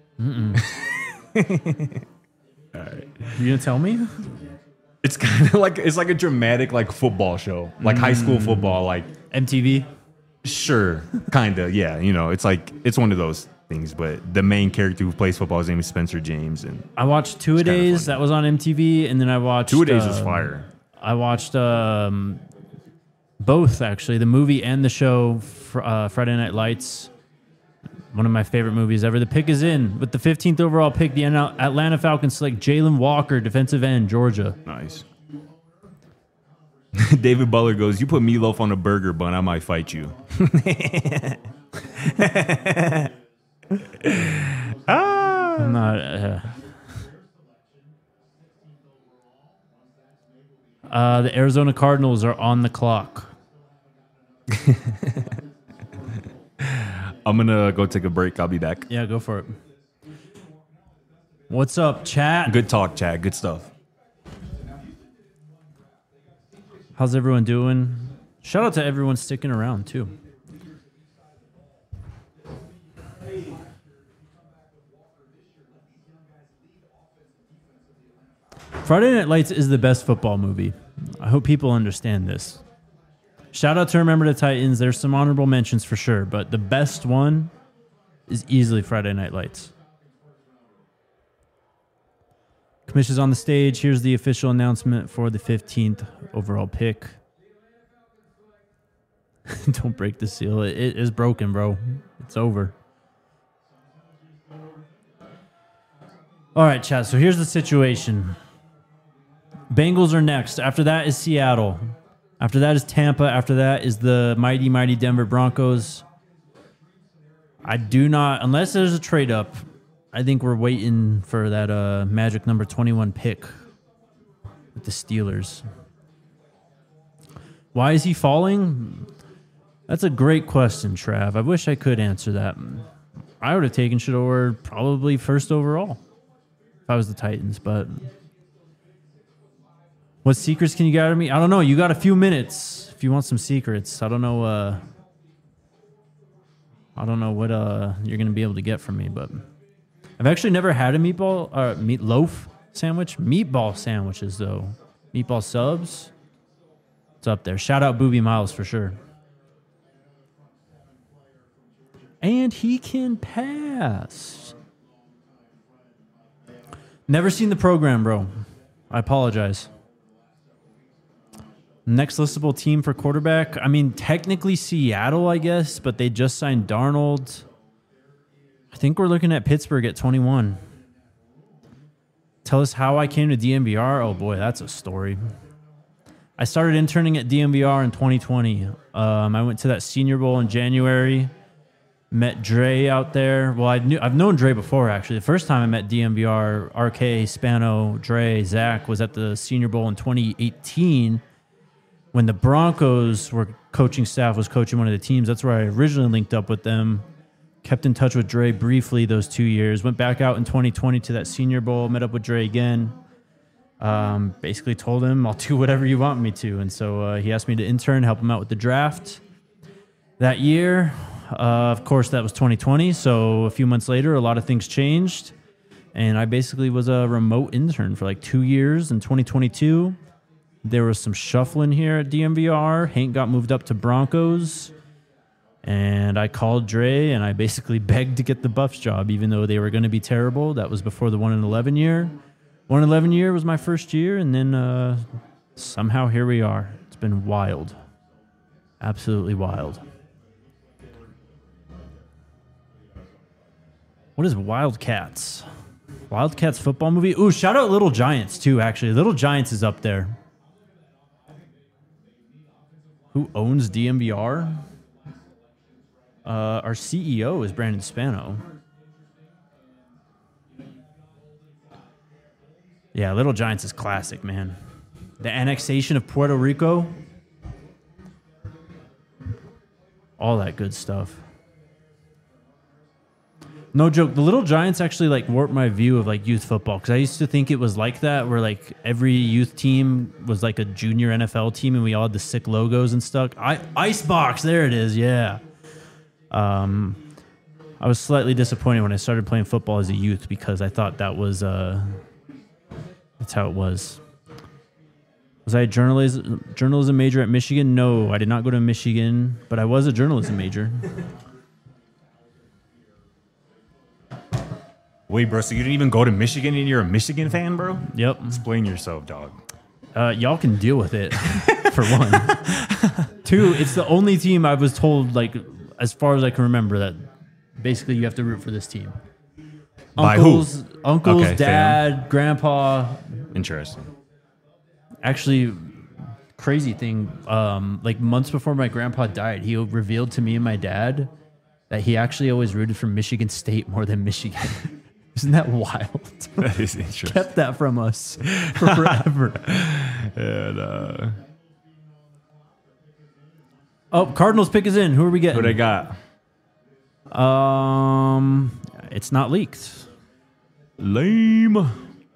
You gonna tell me? It's kind of like it's like a dramatic like football show, like high school football. Like M T V. sure, kind of, yeah. You know, it's like it's one of those things. But the main character who plays football, his name is Spencer James, and I watched Two A kinda Days. funny. That was on M T V, and then I watched Two A Days was uh, fire. I watched um, both actually, the movie and the show, fr- uh, Friday Night Lights. One of my favorite movies ever. The pick is in with the fifteenth overall pick. The An- Atlanta Falcons select Jalen Walker, defensive end, Georgia. Nice. David Butler goes, you put meatloaf on a burger bun, I might fight you. I'm not. Uh, uh, the Arizona Cardinals are on the clock. I'm gonna go take a break. I'll be back. Yeah, go for it. What's up, chat? Good talk, Chad. Good stuff. How's everyone doing? Shout out to everyone sticking around too. Friday Night Lights is the best football movie. I hope people understand this. Shout out to Remember the Titans. There's some honorable mentions for sure, but the best one is easily Friday Night Lights. Commission's on the stage. Here's the official announcement for the fifteenth overall pick. Don't break the seal. It, it is broken, bro. It's over. All right, chat. So here's the situation. Bengals are next. After that is Seattle. After that is Tampa. After that is the mighty, mighty Denver Broncos. I do not, unless there's a trade up, I think we're waiting for that uh, magic number twenty-one pick with the Steelers. Why is he falling? That's a great question, Trav. I wish I could answer that. I would have taken Shador probably first overall if I was the Titans, but what secrets can you get out of me? I don't know. You got a few minutes if you want some secrets. I don't know. Uh, I don't know what uh, you're going to be able to get from me, but I've actually never had a meatball or uh, meatloaf sandwich. Meatball sandwiches, though. Meatball subs. It's up there. Shout out Booby Miles for sure. And he can pass. Never seen the program, bro. I apologize. Next listable team for quarterback. I mean, technically Seattle, I guess, but they just signed Darnold. I think we're looking at Pittsburgh at twenty-one. Tell us how I came to D M V R. Oh boy, that's a story. I started interning at D M V R in twenty twenty. Um, I went to that Senior Bowl in January. Met Dre out there. Well, I knew I've known Dre before actually. The first time I met D M V R, R K, Spano, Dre, Zach was at the Senior Bowl in twenty eighteen when the Broncos were coaching staff was coaching one of the teams. That's where I originally linked up with them. Kept in touch with Dre briefly those two years. Went back out in twenty twenty to that Senior Bowl. Met up with Dre again. Um, basically told him I'll do whatever you want me to, and so uh, he asked me to intern, help him out with the draft that year. Uh, of course, that was twenty twenty. So a few months later, a lot of things changed, and I basically was a remote intern for like two years. In twenty twenty-two, there was some shuffling here at D M V R. Hank got moved up to Broncos. And I called Dre, and I basically begged to get the Buffs job, even though they were going to be terrible. That was before the one in eleven year. one in eleven year was my first year, and then uh, somehow here we are. It's been wild. Absolutely wild. What is Wildcats? Wildcats football movie? Ooh, shout out Little Giants, too, actually. Little Giants is up there. Who owns D M V R? Uh, our C E O is Brandon Spano. Yeah, Little Giants is classic, man. The annexation of Puerto Rico. All that good stuff. No joke. The Little Giants actually like warped my view of like youth football, because I used to think it was like that, where like every youth team was like a junior N F L team, and we all had the sick logos and stuff. I Icebox, there it is. Yeah. Um, I was slightly disappointed when I started playing football as a youth, because I thought that was uh, that's how it was. Was I a journalism journalism major at Michigan? No, I did not go to Michigan, but I was a journalism major. Wait, bro, so you didn't even go to Michigan and you're a Michigan fan, bro? Yep. Explain yourself, dog. Uh, y'all can deal with it, for one. Two, it's the only team I was told, like, as far as I can remember, that basically you have to root for this team. By Uncles, who? uncles, Okay, dad, fam. grandpa. Interesting. Actually, crazy thing, um, like months before my grandpa died, he revealed to me and my dad that he actually always rooted for Michigan State more than Michigan. Isn't that wild? That is interesting. Kept that from us for forever. And, uh, Oh, Cardinals pick is in. Who are we getting? who they got? Um, it's not leaked. Lame.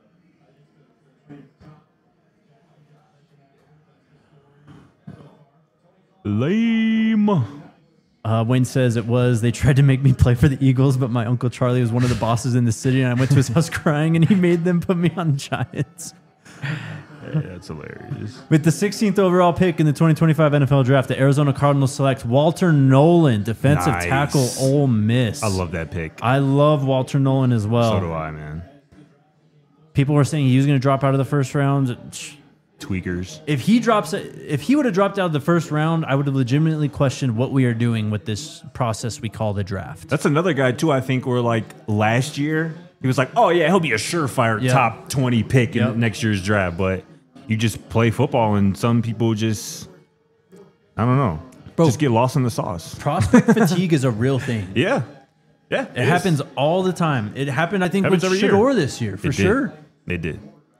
Lame. Uh, Wayne says it was, they tried to make me play for the Eagles, but my Uncle Charlie was one of the bosses in the city, and I went to his house crying, and he made them put me on the Giants. Yeah, that's hilarious. With the sixteenth overall pick in the twenty twenty-five N F L Draft, the Arizona Cardinals select Walter Nolan, defensive Nice. tackle, Ole Miss. I love that pick. I love Walter Nolan as well. So do I, man. People were saying he was going to drop out of the first round. Tweakers. If he drops, if he would have dropped out of the first round, I would have legitimately questioned what we are doing with this process we call the draft. That's another guy, too, I think, where, like, last year, he was like, oh, yeah, he'll be a surefire Yep. top twenty pick Yep. in next year's draft. But you just play football, and some people just, I don't know, Bro. just get lost in the sauce. Prospect fatigue is a real thing. Yeah. Yeah. It happens all the time. It happened, I think, Happens with every year. Shador this year, for It did. sure. They did.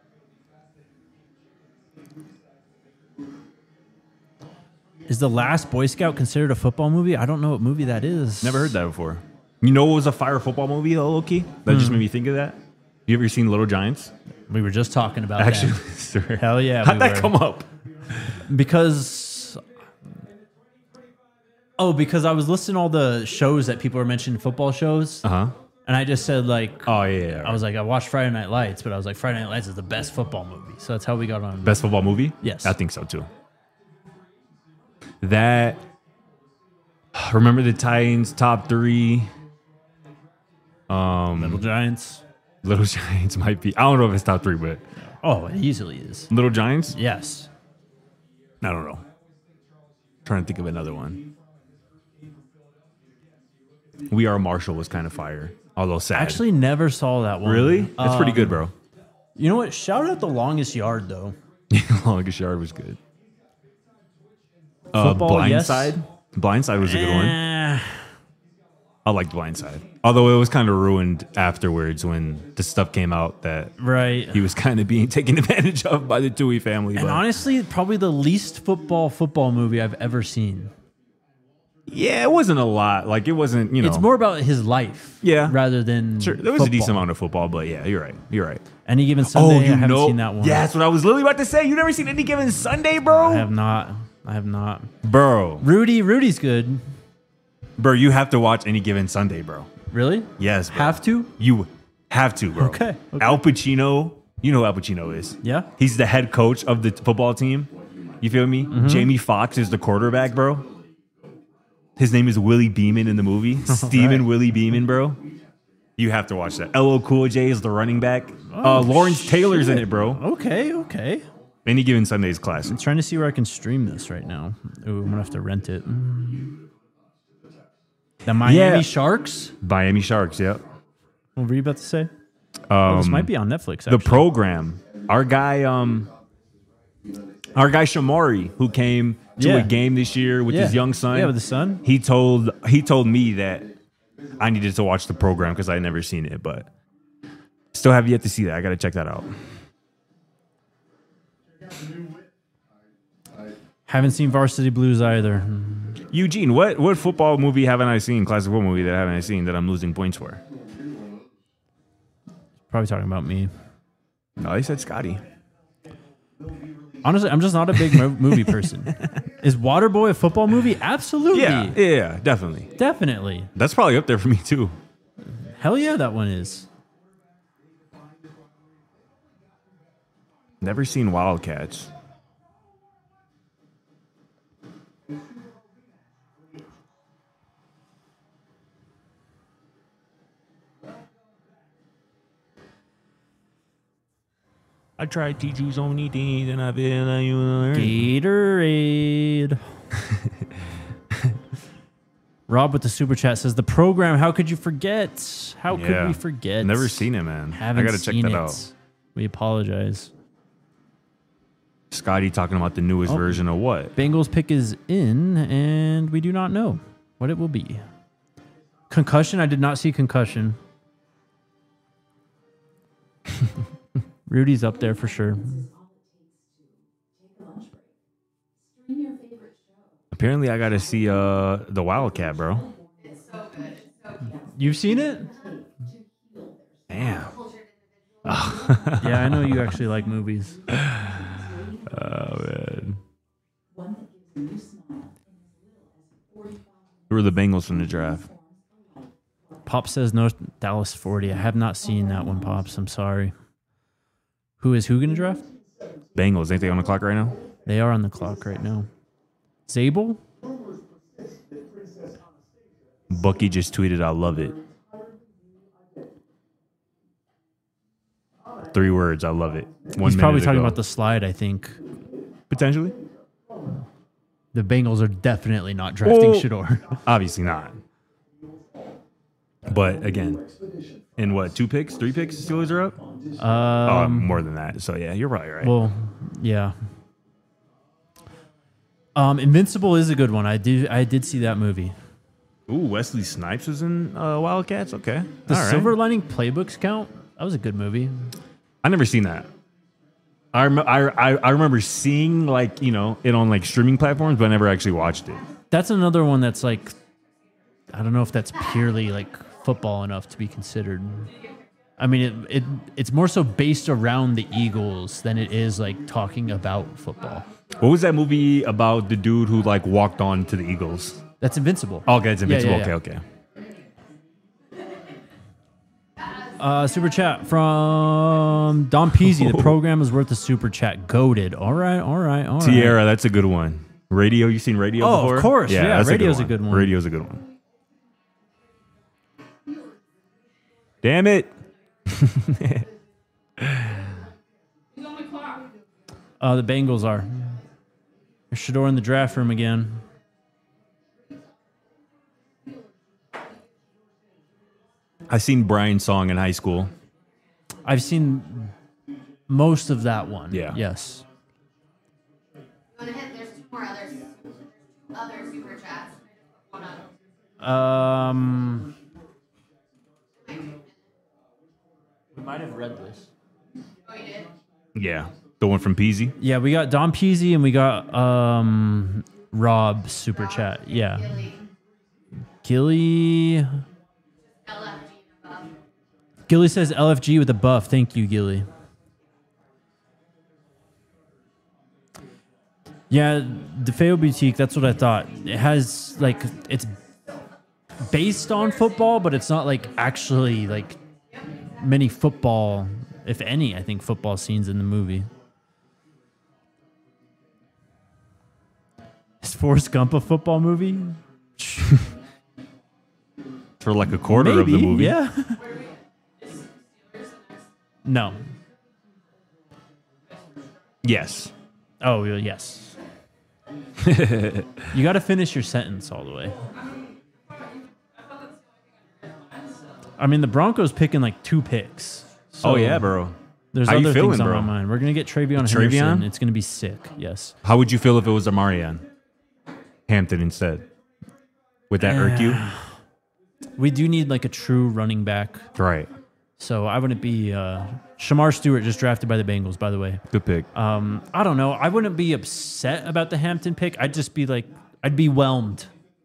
Is The Last Boy Scout considered a football movie? I don't know what movie that is. Never heard that before. You know what was a fire football movie, though, Loki? That just made me think of that. You ever seen Little Giants? We were just talking about Actually, that. sir. Hell yeah, How'd we that were. come up? Because... Oh, because I was listening to all the shows that people were mentioning, football shows, Uh huh. and I just said, like... Oh, yeah. yeah. I was like, I watched Friday Night Lights, but I was like, Friday Night Lights is the best football movie. So that's how we got on. Best football movie? Yes. I think so, too. That... Remember the Titans top three? Um, Little Giants. Little Giants might be. I don't know if it's top three, but Oh, it easily is. Little Giants? Yes. I don't know. Trying to think of another one. We Are Marshall was kind of fire, although sad. Actually, never saw that one. really, that's pretty Um, good, bro. You know what? Shout out The Longest Yard though. Longest Yard was good. Uh, Football, yes. Blindside. Blindside was a good one. Eh, I liked Blindside, although it was kind of ruined afterwards when the stuff came out that right. he was kind of being taken advantage of by the Dewey family. And But honestly, probably the least football football movie I've ever seen. yeah, it wasn't a lot. Like it wasn't, you know. It's more about his life, Yeah. rather than Sure, there was a football. decent amount of football, but yeah, you're right. You're right. Any Given Sunday, I haven't seen that one. Yeah, that's what I was literally about to say. You never seen Any Given Sunday, bro? I have not. I have not. Bro, Rudy, Rudy's good. bro, you have to watch Any Given Sunday, bro. Really? Yes, bro. Have to? You have to, bro. Okay, okay. Al Pacino, you know who Al Pacino is. Yeah. He's the head coach of the football team. You feel me? Mm-hmm. Jamie Foxx is the quarterback, bro. His name is Willie Beeman in the movie. Steven Willie Beeman, bro. You have to watch that. L L Cool J is the running back. uh, Lawrence Taylor's in it, bro. Okay, okay. Any Given Sunday is classic. I'm trying to see where I can stream this right now. Ooh, I'm gonna have to rent it. Mm. The Miami Yeah. Sharks. Miami Sharks, yep. What were you about to say? Oh, this might be on Netflix. The Actually. program. Our guy, um, our guy Shamari, who came to Yeah. a game this year with Yeah. his young son. Yeah, with his son. He told he told me that I needed to watch the program because I had never seen it, but still have yet to see that. I got to check that out. Haven't seen Varsity Blues either. Eugene, what what football movie haven't I seen? Classic football movie that haven't I seen that I'm losing points for? Probably talking about me. No, he said Scotty. Honestly, I'm just not a big mo- movie person. Is Waterboy a football movie? Absolutely. Yeah, yeah, yeah, definitely. Definitely. That's probably up there for me too. Hell yeah, that one is. Never seen Wildcats. I tried to teach so many things and I feel like you learn. Gatorade. Rob with the super chat says the program. How could you forget? How could Yeah. we forget? Never seen it, man. Haven't I gotta check seen that it. out. We apologize. Scotty talking about the newest Oh. version of what? Bengals pick is in, and we do not know what it will be. Concussion. I did not see Concussion. Rudy's up there for sure. Apparently, I gotta see uh the Wildcat, bro. You've seen it? Damn. Yeah, I know you actually like movies. Oh man. Who are the Bengals from the draft? Pop says North Dallas forty. I have not seen that one, Pops. I'm sorry. Who is who going to draft? Bengals. Ain't they on the clock right now? They are on the clock right now. Zabel? Bucky just tweeted, "I love it." Three words. I love it. One He's probably minute talking ago. about the slide, I think. potentially. The Bengals are definitely not drafting Well- Shador. Obviously not. But again, in what, two picks, three picks, Steelers are up? oh, Um, more than that. So yeah, you're probably right. well, yeah. Um, Invincible is a good one. I did I did see that movie. Ooh, Wesley Snipes was in uh, Wildcats. Okay, The all right. Silver Lining Playbooks count? That was a good movie. I never seen that. I, rem- I, I I remember seeing like you know it on like streaming platforms, but I never actually watched it. That's another one that's like, I don't know if that's purely like football enough to be considered. I mean, it, it it's more so based around the Eagles than it is like talking about football. What was that movie about the dude who like walked on to the Eagles? That's Invincible. Okay, it's Yeah, Invincible. yeah, yeah. Okay, okay. Uh, super chat from Don Peasy. The program is worth a super chat. Goated. All right, all right, all right. Tierra, that's a good one. Radio, you seen Radio Oh, of before? course. Yeah, that's Radio's a good one. Radio's a good one. Damn it. He's on the clock. Uh, the Bengals are. There's Shador in the draft room again. I seen Brian's song in high school. I've seen most of that one. Yeah. Yes. You want to hit? There's two more others. Other super chats. One up. Um, we might have read this. Oh, you did? Yeah. The one from Peasy. Yeah, we got Don Peasy and we got um Rob super chat. Yeah. Gilly. Gilly. L F G above. Gilly says L F G with a buff. Thank you, Gilly. Yeah, DeFeo Boutique, that's what I thought. It has, like, it's based on football, but it's not, like, actually, like, many football, if any, I think, football scenes in the movie. Is Forrest Gump a football movie? For like a quarter Maybe, of the movie. yeah. No. Yes. Oh, well, yes. You got to finish your sentence all the way. I mean, the Broncos picking like two picks. So Oh yeah, bro. There's How you other feeling, things on bro? my mind. We're gonna get Travion Travion? Henderson. It's gonna be sick. Yes. How would you feel if it was Amarian Hampton instead? Would that irk you? We do need like a true running back. Right. So I wouldn't be. Uh, Shamar Stewart just drafted by the Bengals, by the way. Good pick. Um, I don't know. I wouldn't be upset about the Hampton pick. I'd just be like, I'd be whelmed.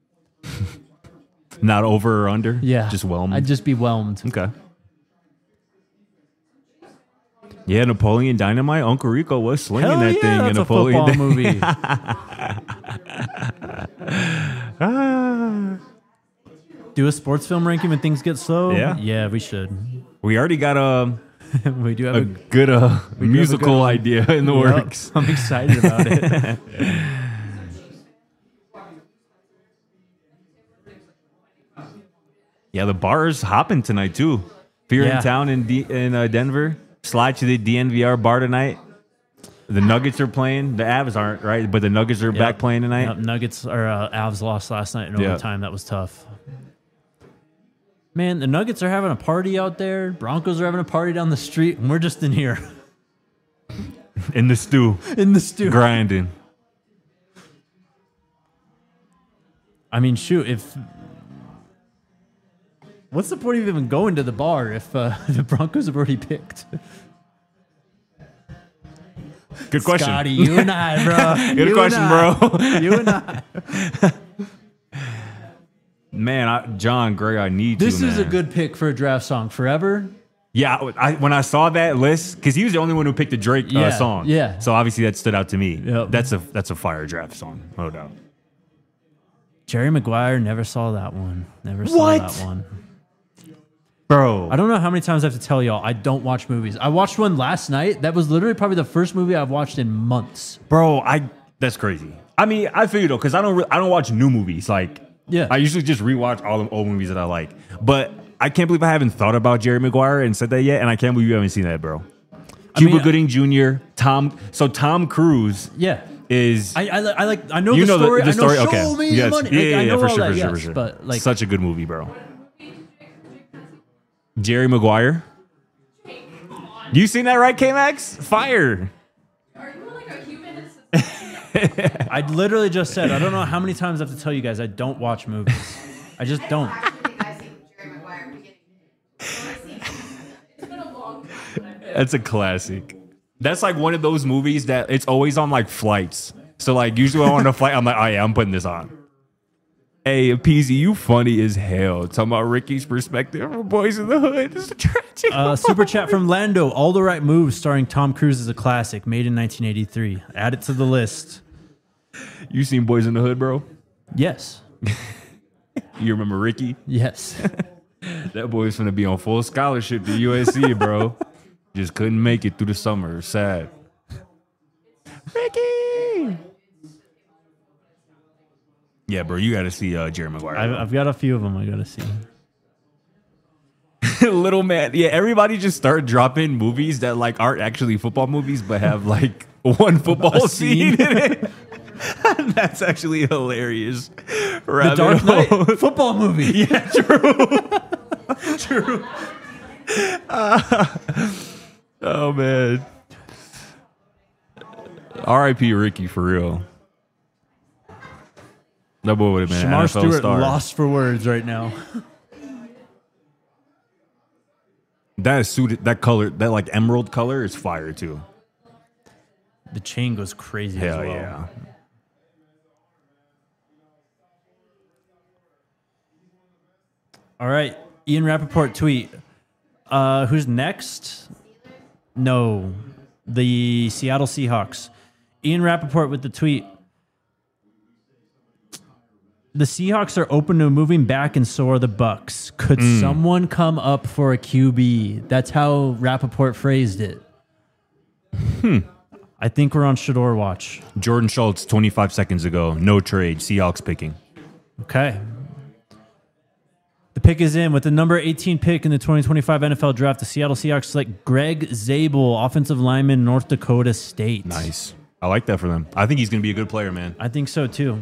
Not over or under? Yeah. Just whelmed. I'd just be whelmed. Okay. Yeah, Napoleon Dynamite. Uncle Rico was slinging Hell that yeah, thing that's in a Napoleon. football movie. Ah. Do a sports film ranking when things get slow? Yeah. Yeah, we should. We already got a, we do have a a, good uh, do have a musical good one. idea in the Yep, works. I'm excited about it. Yeah, the bar's hopping tonight too. If you're Yeah. in town in D- in uh, Denver, slide to the D N V R bar tonight. The Nuggets are playing. The Avs aren't, right? But the Nuggets are back Yep. playing tonight. Yep, Nuggets or uh, Avs lost last night in Yeah. overtime. That was tough. Man, the Nuggets are having a party out there. Broncos are having a party down the street, and we're just in here In the stew, in the stew. grinding. I mean, shoot, if what's the point of even going to the bar if uh, the Broncos have already picked? Good question. Scotty, you and I, bro. Good You question, and I. bro. You and I. Man, I, John Gray, I need This to. is a man. good pick for a draft song. Forever. Yeah, I, when I saw that list, because he was the only one who picked the Drake uh, Yeah, song. yeah. So obviously that stood out to me. Yep. That's a that's a fire draft song, no doubt. Jerry Maguire, never saw that one. Never saw What? that one. Bro, I don't know how many times I have to tell y'all I don't watch movies. I watched one last night. That was literally probably the first movie I've watched in months. bro, I that's crazy. I mean, I feel you though, because I don't re- I don't watch new movies. Like, Yeah. I usually just rewatch all the old movies that I like. But I can't believe I haven't thought about Jerry Maguire and said that yet, and I can't believe you haven't seen that, bro. I Cuba mean, Gooding Junior, Tom. So Tom Cruise Yeah. is. I, I, li- I like I know you the know story. the, the story. I know Okay. Show me Yes. the money. Yeah, Like, yeah, I yeah, know for all sure, that, for sure, yes, for sure. But like, Such a good movie, bro. Jerry Maguire. You seen that, right, K-Max? Fire. Are you like a human? I literally just said I don't know how many times I have to tell you guys I don't watch movies. I just don't. Actually, think I've seen Jerry Maguire beginning. It's been a long time. That's a classic. That's like one of those movies that it's always on like flights. So like usually when I'm on a flight, I'm like, oh yeah, I'm putting this on. Hey, Peasy, you funny as hell. Talking about Ricky's perspective from Boys in the Hood. It's a tragic. Uh, super chat from Lando. All the Right Moves, starring Tom Cruise, is a classic, made in nineteen eighty-three. Add it to the list. You seen Boys in the Hood, bro? Yes. You remember Ricky? Yes. That boy's gonna be on full scholarship to U S C, bro. Just couldn't make it through the summer. Sad. Ricky. Yeah, bro, you got to see uh, Jerry Maguire. I've, I've got a few of them I gotta see. Little man. Yeah, everybody just start dropping movies that like aren't actually football movies, but have like one football A scene. scene. in it. That's actually hilarious. The Dark Knight football movie. Yeah, true. True. Oh man. R I P Ricky for real. That boy would have been an Shamar N F L Stewart star. lost for words right now. That is suited. That color, that like emerald color, is fire too. The chain goes crazy Hell as well. yeah. All right. Ian Rappaport tweet. Uh, who's next? No. The Seattle Seahawks. Ian Rappaport with the tweet. The Seahawks are open to moving back, and so are the Bucks. Could someone come up for a Q B? That's how Rappaport phrased it. Hmm. I think we're on Shador watch. Jordan Schultz, twenty-five seconds ago. No trade. Seahawks picking. Okay. The pick is in with the number eighteen pick in the twenty twenty-five N F L Draft. The Seattle Seahawks select Greg Zabel, offensive lineman, North Dakota State. Nice. I like that for them. I think he's going to be a good player, man. I think so too.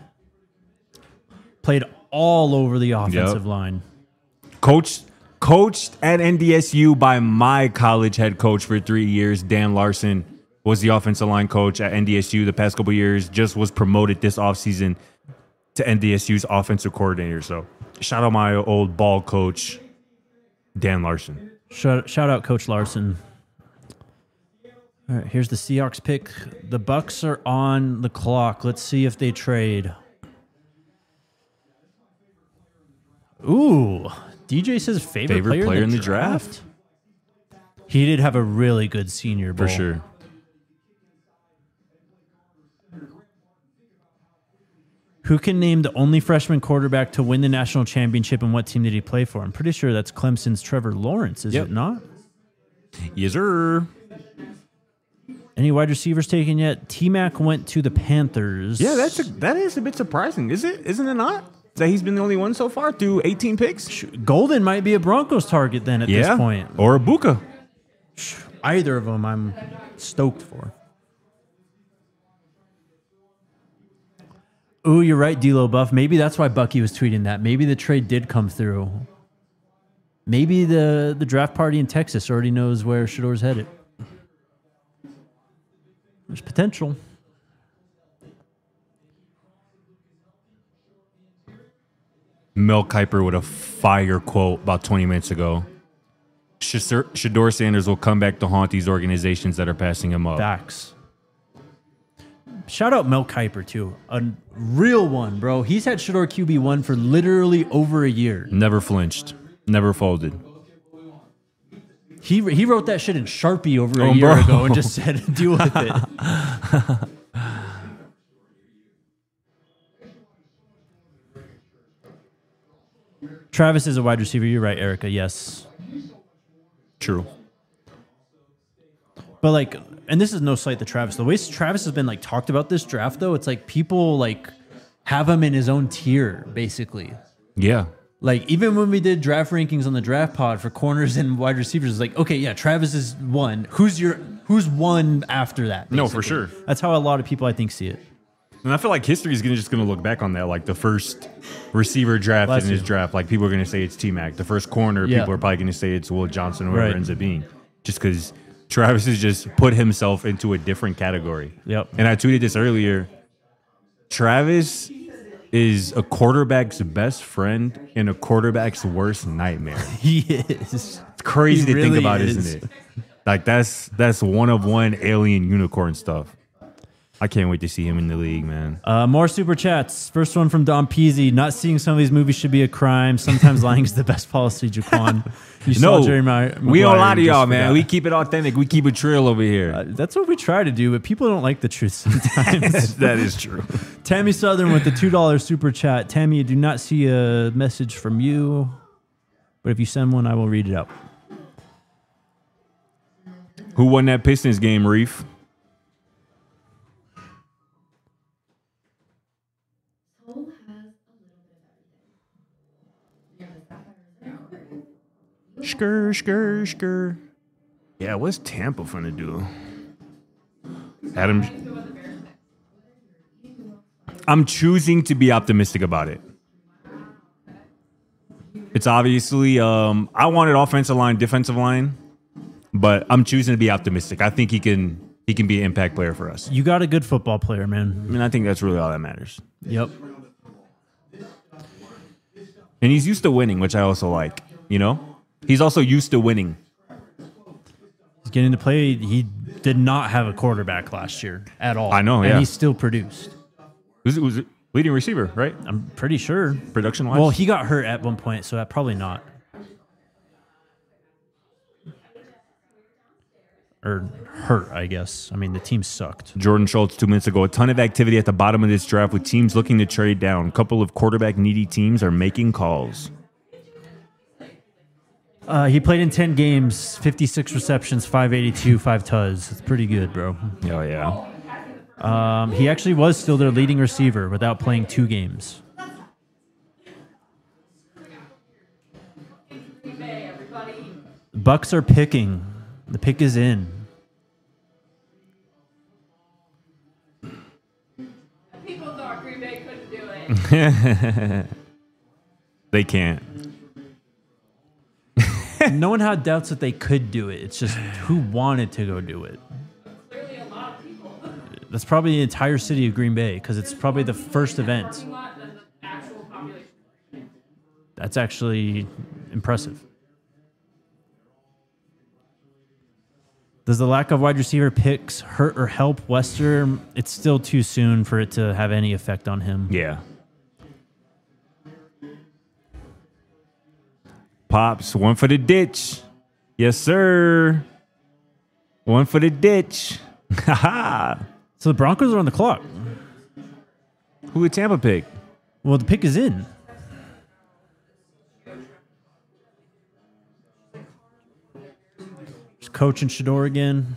Played all over the offensive Yep. line. Coached, coached at N D S U by my college head coach for three years. Dan Larson was the offensive line coach at N D S U the past couple of years. Just was promoted this offseason to N D S U's offensive coordinator. So shout out my old ball coach, Dan Larson. Shout, shout out Coach Larson. All right, here's the Seahawks pick. The Bucks are on the clock. Let's see if they trade. Ooh, D J says favorite, Favorite player, player in the, in the draft. He did have a really good Senior Bowl. For sure. Who can name the only freshman quarterback to win the national championship, and what team did he play for? I'm pretty sure that's Clemson's Trevor Lawrence, is Yep. it not? Yes, sir. Any wide receivers taken yet? T-Mac went to the Panthers. Yeah, that's a, that is a bit surprising. Is it? Isn't it not? That he's been the only one so far through eighteen picks? Golden might be a Broncos target then at Yeah. this point. Or a Buka. Either of them I'm stoked for. Ooh, you're right, D-Lo Buff. Maybe that's why Bucky was tweeting that. Maybe the trade did come through. Maybe the, the draft party in Texas already knows where Shador's headed. There's potential. Mel Kiper with a fire quote about twenty minutes ago. Shador Shador Sanders will come back to haunt these organizations that are passing him up. Facts. Shout out Mel Kiper, too. A real one, bro. He's had Shador Q B one for literally over a year. Never flinched. Never folded. He he wrote that shit in Sharpie over a Oh, year bro. ago and just said, deal with it. Travis is a wide receiver. You're right, Erica. Yes. True. But like, and this is no slight to Travis. The way Travis has been like talked about this draft, though, it's like people like have him in his own tier, basically. Yeah. Like even when we did draft rankings on the draft pod for corners and wide receivers, it's like, okay, yeah, Travis is one. Who's your who's one after that? No, for basically? sure. That's how a lot of people I think see it. And I feel like history is gonna just going to look back on that. Like the first receiver drafted Bless in his you. draft, like people are going to say it's T-Mac. The first corner, Yeah. people are probably going to say it's Will Johnson or whoever Right. it ends up being. Just because Travis has just put himself into a different category. Yep. And I tweeted this earlier. Travis is a quarterback's best friend and a quarterback's worst nightmare. He is. It's crazy He to think really about, is. isn't it? Like that's that's one of one alien unicorn stuff. I can't wait to see him in the league, man. Uh, more super chats. First one from Don Peasy. Not seeing some of these movies should be a crime. Sometimes lying is the best policy, Jaquan. You saw No, Jerry Ma- we don't Maguire, lie to you just y'all, man. forgot. We keep it authentic. We keep it trill over here. Uh, that's what we try to do, but people don't like the truth sometimes. That is true. Tammy Southern with the two dollar super chat. Tammy, I do not see a message from you, but if you send one, I will read it out. Who won that Pistons game, Reef? Soul has a little bit of everything. Skr, skr, skr. Yeah, what's Tampa finna do? Adam. I'm choosing to be optimistic about it. It's obviously um, I wanted offensive line, defensive line, but I'm choosing to be optimistic. I think he can he can be an impact player for us. You got a good football player, I man. mean, I think that's really all that matters. Yep. And he's used to winning, which I also like. You know, he's also used to winning. He's getting to play. He did not have a quarterback last year at all. I know, and yeah. he still produced. Was it was it leading receiver, right? I'm pretty sure. Production wise. Well, he got hurt at one point, so that probably not. Or hurt, I guess. I mean, the team sucked. Jordan Schultz two minutes ago. A ton of activity at the bottom of this draft with teams looking to trade down. A couple of quarterback needy teams are making calls. Uh, he played in ten games, fifty-six receptions, five eighty-two, five T Us. It's pretty good, bro. Oh yeah. Um, he actually was still their leading receiver without playing two games. Bucks are picking. The pick is in. People thought Green Bay couldn't do it. They can't. No one had doubts that they could do it. It's just who wanted to go do it. Clearly, a lot of people. That's probably the entire city of Green Bay because it's probably the first event. Lot than the actual population. That's actually impressive. Does the lack of wide receiver picks hurt or help Wester? It's still too soon for it to have any effect on him. Yeah. Pops, one for the ditch. Yes, sir. One for the ditch. Ha So the Broncos are on the clock. Who would Tampa pick? Well, the pick is in. Just coaching Shador again.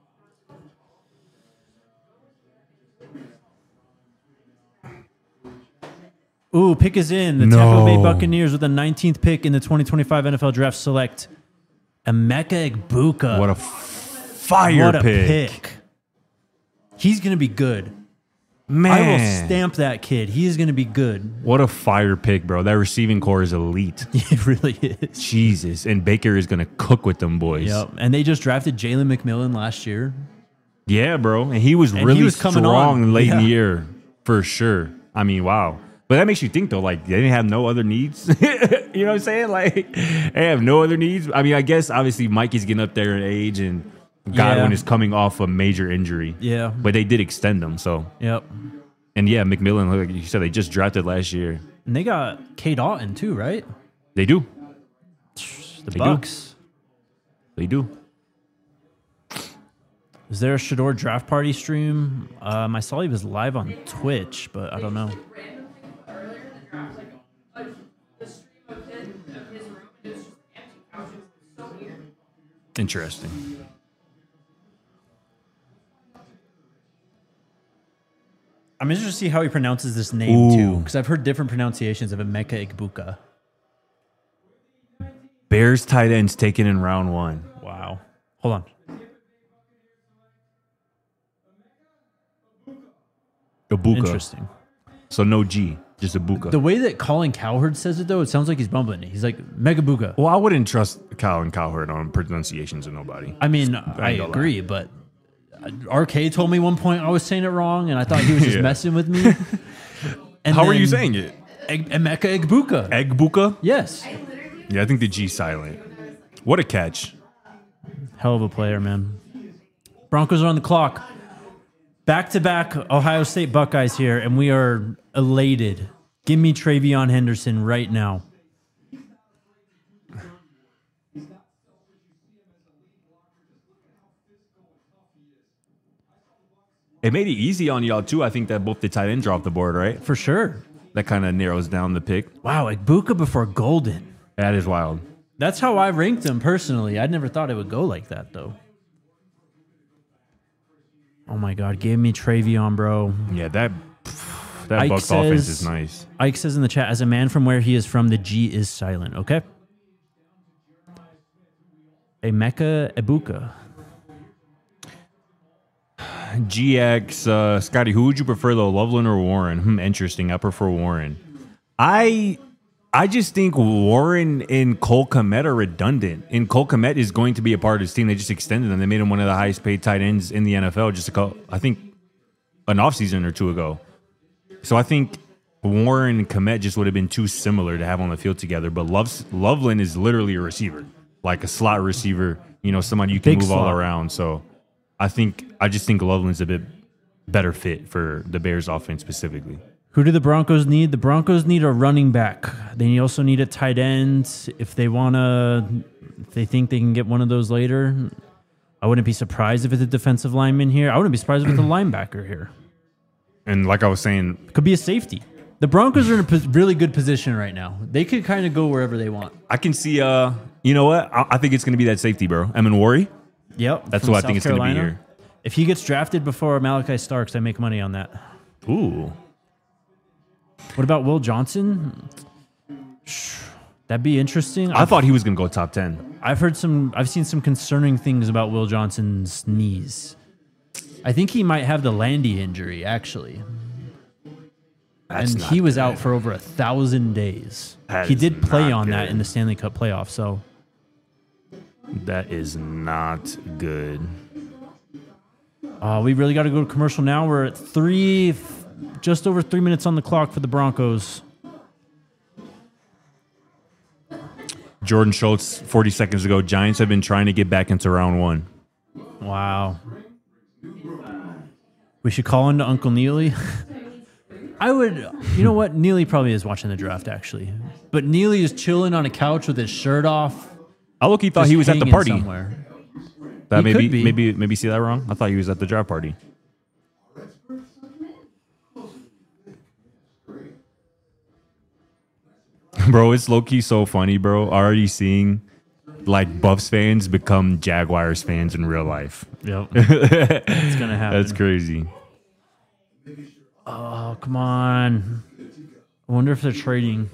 Ooh, pick is in. The Tampa Bay No. Buccaneers with the nineteenth pick in the twenty twenty-five N F L Draft select Emeka Egbuka. What a fire What a pick. pick. He's going to be good. Man. I will stamp that kid. He is going to be good. What a fire pick, bro. That receiving core is elite. It really is. Jesus. And Baker is going to cook with them boys. Yep. And they just drafted Jalen McMillan last year. Yeah, bro. And he was And really he was coming strong on. late in the Yeah. year, for sure. I mean, wow. But that makes you think, though, like, they didn't have no other needs. You know what I'm saying? Like, they have no other needs. I mean, I guess, obviously, Mikey's getting up there in age, and Godwin Yeah. is coming off a major injury. Yeah. But they did extend him, so. Yep. And, yeah, McMillan, like you said, they just drafted last year. And they got Kate Otten too, right? They do. The They do. Bucks. They do. Is there a Shador draft party stream? Um, I saw he was live on Twitch, but I don't know. Random thing earlier in the draft, like a, the stream of his, of his room, and it was just empty couches. It was so weird. Interesting. I'm interested to see how he pronounces this name too, Ooh. because I've heard different pronunciations of Emeka Egbuka. Bears tight ends taken in round one. Wow. Hold on. Ibuka. Interesting. So no G, just Ibuka. The way that Colin Cowherd says it, though, it sounds like he's bumbling it. He's like, Megabuka. Well, I wouldn't trust Colin Cowherd on pronunciations of nobody. I mean, I I ain't gonna agree, but R K told me one point I was saying it wrong, and I thought he was just Yeah. messing with me. And How are you then saying it? Eg- Emeka Egbuka. Egbuka? Yes. Yeah, I think the G's silent. What a catch. Hell of a player, man. Broncos are on the clock. Back to back Ohio State Buckeyes here, and we are elated. Give me Travion Henderson right now. It made it easy on y'all, too. I think that both the tight ends are off the board, right? For sure. That kind of narrows down the pick. Wow, Egbuka before Golden. That is wild. That's how I ranked him personally. I never thought it would go like that, though. Oh my God, give me Travion, bro. Yeah, that that Ike Bucks offense says- is nice. Ike says in the chat, as a man from where he is from, the G is silent, okay? Emeka Egbuka. G X, uh, Scotty, who would you prefer though, Loveland or Warren? Hmm, interesting. I prefer Warren. I I just think Warren and Cole Kmet are redundant. And Cole Kmet is going to be a part of this team. They just extended him. They made him one of the highest paid tight ends in the N F L just a couple, I think an offseason or two ago. So I think Warren and Kmet just would have been too similar to have on the field together. But Love's, Loveland is literally a receiver, like a slot receiver, you know, somebody you can Big move slot. all around. So I think I just think Loveland's a bit better fit for the Bears offense specifically. Who do the Broncos need? The Broncos need a running back. They also need a tight end. If they want to, if they think they can get one of those later, I wouldn't be surprised if it's a defensive lineman here. I wouldn't be surprised if it's a linebacker here. And like I was saying, Could be a safety. The Broncos are in a pos- really good position right now. They could kind of go wherever they want. I can see, uh, you know what? I, I think it's going to be that safety, bro. Emin Worry. Yep. That's from what I South think it's gonna be Carolina. here. If he gets drafted before Malachi Starks, I make money on that. Ooh. What about Will Johnson? That'd be interesting. I thought he was going to go top ten. I've heard some, I've seen some concerning things about Will Johnson's knees. I think he might have the Landy injury, actually. That's and not he was good. out for over a thousand days. That he is did play not on that good. in the Stanley Cup playoffs, so That is not good. uh, we really got to go to commercial now. We're at three, just over three minutes on the clock for the Broncos. Jordan Schultz, forty seconds ago, Giants have been trying to get back into round one. Wow. We should call into Uncle Neely. I would, you know what? Neely probably is watching the draft, actually. But Neely is chilling on a couch with his shirt off. I look, he thought just he was at the hanging party. somewhere. That He maybe, could be. maybe, maybe see that wrong. I thought he was at the draft party. Bro, it's low key so funny, bro. Already seeing like Buffs fans become Jaguars fans in real life. Yep. It's going to happen. That's crazy. Oh, come on. I wonder if they're trading.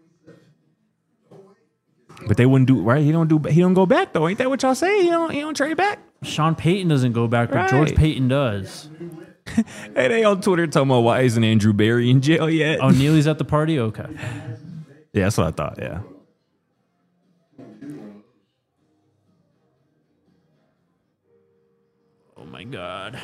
But they wouldn't do right. He don't do. He don't go back though. Ain't that what y'all say? He don't. He don't trade back. Sean Payton doesn't go back, but George Right. Payton does. Hey, they on Twitter talking about why isn't Andrew Barry in jail yet? Oh, Neely's at the party? Okay. Yeah, that's what I thought. Yeah. Oh, my God.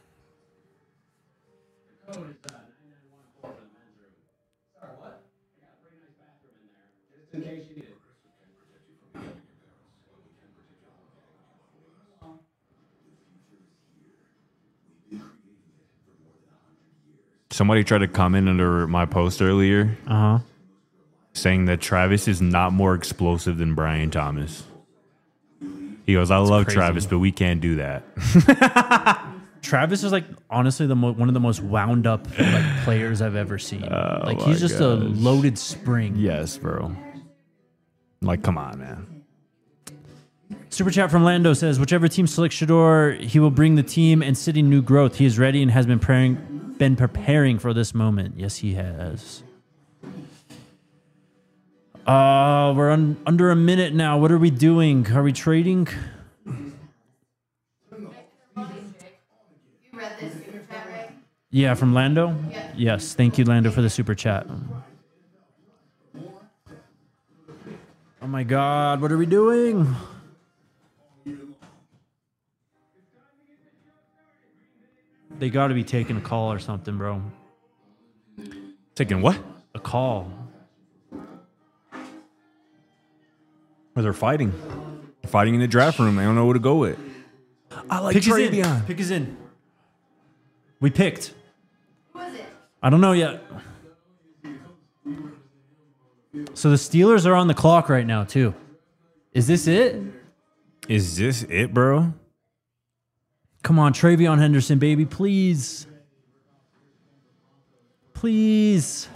Somebody tried to comment under my post earlier Uh-huh. saying that Travis is not more explosive than Brian Thomas. He goes, I love crazy. Travis, but we can't do that. Travis is like honestly the mo- one of the most wound up like players I've ever seen. like my he's just a gosh. loaded spring. Yes, bro. Like, come on, man. Super chat from Lando says, whichever team selects Shador, he will bring the team and city new growth. He is ready and has been preparing, been preparing for this moment. Yes, he has. Uh, we're un- under a minute now. What are we doing? Are we trading? You read this super chat, right? Yeah, from Lando? Yeah. Yes, thank you, Lando, for the super chat. Oh my God, what are we doing? They got to be taking a call or something, bro. Taking what? A call. Or they're fighting. They're fighting in the draft room. They don't know who to go with. I like Pick is in. Travion. Pick is in. We picked. Who is it? I don't know yet. So the Steelers are on the clock right now, too. Is this it? Is this it, bro? Come on, Travion Henderson, baby, please. Please.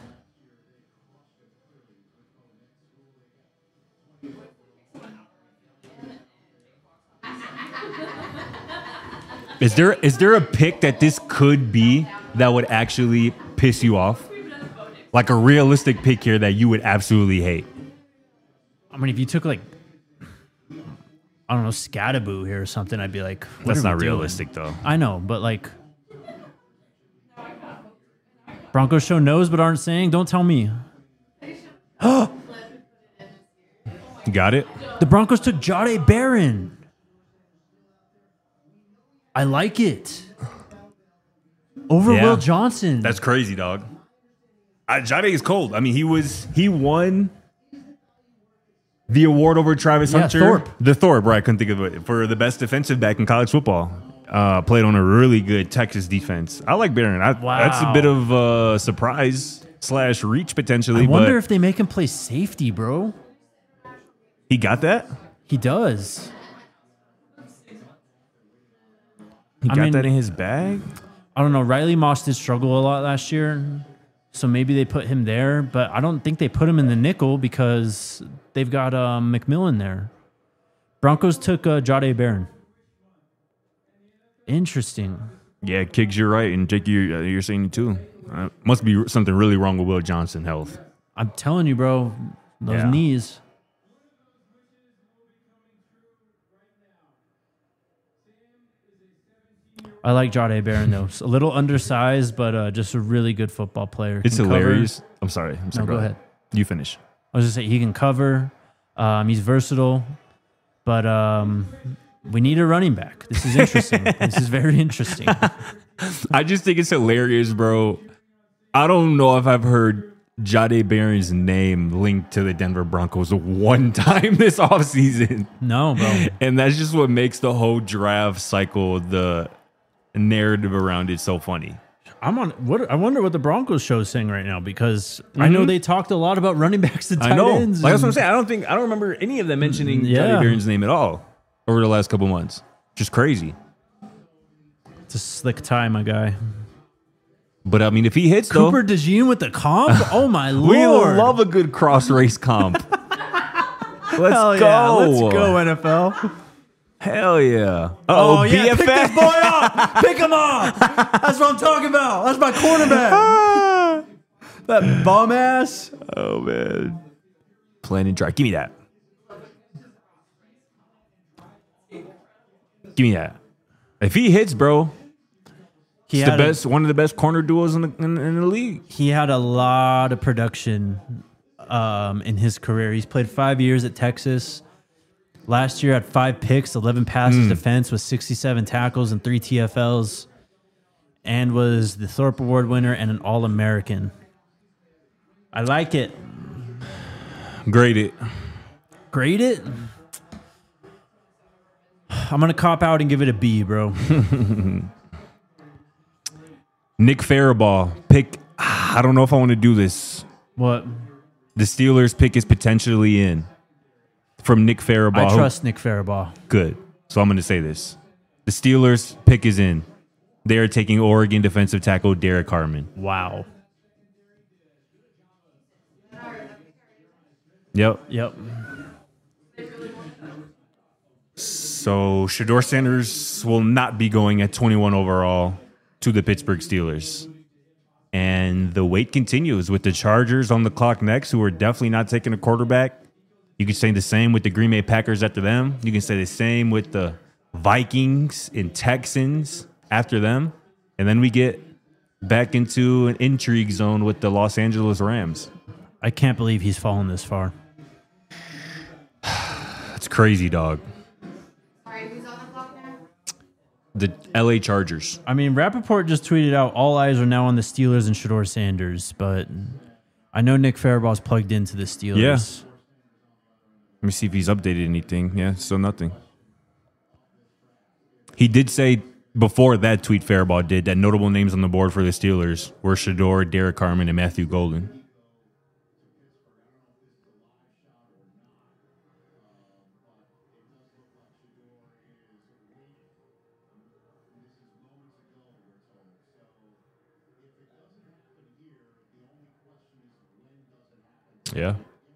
Is there is there a pick that this could be that would actually piss you off? Like a realistic pick here that you would absolutely hate? I mean, if you took like, I don't know, Scattaboo here or something, I'd be like, what That's are we not doing? realistic, though. I know, but like, Broncos show knows but aren't saying. Don't tell me. Got it. The Broncos took Jade Barron. I like it. Over Yeah. Will Johnson. That's crazy, dog. Uh, Jade is cold. I mean, he was he won the award over Travis Yeah, Hunter. Thorpe. The Thorpe, right? I couldn't think of it for the best defensive back in college football. Uh, played on a really good Texas defense. I like Barron. I, Wow. That's a bit of a surprise slash reach potentially. I wonder but if they make him play safety, bro. he got that. He does. He I got mean- that in his bag. I don't know. Riley Moss did struggle a lot last year, so maybe they put him there. But I don't think they put him in the nickel because they've got um, McMillan there. Broncos took uh, Jade Barron. Interesting. Yeah, Kicks, you're right, and Jake, you're, uh, you're saying it too. Uh, must be something really wrong with Will Johnson health. I'm telling you, bro. Those Yeah. knees. I like Jade Barron though. A little undersized, but uh, just a really good football player. It's Can cover. hilarious. I'm sorry. I'm sorry. No, go ahead. You finish. I was just saying he can cover. Um, he's versatile, but um, we need a running back. This is interesting. This is very interesting. I just think it's hilarious, bro. I don't know if I've heard Jade Barron's name linked to the Denver Broncos one time this offseason. No, bro. And that's just what makes the whole draft cycle, the narrative around it, so funny. I'm on. What I wonder what the Broncos show is saying right now because I know they talked a lot about running backs and tight I know. ends. Like, that's what I'm and- saying. I don't think I don't remember any of them mentioning Yeah. Jade Barron's name at all over the last couple months. Just crazy. It's a slick tie, my guy. But I mean, if he hits Cooper though, DeJean with the comp. Oh my lord! we love a good cross race comp. Let's Hell go. yeah. Let's go N F L. Hell yeah. Oh, Uh-oh, yeah, B F F. pick this boy up. Pick him up. That's what I'm talking about. That's my cornerback. That bum ass. Oh, man. Plan and try. Give me that. Give me that. If he hits, bro, He it's the had a- best, one of the best corner duos in the, in, in the league. he had a lot of production um, in his career. He's played five years at Texas. Last year had five picks, eleven passes defense with sixty-seven tackles and three T F Ls, and was the Thorpe Award winner and an All-American. I like it. Grade it. Grade it. I'm gonna cop out and give it a B, bro. Nick Farabaugh. Pick. I don't know if I want to do this. What? The Steelers pick is potentially in from Nick Farabaugh. I trust Nick Farabaugh. Good. So I'm going to say this. The Steelers pick is in. They are taking Oregon defensive tackle Derek Harmon. Wow. Yep. Yep. So Shador Sanders will not be going at twenty-one overall to the Pittsburgh Steelers. And the wait continues with the Chargers on the clock next, who are definitely not taking a quarterback. You can say the same with the Green Bay Packers after them. You can say the same with the Vikings and Texans after them. And then we get back into an intrigue zone with the Los Angeles Rams. I can't believe he's fallen this far. That's crazy, dog. Sorry, who's on the clock now? The L A Chargers. I mean, Rappaport just tweeted out all eyes are now on the Steelers and Shador Sanders, but I know Nick Farabaugh's plugged into the Steelers. Yeah. Let me see if he's updated anything. Yeah, still nothing. He did say before that tweet Faribaugh did that notable names on the board for the Steelers were Shador, Derek Carmen, and Matthew Golden. Yeah.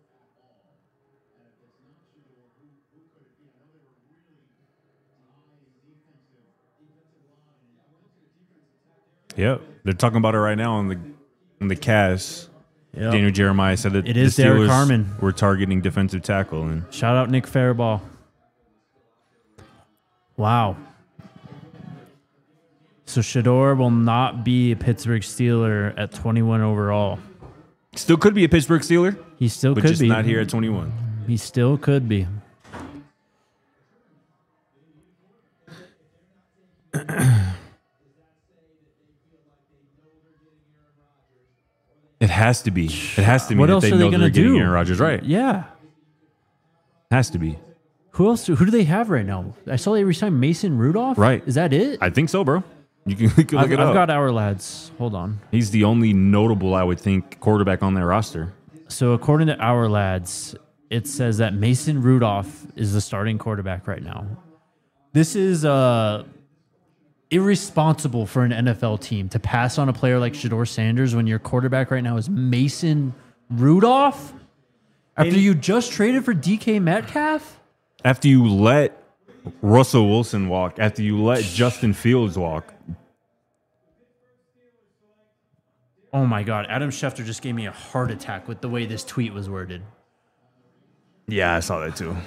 Yep. They're talking about it right now on the on the cast. Yep. Daniel Jeremiah said that It is the Derek Steelers Harmon. were targeting defensive tackle. And Shout out Nick Faribaugh. Wow. So Shador will not be a Pittsburgh Steeler at twenty-one overall. still could be a Pittsburgh Steeler, He still but could just be. not here at twenty-one. He still could be. It has to be. It has to be. What that else they are they know going they're to getting do? Aaron Rodgers, right? Yeah. Has to be. Who else? Do, who do they have right now? I saw they re-signed Mason Rudolph. Right. Is that it? I think so, bro. You can, you can look I've, it I've up. got our lads. Hold on. He's the only notable, I would think, quarterback on their roster. So according to our lads, it says that Mason Rudolph is the starting quarterback right now. This is uh, irresponsible for an N F L team to pass on a player like Shador Sanders when your quarterback right now is Mason Rudolph after And- you just traded for D K Metcalf. After you let Russell Wilson walk, after you let Justin Fields walk, Oh my God, Adam Schefter just gave me a heart attack with the way this tweet was worded. yeah, I saw that too.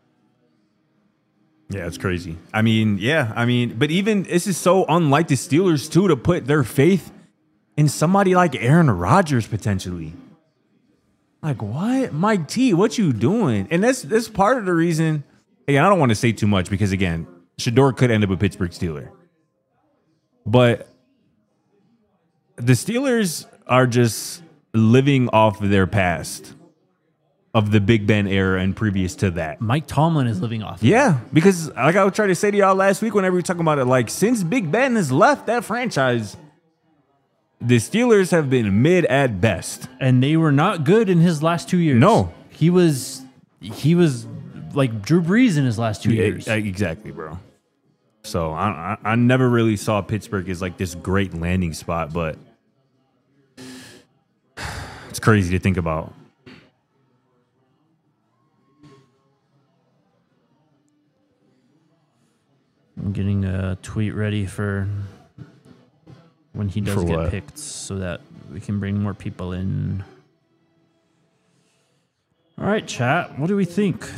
Yeah, it's crazy. I mean, yeah, I mean, but even this is so unlike the Steelers too to put their faith in somebody like Aaron Rodgers potentially. Like what, Mike T? What you doing? And that's that's part of the reason. Again, I don't want to say too much because again, Shador could end up a Pittsburgh Steeler, but the Steelers are just living off of their past of the Big Ben era and previous to that. Mike Tomlin is living off. Yeah, because like I was trying to say to y'all last week whenever we were talking about it, like since Big Ben has left that franchise, the Steelers have been mid at best. And they were not good in his last two years. No. He was he was like Drew Brees in his last two years. Yeah, exactly, bro. So I, I I never really saw Pittsburgh as like this great landing spot, but it's crazy to think about. I'm getting a tweet ready for when he does For get what? picked so that we can bring more people in. All right, chat. What do we think?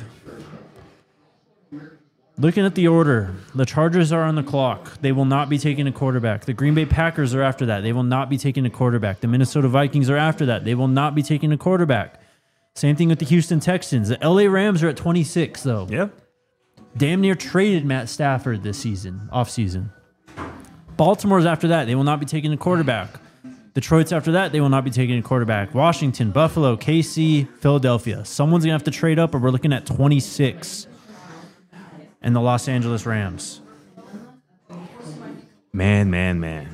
Looking at the order, the Chargers are on the clock. They will not be taking a quarterback. The Green Bay Packers are after that. They will not be taking a quarterback. The Minnesota Vikings are after that. They will not be taking a quarterback. Same thing with the Houston Texans. The L A Rams are at twenty-six, though. Yeah. Damn near traded Matt Stafford this season, off season. Baltimore's after that. They will not be taking a quarterback. Detroit's after that. They will not be taking a quarterback. Washington, Buffalo, K C, Philadelphia. Someone's going to have to trade up, or we're looking at twenty-six. And the Los Angeles Rams. Man, man, man.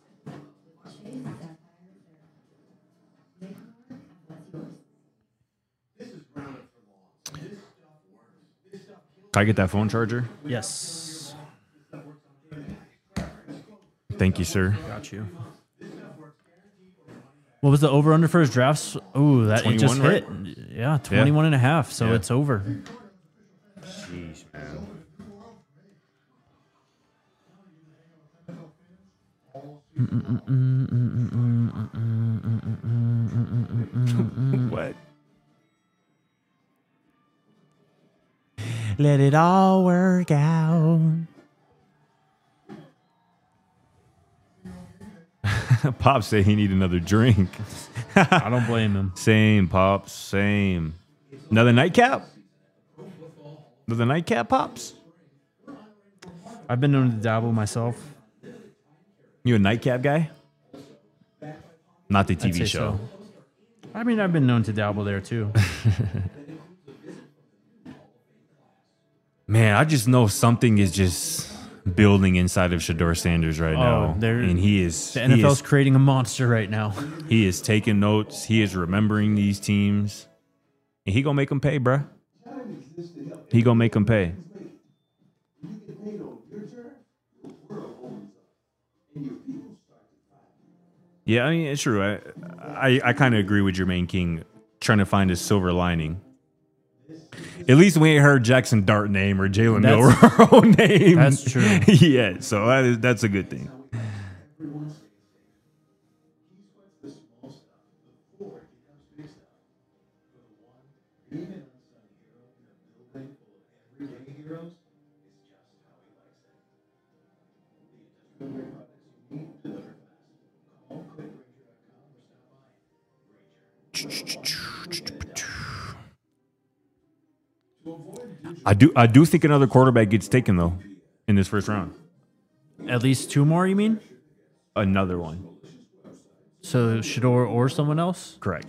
Can I get that phone charger? Yes. Thank you, sir. Got you. What was the over-under for his drafts? Oh, that it just twenty-one, hit. right? Yeah, twenty-one and a half, so Yeah. it's over. Jeez, man. What? Let it all work out. Pop said he need another drink. I don't blame him. Same, Pops. Same. Another nightcap? Another nightcap, Pops? I've been known to dabble myself. You a nightcap guy? Not the T I'd V say show. so. I mean, I've been known to dabble there too. Man, I just know something is just building inside of Shador Sanders right Oh, now. they're- And he is The he N F L's is, creating a monster right now. he is taking notes. He is remembering these teams. And he gonna make them pay, bruh. He gonna make them pay. Yeah, I mean, it's true. I I, I kind of agree with Jermaine King trying to find a silver lining. At least we ain't heard Jackson Dart name or Jalen That's- Milroe name. That's true. Yeah, so that is, that's a good thing. I do I do think another quarterback gets taken though in this first round. At least two more, you mean? Another one. So Shador or someone else? Correct.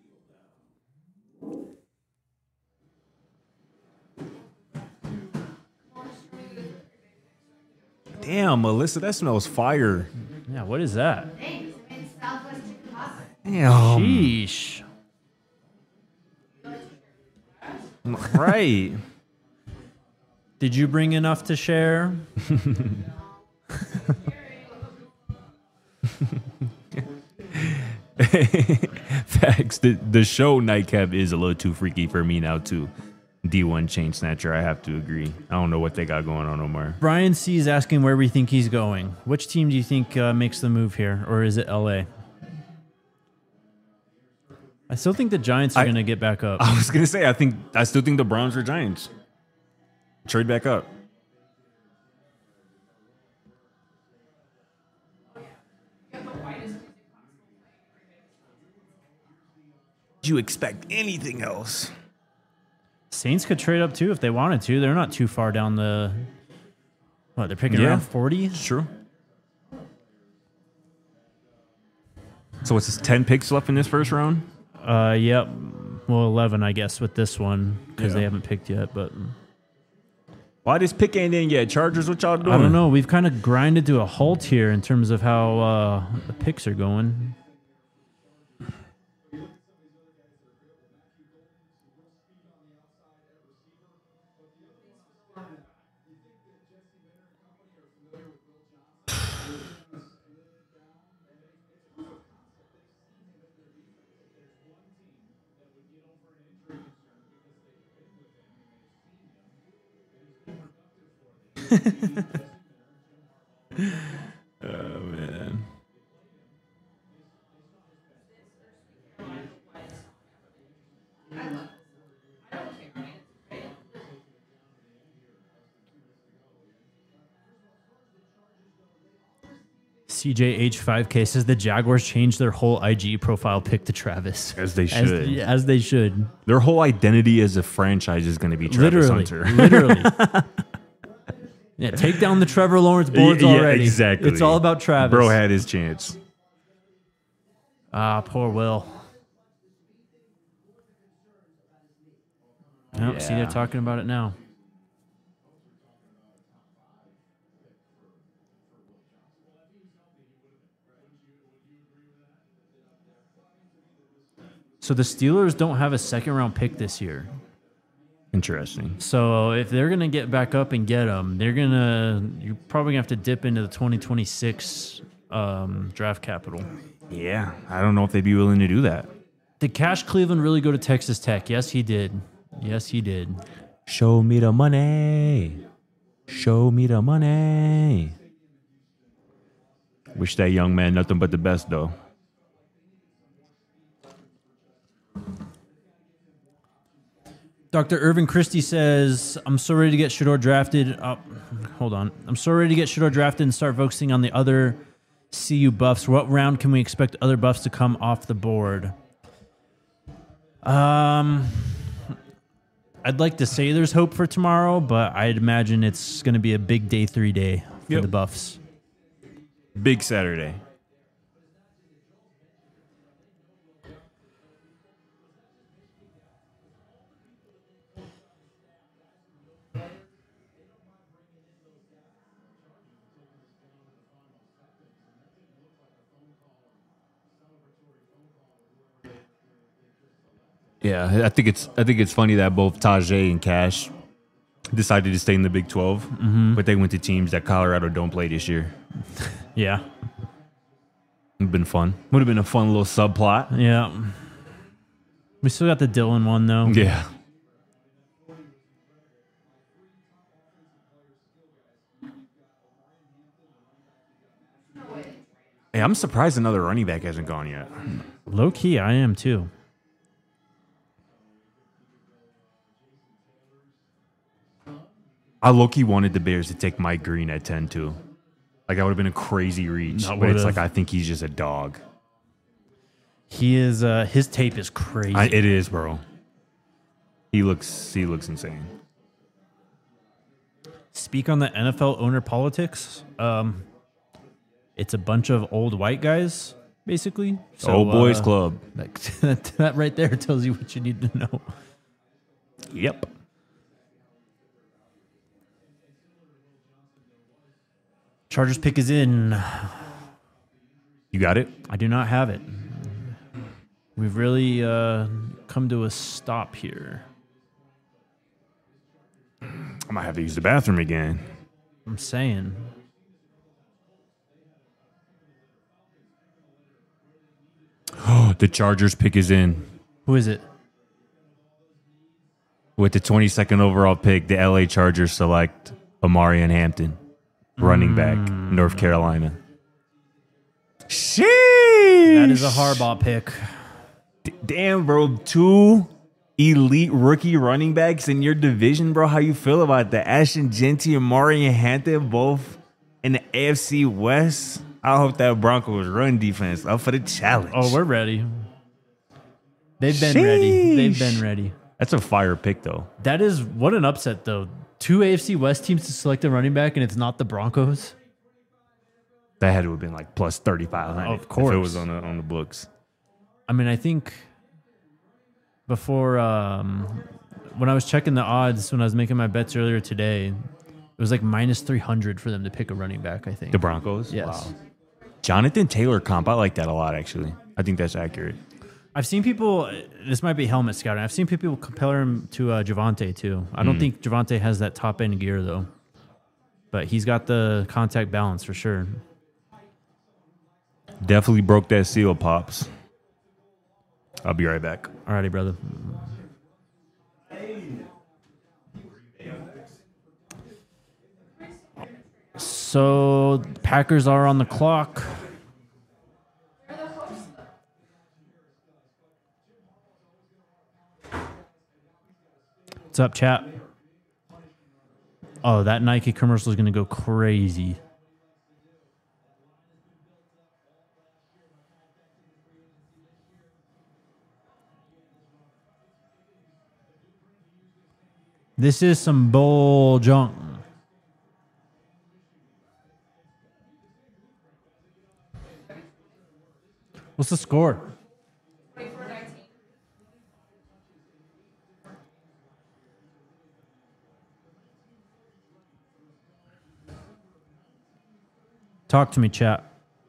Damn, Melissa, that smells fire. Yeah, what is that? Thanks. I made Southwest chicken pasta. Damn. Sheesh. Right. Did you bring enough to share? Facts. The, the show Nightcap is a little too freaky for me now, too. D one Chain Snatcher, I have to agree. I don't know what they got going on, Omar. Brian C is asking where we think he's going. Which team do you think uh, makes the move here, or is it L A? I still think the Giants are I- going to get back up. I was going to say, I think I still think the Browns are Giants. Trade back up. Do you expect anything else? Saints could trade up too if they wanted to. They're not too far down the. What, they're picking Yeah. around forty? It's true. So what's this, ten picks left in this first round? Uh, yep. Well, eleven, I guess, with this one because Yeah. they haven't picked yet. But Why this pick ain't in yet? Chargers, what y'all doing? I don't know. We've kind of grinded to a halt here in terms of how uh, the picks are going. Oh, man. C J H five K says the Jaguars changed their whole I G profile pic to Travis. As they As, should. as they should. Their whole identity as a franchise is going to be Travis Literally. Hunter. Literally. Yeah, take down the Trevor Lawrence boards Yeah, already. exactly. It's all about Travis. Bro had his chance. Ah, poor Will. Nope, see, they're Yeah. talking about it now. So the Steelers don't have a second round pick this year. Interesting. So if they're gonna get back up and get them, they're gonna you're probably gonna have to dip into the twenty twenty-six um, draft capital. Yeah, I don't know if they'd be willing to do that. Did Cash Cleveland really go to Texas Tech? Yes, he did. Yes, he did. Show me the money. Show me the money. Wish that young man nothing but the best, though. Doctor Irvin Christie says, I'm so ready to get Shador drafted. Oh, hold on. I'm so ready to get Shador drafted and start focusing on the other C U buffs. What round can we expect other buffs to come off the board? Um, I'd like to say there's hope for tomorrow, but I'd imagine it's going to be a big day three day for Yep. the buffs. Big Saturday. Yeah, I think it's I think it's funny that both Tajay and Cash decided to stay in the Big twelve, but they went to teams that Colorado don't play this year. Yeah. Would have been fun. Would have been a fun little subplot. Yeah. We still got the Dylan one, though. Yeah. Hey, I'm surprised another running back hasn't gone yet. Low key, I am too. I low-key wanted the Bears to take Mike Green at ten too. Like that would have been a crazy reach. That But it's would've. like I think he's just a dog. He is, uh, his tape is crazy. I, it is, bro. He looks he looks insane. Speak on the N F L owner politics. Um, it's a bunch of old white guys, basically. So, Old boys uh, club. That, that right there tells you what you need to know. Yep. Chargers pick is in. You got it? I do not have it. We've really uh, come to a stop here. I might have to use the bathroom again. I'm saying. The Chargers pick is in. Who is it? With the twenty-second overall pick, the L A Chargers select Amarian Hampton, running back, North Carolina. Sheesh. That is a Harbaugh pick. D- Damn, bro. Two elite rookie running backs in your division, bro. How you feel about that? Ashton Genty and Amarian Hampton, both in the A F C West. I hope that Broncos run defense up for the challenge. Oh, we're ready. They've been ready. They've Sheesh. been ready. That's a fire pick, though. That is what an upset, though. Two A F C West teams to select a running back, and it's not the Broncos. That had to have been like plus thirty-five hundred. Of course. If it was on the, on the books. I mean, I think before um, when I was checking the odds when I was making my bets earlier today, it was like minus three hundred for them to pick a running back, I think. The Broncos? Yes. Wow. Jonathan Taylor comp. I like that a lot, actually. I think that's accurate. I've seen people, this might be helmet scouting. I've seen people compare him to uh, Javante, too. I don't Mm. think Javante has that top end gear, though. But he's got the contact balance for sure. Definitely broke that seal, Pops. I'll be right back. Alrighty, brother. So, Packers are on the clock. What's up, chat? Oh, that Nike commercial is going to go crazy. This is some bull junk. What's the score? Talk to me, chat.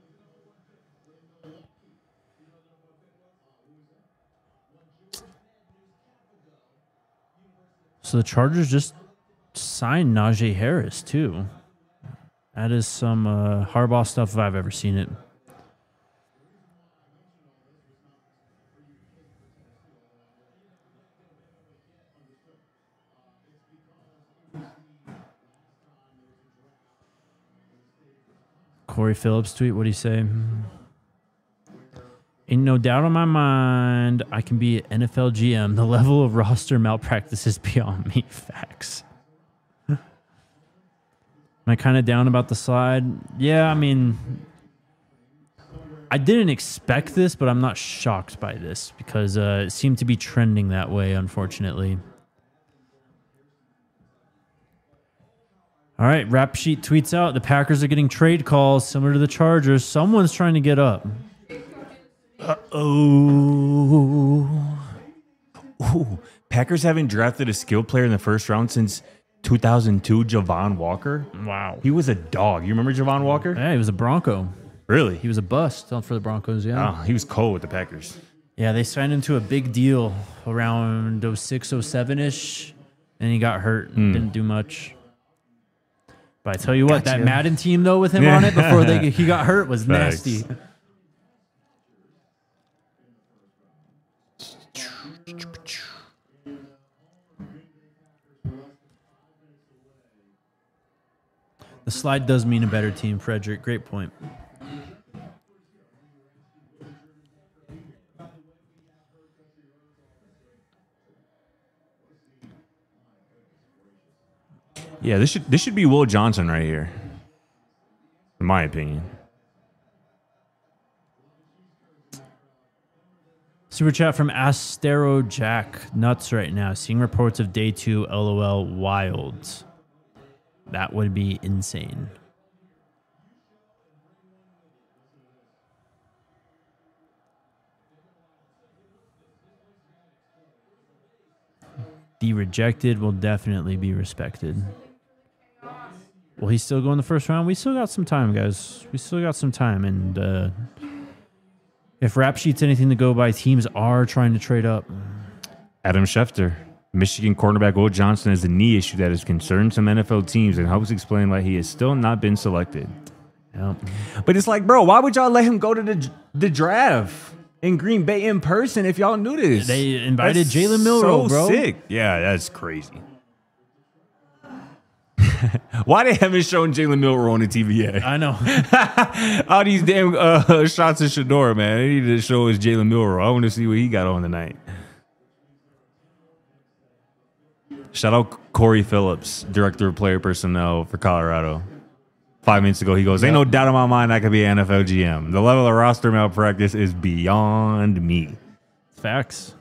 So the Chargers just signed Najee Harris, too. That is some uh, Harbaugh stuff if I've ever seen it. Corey Phillips tweet, what'd he say? Ain't no doubt in my mind I can be an N F L G M. The level of roster malpractice is beyond me. Facts. Am I kind of down about the slide? Yeah, I mean, I didn't expect this, but I'm not shocked by this because uh, it seemed to be trending that way, unfortunately. All right, Rap Sheet tweets out, the Packers are getting trade calls similar to the Chargers. Someone's trying to get up. Uh-oh. Ooh. Packers haven't drafted a skill player in the first round since two thousand two, Javon Walker. Wow. He was a dog. You remember Javon Walker? Yeah, he was a Bronco. Really? He was a bust for the Broncos, yeah. Oh, he was cold with the Packers. Yeah, they signed him to a big deal around oh six, oh seven-ish, and he got hurt and didn't do much. But I tell you what, that Gotcha. Madden team, though, with him on it before they he got hurt was Facts. nasty. The slide does mean a better team, Frederick. Great point. Yeah, this should this should be Will Johnson right here, in my opinion. Super chat from Astero Jack. Nuts right now. Seeing reports of day two. LOL. Wilds. That would be insane. The rejected will definitely be respected. Will he still go in the first round? We still got some time, guys. We still got some time. And uh, if Rap Sheet's anything to go by, teams are trying to trade up. Adam Schefter. Michigan cornerback Will Johnson has a knee issue that has concerned some N F L teams and helps explain why he has still not been selected. Yep. But it's like, bro, why would y'all let him go to the the draft in Green Bay in person if y'all knew this? They invited That's Jalen Milroe, so bro. Sick. Yeah, that's crazy. Why they haven't shown Jalen Milroe on the T V yet? I know. All these damn uh, shots at Shador, man. They need to show us Jalen Milroe. I want to see what he got on tonight. Shout out Corey Phillips, Director of Player Personnel for Colorado. Five minutes ago, he goes, ain't no doubt in my mind I could be an N F L G M. The level of roster malpractice is beyond me. Facts.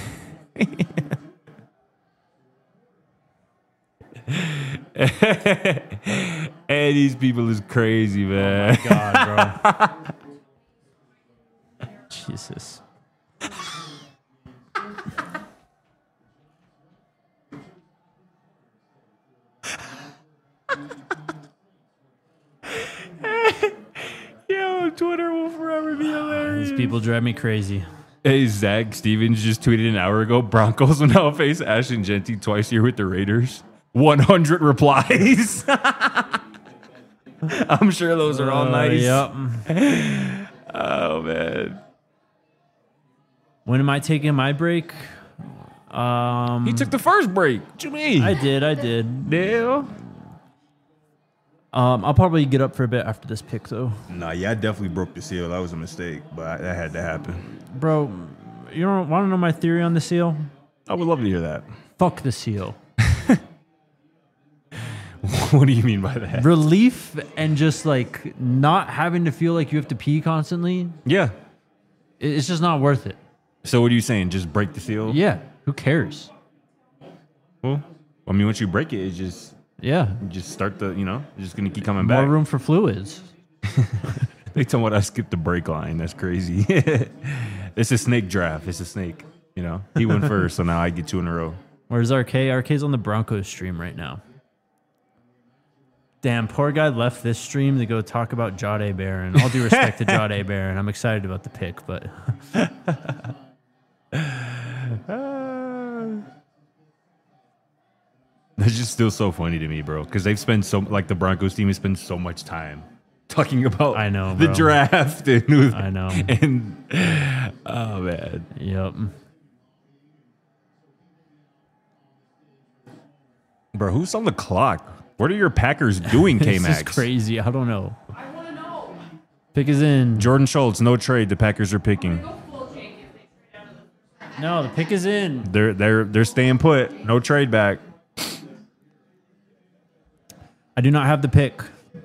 And these people is crazy, man. Oh my God, bro. Jesus. Yo, Twitter will forever be hilarious. These people drive me crazy. Hey, Zach Stevens just tweeted an hour ago, Broncos will now face Ashton Genty twice here with the Raiders. one hundred replies. I'm sure those are all Uh, nice. Yep. Oh, man. When am I taking my break? Um, He took the first break. What you mean? I did. I did. Deal. Um, I'll probably get up for a bit after this pick, though. Nah, yeah, I definitely broke the seal. That was a mistake, but I, that had to happen. Bro, you don't want to know my theory on the seal? I would love to hear that. Fuck the seal. What do you mean by that? Relief and just like not having to feel like you have to pee constantly. Yeah. it- It's just not worth it. So what are you saying? Just break the seal? Yeah. Who cares? Well, I mean, once you break it, it's just Yeah. you just start the, you know, it's just going to keep coming More back. room for fluids. They tell me I skipped the break line. That's crazy. It's a snake draft. It's a snake. You know, he went first, so now I get two in a row. Where's R K? R K's on the Broncos stream right now. Damn, poor guy left this stream to go talk about Jade Barron. All due respect to Jade Barron. I'm excited about the pick, but That's just still so funny to me, bro. Because they've spent so like the Broncos team has spent so much time talking about I know, the bro. draft and who, I know. and oh man, yep. bro, who's on the clock? What are your Packers doing, K This Max? is crazy. I don't know. I want to know. Pick is in. Jordan Schultz, no trade. The Packers are picking. Go full Jake if they trade out of the No, the pick is in. They're they're they're staying put. No trade back. I do not have the pick.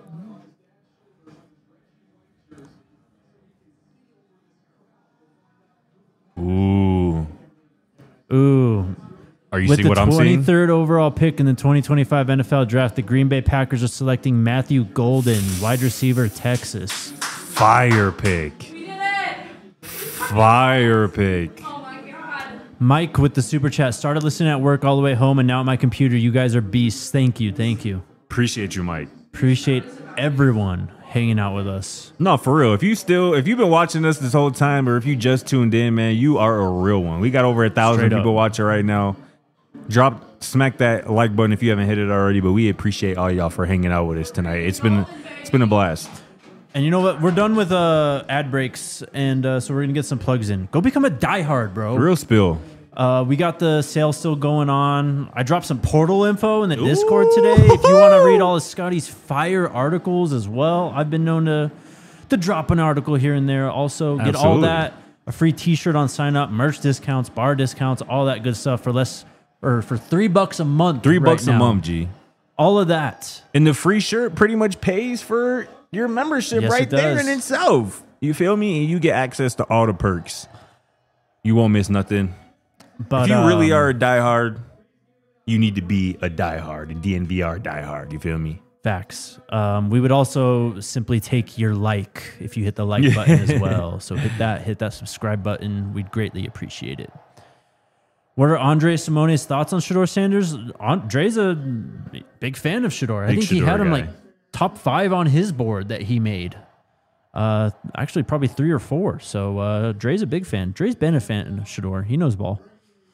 Ooh, Ooh. are you With seeing the what I'm seeing? twenty-third overall pick in the twenty twenty-five N F L Draft, the Green Bay Packers are selecting Matthew Golden, wide receiver, Texas. Fire pick. We did it! Fire pick. Oh my god. Mike with the super chat started listening at work all the way home, and now at my computer. You guys are beasts. Thank you, thank you. Appreciate you, Mike. Appreciate everyone hanging out with us. No, for real. If you still, if you've been watching us this whole time, or if you just tuned in, man, you are a real one. We got over a thousand Straight up. people watching right now. Drop, smack that like button if you haven't hit it already. But we appreciate all y'all for hanging out with us tonight. It's been, it's been a blast. And you know what? We're done with uh, ad breaks, and uh, so we're gonna get some plugs in. Go become a diehard, bro. Real spill. Uh, we got the sale still going on. I dropped some portal info in the Discord today. If you want to read all of Scotty's fire articles as well, I've been known to to drop an article here and there. Also, get all Absolutely. that, a free T-shirt on sign up, merch discounts, bar discounts, all that good stuff for less or for three bucks a month. Three right bucks a now. month, G. All of that. And the free shirt pretty much pays for your membership Yes, right it there does. in itself. You feel me? And you get access to all the perks. You won't miss nothing. But if you really um, are a diehard, you need to be a diehard, a D N V R diehard. You feel me? Facts. Um, we would also simply take your like if you hit the like button as well. So hit that, hit that subscribe button. We'd greatly appreciate it. What are Andre Simone's thoughts on Shedeur Sanders? Andre's a big fan of Shedeur. I Big think he Shedeur had him guy. like top five on his board that he made. Uh, actually, probably three or four. So uh, Dre's a big fan. Dre's been a fan of Shedeur. He knows ball.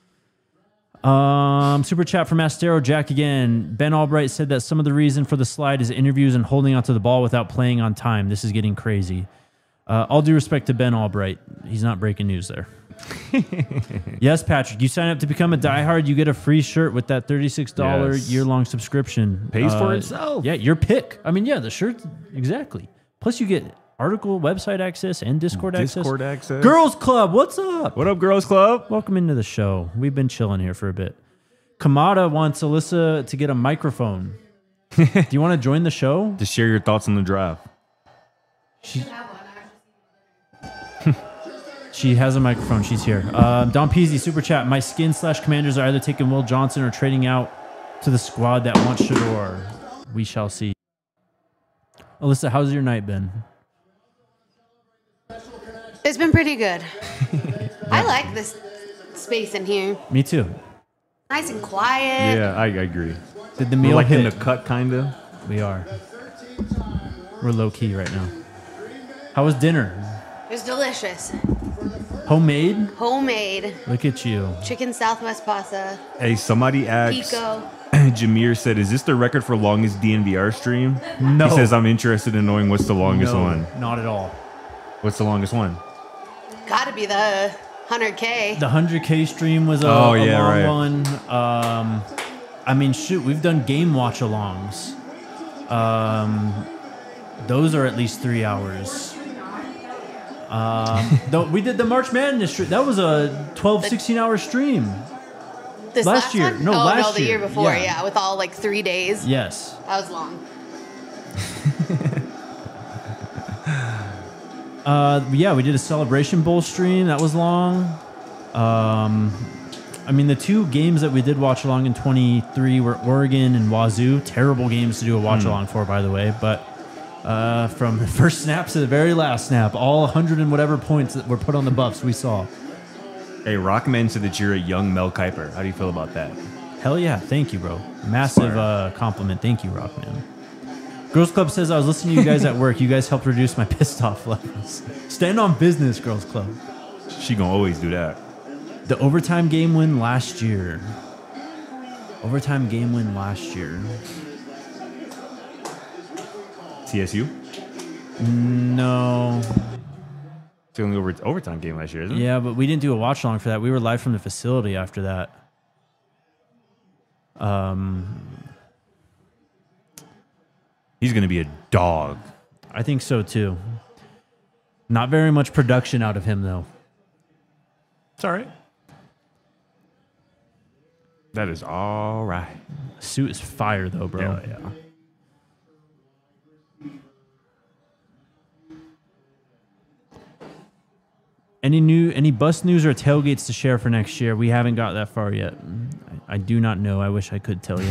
Um, super chat from Astero Jack again. Ben Albright said that some of the reason for the slide is interviews and holding onto the ball without playing on time. This is getting crazy. Uh, all due respect to Ben Albright. He's not breaking news there. Yes, Patrick. You sign up to become a diehard, you get a free shirt with that thirty-six dollars Yes. year-long subscription. Pays for Uh, itself. Yeah, your pick. I mean, yeah, the shirt, exactly. Plus, you get article, website access, and Discord, Discord access. access. Girls Club, what's up? What up, Girls Club? Welcome into the show. We've been chilling here for a bit. Kamada wants Alyssa to get a microphone. Do you want to join the show? To share your thoughts on the draft. She has a microphone. She's here. Uh, Don Peasy, super chat. My skin slash commanders are either taking Will Johnson or trading out to the squad that wants Shedeur. We shall see. Alyssa, how's your night been? It's been pretty good. I like this space in here. Me too. Nice and quiet. Yeah, I, I agree. Did the We're meal like hit? in the cut, kind of. We are. We're low key right now. How was dinner? It was delicious. Homemade? Homemade. Look at you. Chicken Southwest pasta. Hey, somebody asked. Pico. Jameer said, "Is this the record for longest D N V R stream?" No. He says, "I'm interested in knowing what's the longest No, one. not at all. What's the longest one?" Gotta be the one hundred K. The one hundred K stream was a, Oh, a yeah, long right. one. Um, I mean, shoot, we've done game watch alongs. Um, those are at least three hours. Um, though we did the March Madness stream. That was a twelve, sixteen hour stream. This last last year. one? No, oh, last no, the year. year before. Yeah. Yeah. with all like three days. Yes. That was long. Uh, yeah, we did a Celebration Bowl stream. That was long. Um, I mean, the two games that we did watch along in twenty-three were Oregon and Wazoo. Terrible games to do a watch along for, by the way. But uh, from the first snap to the very last snap, all one hundred and whatever points that were put on the buffs we saw. Hey, Rockman said that you're a young Mel Kiper. How do you feel about that? Hell yeah. Thank you, bro. Massive uh, compliment. Thank you, Rockman. Girls Club says, I was listening to you guys at work. You guys helped reduce my pissed off levels. Stand on business, Girls Club. She gonna always do that. The overtime game win last year. Overtime game win last year. T S U? No. It's the only over overtime game last year, isn't it? Yeah, but we didn't do a watch along for that. We were live from the facility after that. Um, He's gonna be a dog. I think so too. Not very much production out of him though. It's all right. That is all right. Suit is fire though, bro. Hell yeah. Any new, any bus news or tailgates to share for next year? We haven't got that far yet. I, I do not know. I wish I could tell you.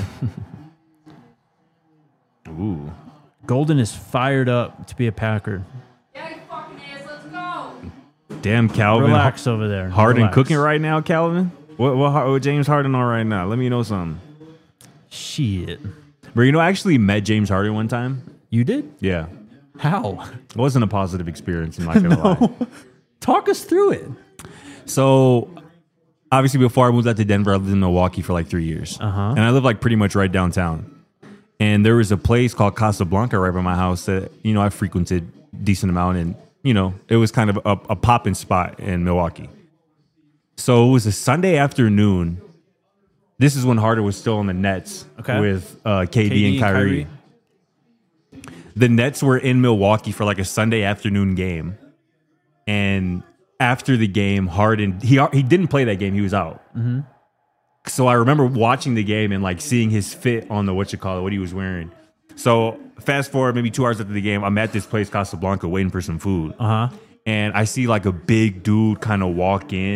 Ooh. Golden is fired up to be a Packer. Yeah, you fucking ass, let's go. Damn, Calvin. Relax over there. Harden Relax. cooking right now, Calvin? What, what, what James Harden on right now? Let me know something. Shit. Bro, you know, I actually met James Harden one time. You did? Yeah. How? It wasn't a positive experience, I'm not gonna lie. Talk us through it. So, obviously, before I moved out to Denver, I lived in Milwaukee for like three years. Uh-huh. And I lived like pretty much right downtown. And there was a place called Casablanca right by my house that, you know, I frequented a decent amount. And, you know, it was kind of a, a popping spot in Milwaukee. So it was a Sunday afternoon. This is when Harden was still on the Nets Okay. with uh, K D, K D and Kyrie. and The Nets were in Milwaukee for like a Sunday afternoon game. And after the game, Harden, he he didn't play that game. He was out. Mm-hmm. So I remember watching the game and like seeing his fit on the what you call it, what he was wearing. So fast forward maybe two hours after the game, I'm at this place Casablanca waiting for some food. Uh-huh. And I see like a big dude kind of walk in,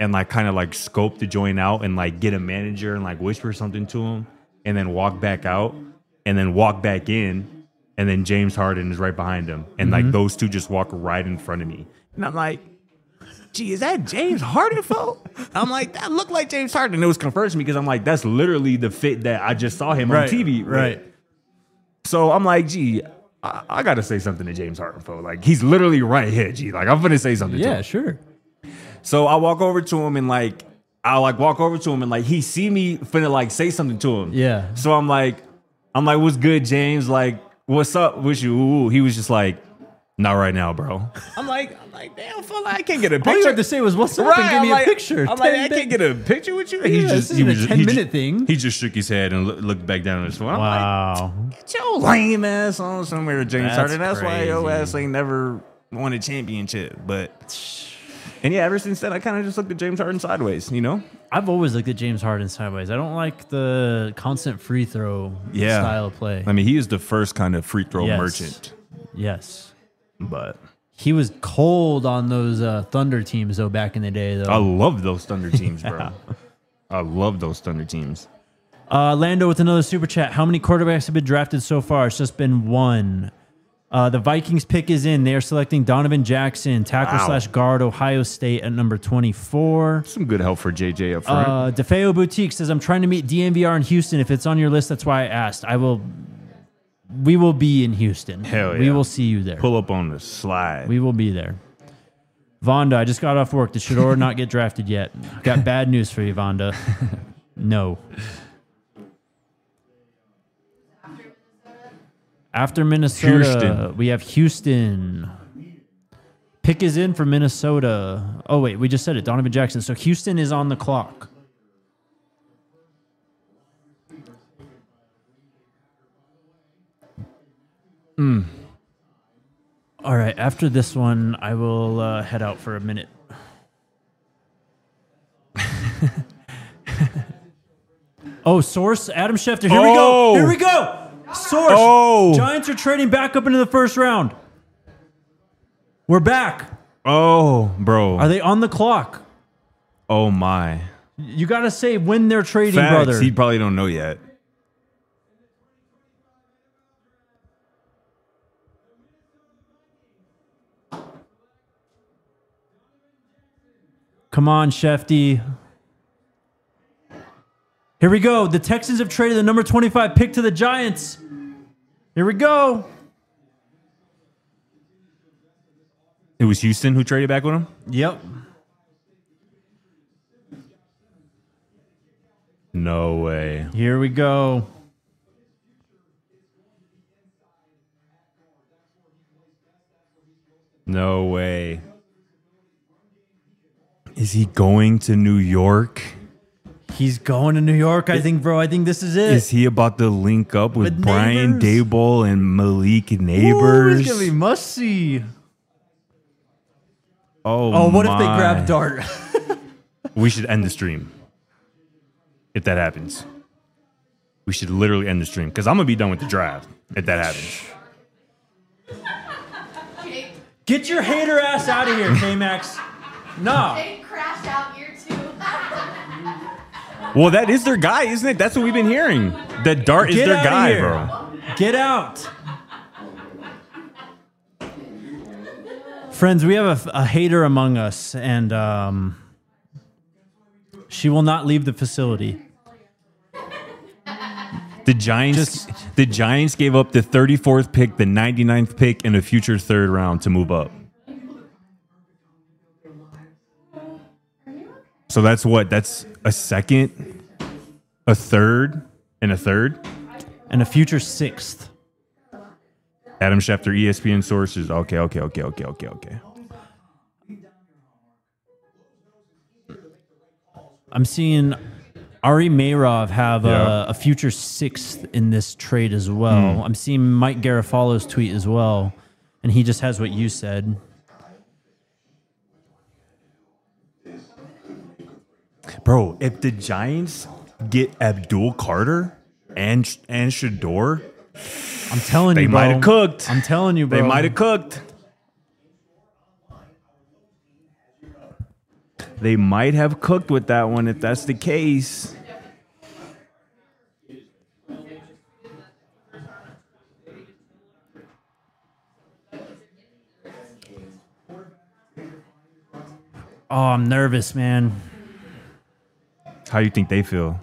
and like kind of like scope the joint out and like get a manager and like whisper something to him and then walk back out and then walk back in and then James Harden is right behind him and Mm-hmm. like those two just walk right in front of me and I'm like, gee, is that James Harden, folk? I'm like, that looked like James Harden. And it was confirmed to me because I'm like, that's literally the fit that I just saw him on Right, T V. right. So I'm like, gee, I, I got to say something to James Harden, folk. Like, he's literally right here, gee. Like, I'm going to say something to Yeah, him. sure. So I walk over to him and like, I like walk over to him and like, he see me finna like say something to him. Yeah. So I'm like, I'm like, what's good, James? Like, what's up with you? Ooh. He was just like, not right now, bro. I'm like, I'm like, damn, fella, I can't get a picture. All you had to say was, what's up, Right, and give I'm me like- a picture. I'm like, ten I can't get a picture with you. Yeah, this isn't a ten-minute thing. He just shook his head and loo- looked back down at his phone. I'm like, Wow. get your lame ass on somewhere, James That's Harden. That's why your crazy. ass ain't never won a championship. But and yeah, ever since then, I kind of just looked at James Harden sideways. You know? I've always looked at James Harden sideways. I don't like the constant free throw Yeah. style of play. I mean, he is the first kind of free throw Yes. merchant. Yes. But He was cold on those uh, Thunder teams, though, back in the day, though. I love those Thunder teams, bro. I love those Thunder teams. Uh, Lando with another super chat. How many quarterbacks have been drafted so far? It's just been one. Uh, the Vikings pick is in. They are selecting Donovan Jackson, tackle Wow. slash guard, Ohio State at number twenty-four. Some good help for J J up front. Uh, DeFeo Boutique says, I'm trying to meet D M V R in Houston. If it's on your list, that's why I asked. I will. We will be in Houston. Hell We yeah. will see you there. Pull up on the slide. We will be there. Vonda, I just got off work. Did Shador not get drafted yet? Got bad news for you, Vonda. No. After Minnesota, Houston. we have Houston. Pick is in for Minnesota. Oh, wait, we just said it. Donovan Jackson. So Houston is on the clock. Hmm. All right, after this one, I will uh, head out for a minute. Oh, source, Adam Schefter. Here we go. Oh. Here we go. Source. Oh. Giants are trading back up into the first round. We're back. Oh, bro. Are they on the clock? Oh, my. You got to say when they're trading, Facts, brother. he probably don't know yet. Come on, Shefty. Here we go. The Texans have traded the number twenty-five pick to the Giants. Here we go. It was Houston who traded back with him? Yep. No way. Here we go. No way. Is he going to New York? He's going to New York, I think, bro. I think this is it. Is he about to link up with, With Brian Neighbors? Daboll and Malik Ooh, Neighbors? it's going to be must see. oh, Oh, what if they my. grab Dart? We should end the stream. If that happens. We should literally end the stream. Because I'm going to be done with the draft if that happens. Get your hater ass out of here, K-Max. No. They crashed out year two. Well, that is their guy, isn't it? That's what we've been hearing. That Dart is Get their outta guy, here. bro. Get out. Friends, we have a, a hater among us, and um, she will not leave the facility. The Giants, the Giants gave up the thirty-fourth pick, the ninety-ninth pick, and a future third round to move up. So that's what? That's a second, a third, and a third. And a future sixth. Adam Schefter, E S P N sources. Okay, okay, okay, okay, okay, okay. I'm seeing Ari Mayrov have Yeah. a, a future sixth in this trade as well. Hmm. I'm seeing Mike Garofalo's tweet as well, and he just has what you said. Bro, if the Giants get Abdul Carter and and Shador, I'm telling they you, bro. might have cooked. I'm telling you, bro. They might have cooked. They might have cooked with that one if that's the case. Oh, I'm nervous, man. How do you think they feel?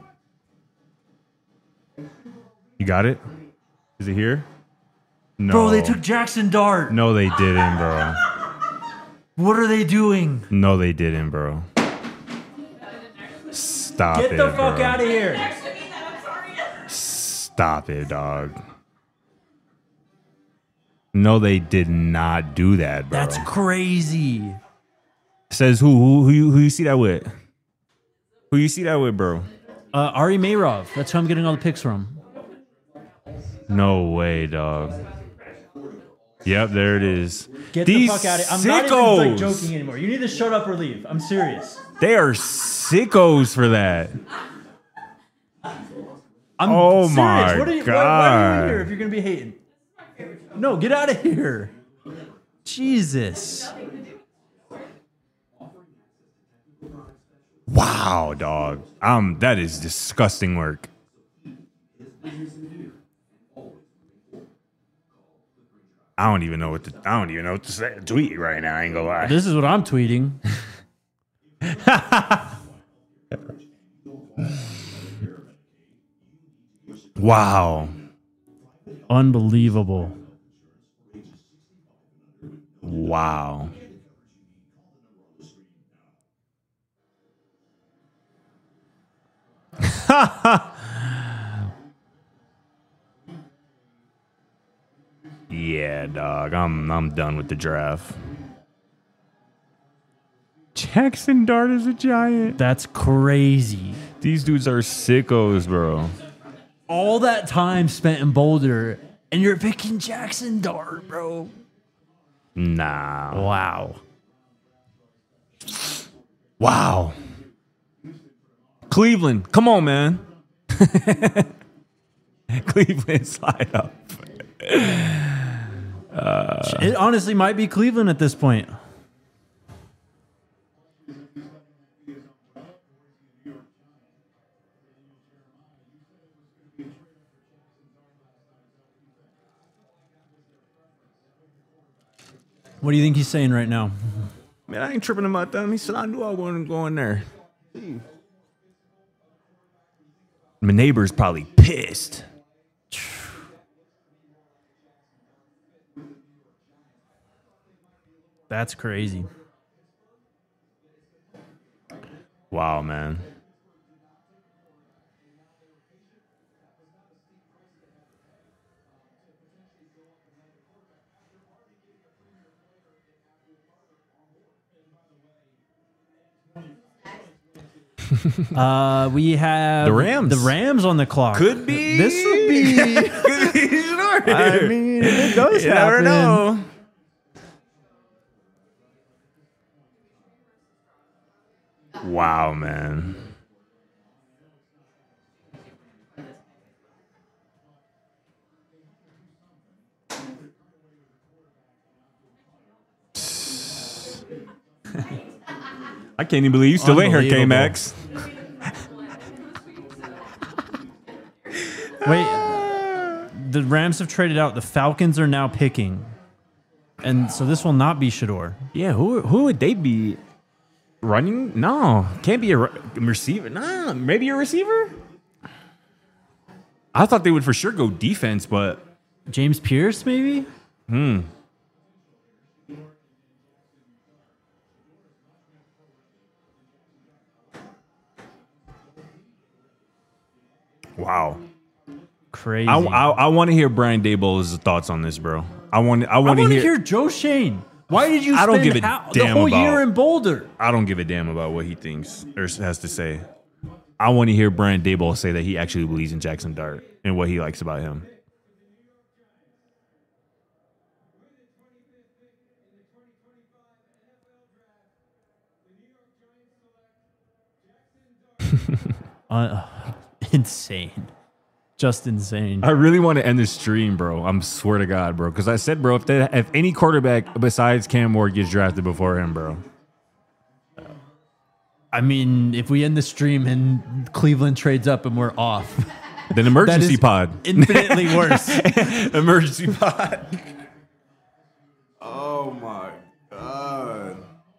You got it? Is it here? No. Bro, they took Jackson Dart. No, they didn't, bro. What are they doing? No, they didn't, bro. Stop Get it, the fuck bro. out of here. Stop it, dog. No, they did not do that, bro. That's crazy. Says who? Who? Who you, who you see that with? Who you see that with, bro? Uh, Ari Mayrov. That's who I'm getting all the picks from. No way, dog. Yep, there it is. Get These the fuck out of here. I'm sickos. not even like joking anymore. You need to shut up or leave. I'm serious. They are sickos for that. I'm Oh serious. my what are you, God. Why, why are you in here if you're going to be hating? No, get out of here. Jesus. Wow, dog. Um, that is disgusting work. I don't even know what to. I don't even know what to say. Tweet right now. I ain't gonna lie. This is what I'm tweeting. Wow. Unbelievable. Wow. Yeah, dog. I'm I'm done with the draft. Jackson Dart is a giant. That's crazy. These dudes are sickos, bro. All that time spent in Boulder, and you're picking Jackson Dart, bro. Nah. Wow. Wow. Cleveland, come on, man. Cleveland, slide up. Uh, It honestly might be Cleveland at this point. What do you think he's saying right now? Man, I ain't tripping about them. He said I knew I wasn't going there. My neighbor's probably pissed. That's crazy. Wow, man. Uh, we have The Rams. The Rams on the clock. Could be. This would be. Could be sure. I mean, it does You happen. never know. Wow, man. I can't even believe you still ain't here, Unbelievable. K-Max. Wait, the Rams have traded out. The Falcons are now picking, and so this will not be Shador. Yeah, who who would they be? Running? No, can't be a re- receiver. Nah, maybe a receiver. I thought they would for sure go defense, but James Pierce, maybe. hmm. Wow. Crazy. I, I, I want to hear Brian Daboll's thoughts on this, bro. I want I I want to want to hear, hear Joe Shane. Why did you I spend don't give a how, the damn whole about- year in Boulder? I don't give a damn about what he thinks or has to say. I want to hear Brian Daboll say that he actually believes in Jackson Dart and what he likes about him. Uh, insane. Just insane. I really want to end this stream, bro. I'm swear to God, bro. Because I said, bro, if they, if any quarterback besides Cam Ward gets drafted before him, bro, I mean, if we end the stream and Cleveland trades up and we're off, Then emergency is pod. infinitely worse. Emergency pod. Oh my god.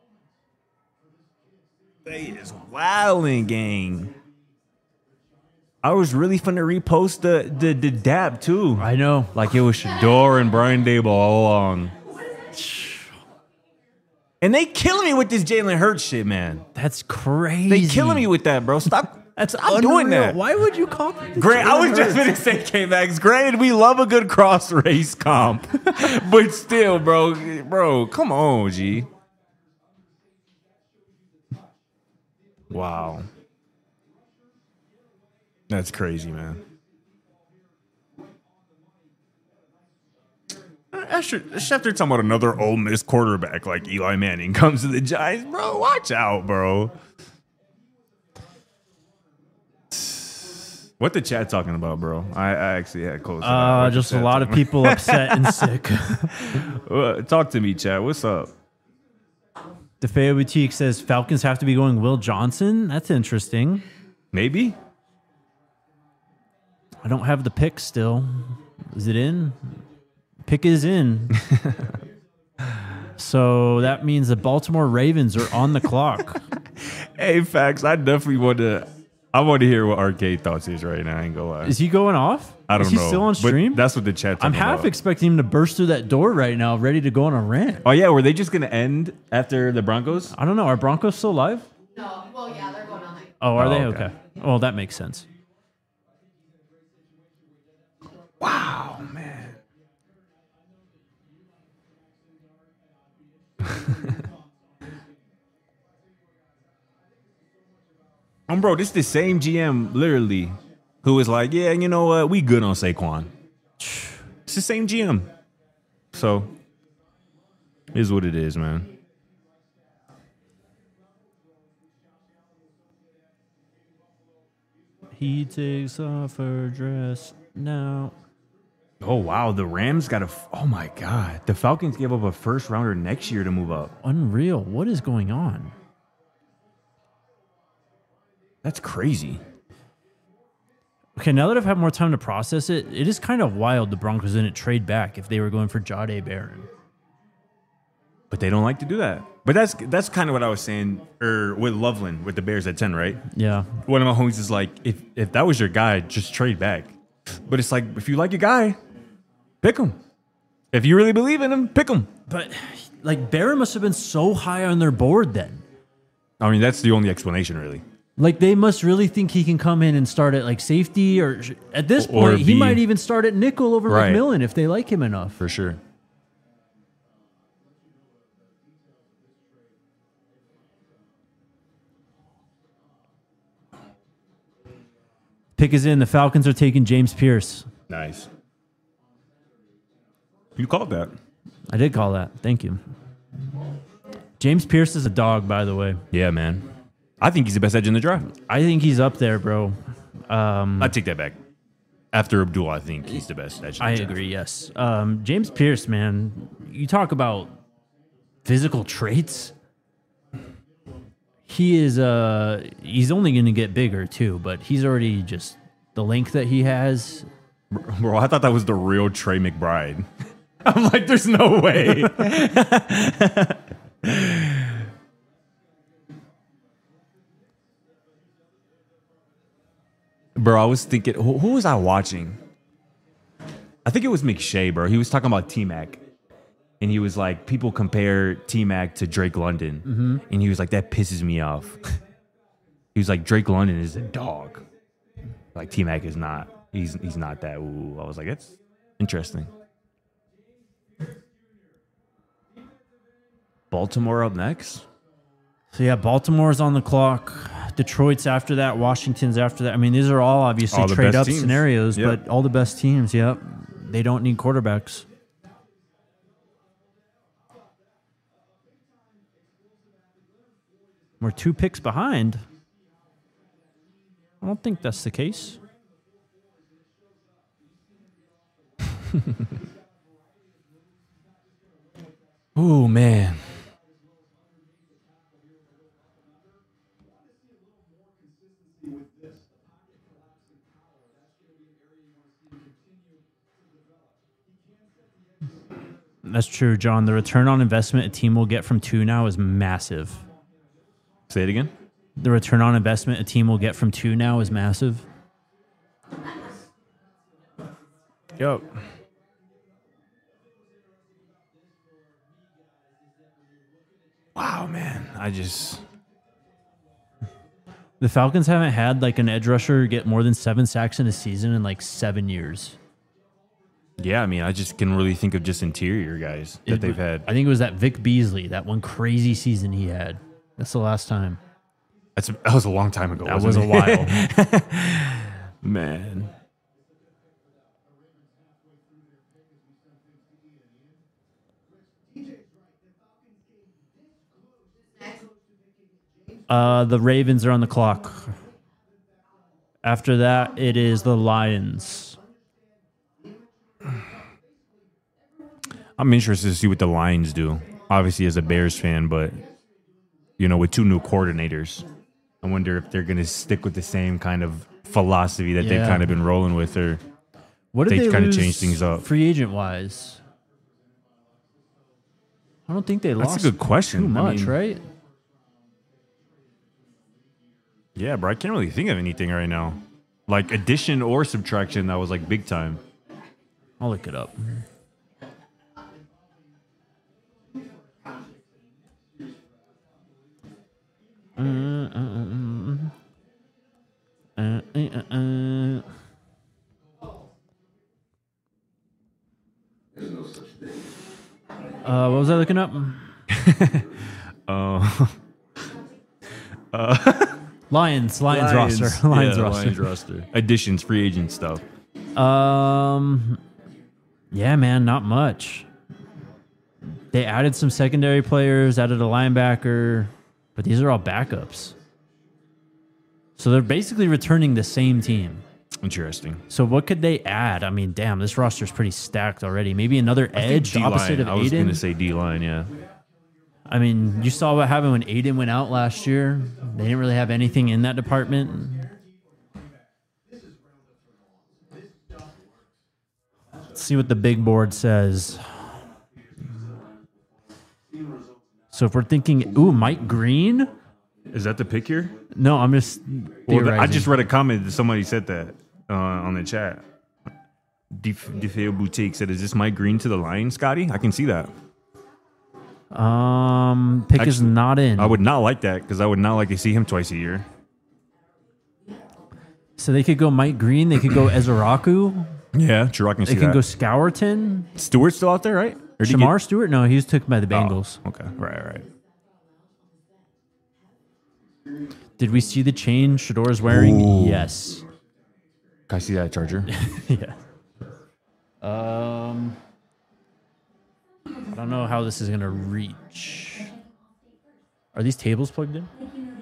They is wilding, gang. I was really finna repost the the, the dab too. I know. Like it was Shador and Brian Dable all along. And they killing me with this Jalen Hurts shit, man. That's crazy. They killing me with that, bro. Stop. That's Stop doing unreal. that. Why would you copy this? Grant, I was Jalen just Hurts? gonna say K-Max. Granted, we love a good cross race comp, but still, bro, bro, come on, G. Wow, that's crazy, man. After, after talking about another Ole Miss quarterback like Eli Manning comes to the Giants, bro, watch out, bro. What the chat talking about, bro? I, I actually had close. Uh, just a lot of people upset and sick. Well, talk to me, chat. What's up? DeFeo Boutique says Falcons have to be going Will Johnson. That's interesting. Maybe. I don't have the pick still. Is it in? Pick is in. So that means the Baltimore Ravens are on the clock. Hey, facts. I definitely want to. I want to hear what Arcade thoughts is right now. I ain't gonna lie. Is he going off? I don't is he know. still on But stream? that's what the chat's I'm talking half about. expecting him to burst through that door right now, ready to go on a rant. Oh yeah, were they just gonna end after the Broncos? I don't know. Are Broncos still live? No, well, yeah, they're going on like. Oh, are Oh, they? okay. Okay. Well, that makes sense. Wow, man. Um, bro, this is the same G M, literally, who was like, yeah, you know what? We good on Saquon. It's the same G M. So, is what it is, man. He takes off her dress now. Oh, wow. The Rams got a. F- oh, my God. The Falcons gave up a first rounder next year to move up. Unreal. What is going on? That's crazy. Okay, now that I've had more time to process it, it is kind of wild the Broncos didn't trade back if they were going for Jahdae Barron. But they don't like to do that. But that's that's kind of what I was saying, or with Loveland with the Bears at ten, right? Yeah. One of my homies is like, if if that was your guy, just trade back. But it's like, if you like your guy, pick him. If you really believe in him, pick him. But, like, Barron must have been so high on their board then. I mean, that's the only explanation, really. Like, they must really think he can come in and start at, like, safety, or at this Or point, he be- might even start at nickel over Right. McMillan if they like him enough. For sure. Pick is in. The Falcons are taking James Pierce. Nice. You called that. I did call that. Thank you. James Pierce is a dog, by the way. Yeah, man. I think he's the best edge in the draft. I think he's up there, bro. Um, I take that back. After Abdul, I think he's the best edge in the I draft. agree, yes. Um, James Pierce, man, you talk about physical traits. He is, uh, he's only going to get bigger, too, but he's already just the length that he has. Bro, I thought that was the real Trey McBride. I'm like, there's no way. Bro, I was thinking, who, who was I watching? I think it was McShay, bro. He was talking about T-Mac. And he was like, people compare T-Mac to Drake London. Mm-hmm. And he was like, that pisses me off. He was like, Drake London is a dog. Like, T-Mac is not. He's he's not that. Ooh. I was like, that's interesting. Baltimore up next? So, yeah, Baltimore's on the clock. Detroit's after that. Washington's after that. I mean, these are all obviously All the trade best up teams. scenarios, Yep. but all the best teams, yep. They don't need quarterbacks. We're two picks behind. I don't think that's the case. Ooh, man. That's true, John. The return on investment a team will get from two now is massive. Say it again. The return on investment a team will get from two now is massive. Yep. Wow, man. I just. The Falcons haven't had like an edge rusher get more than seven sacks in a season in like seven years. Yeah, I mean, I just can really think of just interior guys that It- they've had. I think it was that Vic Beasley, that one crazy season he had. That's the last time. That's, that was a long time ago. That wasn't was a it? while. Man. Uh, the Ravens are on the clock. After that, it is the Lions. I'm interested to see what the Lions do. Obviously, as a Bears fan, but you know, with two new coordinators, I wonder if they're going to stick with the same kind of philosophy that Yeah. they've kind of been rolling with, or What did They they, kinda lose changed things up. free agent wise? I don't think they That's a lost good question. too I much, mean- right? yeah, bro. I can't really think of anything right now, like addition or subtraction that was like big time. I'll look it up. Uh, uh, uh, uh, uh, uh, uh. Uh, what was I looking up? Uh, Lions, Lions, roster, Lions yeah, roster. Lions roster. Additions, free agent stuff. Um, yeah, man, not much. They added some secondary players, added a linebacker, but these are all backups. So they're basically returning the same team. Interesting. So what could they add? I mean, damn, this roster's pretty stacked already. Maybe another edge D-line. opposite of I was going to Aiden. say D line. Yeah. I mean, you saw what happened when Aiden went out last year. They didn't really have anything in that department. Let's see what the big board says. So if we're thinking, ooh, Mike Green? Is that the pick here? No, I'm just Well, the- I theorizing. just read a comment that somebody said that uh, on the chat. DeFeo Boutique said, "Is this Mike Green to the Lions, Scotty?" I can see that. Um, pick is Actually, not in. I would not like that because I would not like to see him twice a year. So they could go Mike Green. They could go Ezeraku. Yeah, sure, I can They see can that. go Scourton. Stewart's still out there, right? Or did he Shamar get- Stewart? No, he was taken by the Oh, Bengals. okay, right, right. Did we see the chain Shador's wearing? Ooh. Yes. Can I see that Charger? Yeah. Um, I don't know how this is gonna reach. Are these tables plugged in?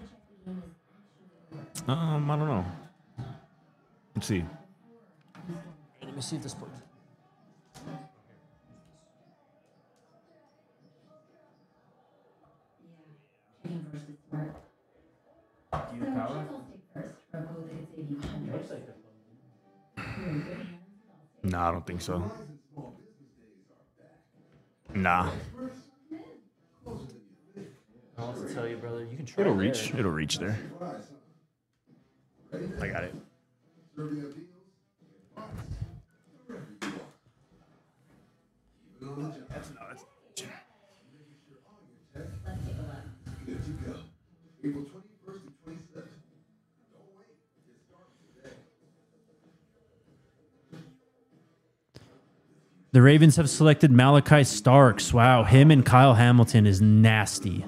um, I don't know. Let's see. Let me see if this plugs. Nah, I don't think so. Nah, I want to tell you, brother. You can try. it'll reach. It'll reach there. I got it. The Ravens have selected Malachi Starks. Wow, him and Kyle Hamilton is nasty.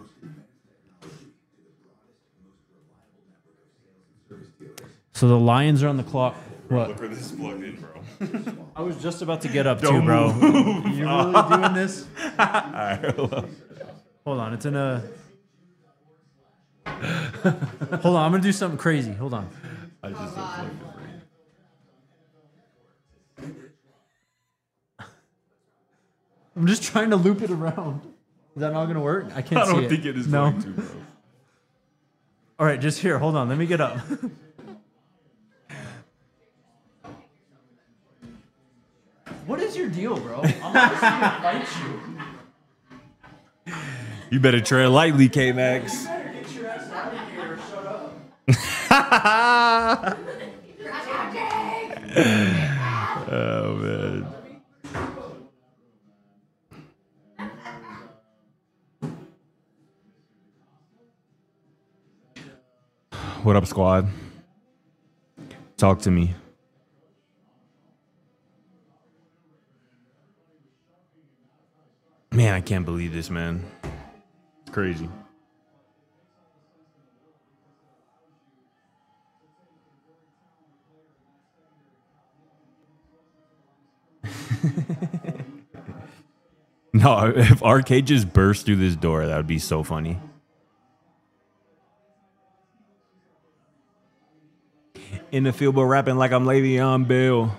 So the Lions are on the clock. What? Where this is plugged in, bro. I was just about to get up too, Don't bro. move. You really doing this? Hold on, it's in a. Hold on, I'm gonna do something crazy. Hold on. I just said plugged in, bro. I'm just trying to loop it around. Is that not gonna work? I can't I see don't it. think it is no. going to, bro. All right, just here. Hold on. Let me get up. What is your deal, bro? I'm not gonna fight you. You better tread lightly, K-Max. Oh, man. What up, squad? Talk to me. Man, I can't believe this, man. It's crazy. No, if Arcade just burst through this door, that would be so funny. In the field, but rapping like I'm Le'Veon Bell.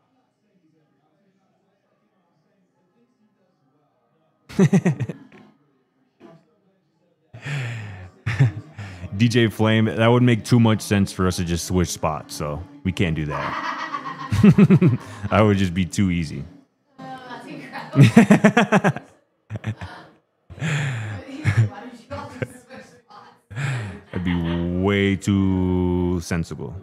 D J Flame, that would make too much sense for us to just switch spots, so we can't do that. That would just be too easy. That's incredible. That'd be way too sensible.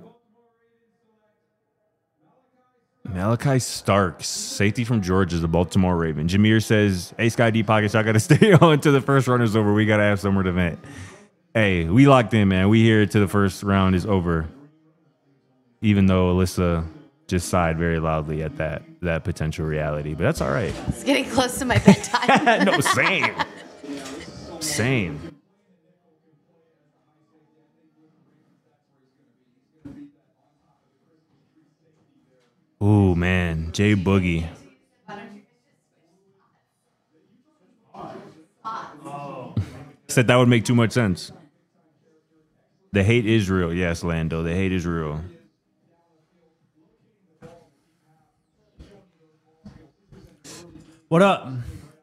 Malachi Starks, safety from Georgia, the Baltimore Raven. Jameer says, hey, Sky D Pockets, I got to stay on until the first round is over. We got to have somewhere to vent. Hey, we locked in, man. We here till the first round is over. Even though Alyssa just sighed very loudly at that that potential reality. But that's all right. It's getting close to my bedtime. No, same. Same. Ooh, man. Jay Boogie. Said that would make too much sense. The hate is real. Yes, Lando. The hate is real. What up?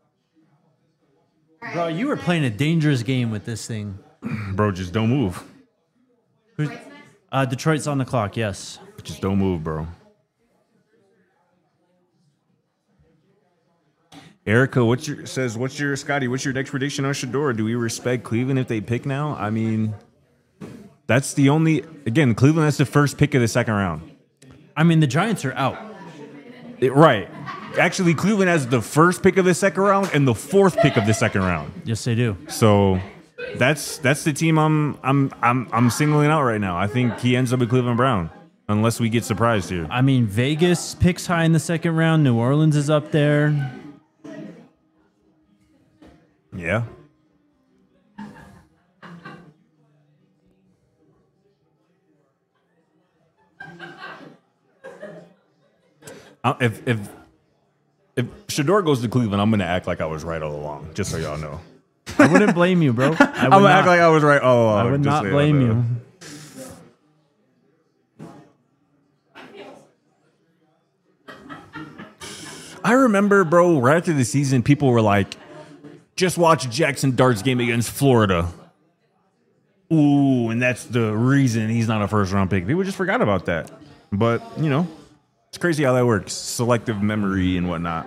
Bro, you were playing a dangerous game with this thing. Bro, just don't move. Uh, Detroit's on the clock, yes. Just don't move, bro. Erica, what's your says? What's your Scotty? What's your next prediction on Shador? Do we respect Cleveland if they pick now? I mean, that's the only. Again, Cleveland. That's the first pick of the second round. I mean, the Giants are out. It, right. Actually, Cleveland has the first pick of the second round and the fourth pick of the second round. Yes, they do. So that's that's the team I'm I'm I'm I'm singling out right now. I think he ends up with Cleveland Brown, unless we get surprised here. I mean, Vegas picks high in the second round. New Orleans is up there. Yeah. Uh, if if if Shador goes to Cleveland, I'm gonna act like I was right all along, just so y'all know. I wouldn't blame you, bro. I would I'm gonna not, act like I was right all along. I would just not so y'all blame know. you. I remember, bro, right after the season, people were like, just watch Jackson Dart's game against Florida. Ooh, and that's the reason he's not a first round pick. People just forgot about that. But, you know, it's crazy how that works. Selective memory and whatnot.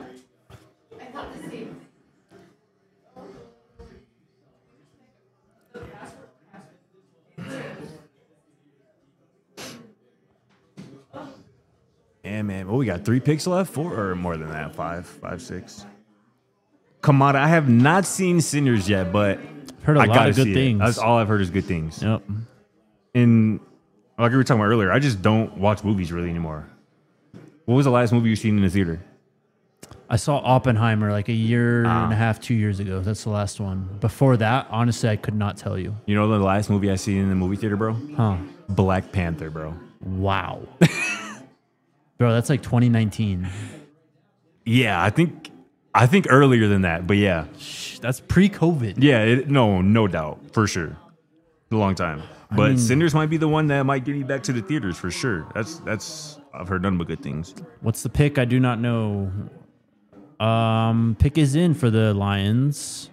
Yeah, man. Well, we got three picks left, four or more than that. Five, five, six. Kamada, I have not seen Sinners yet, but Heard a I lot gotta of good see it. things. That's all I've heard is good things. Yep. And like we were talking about earlier, I just don't watch movies really anymore. What was the last movie you seen in the theater? I saw Oppenheimer like a year Ah. and a half, two years ago. That's the last one. Before that, honestly, I could not tell you. You know the last movie I seen in the movie theater, bro? Huh. Black Panther, bro. Wow. Bro, that's like twenty nineteen. Yeah, I think I think earlier than that, but yeah. Shh, that's pre-COVID. Yeah, it, no, no doubt, for sure. A long time. But mean- Sinners might be the one that might get me back to the theaters for sure. That's that's I've heard nothing but good things. What's the pick? I do not know. Um, pick is in for the Lions.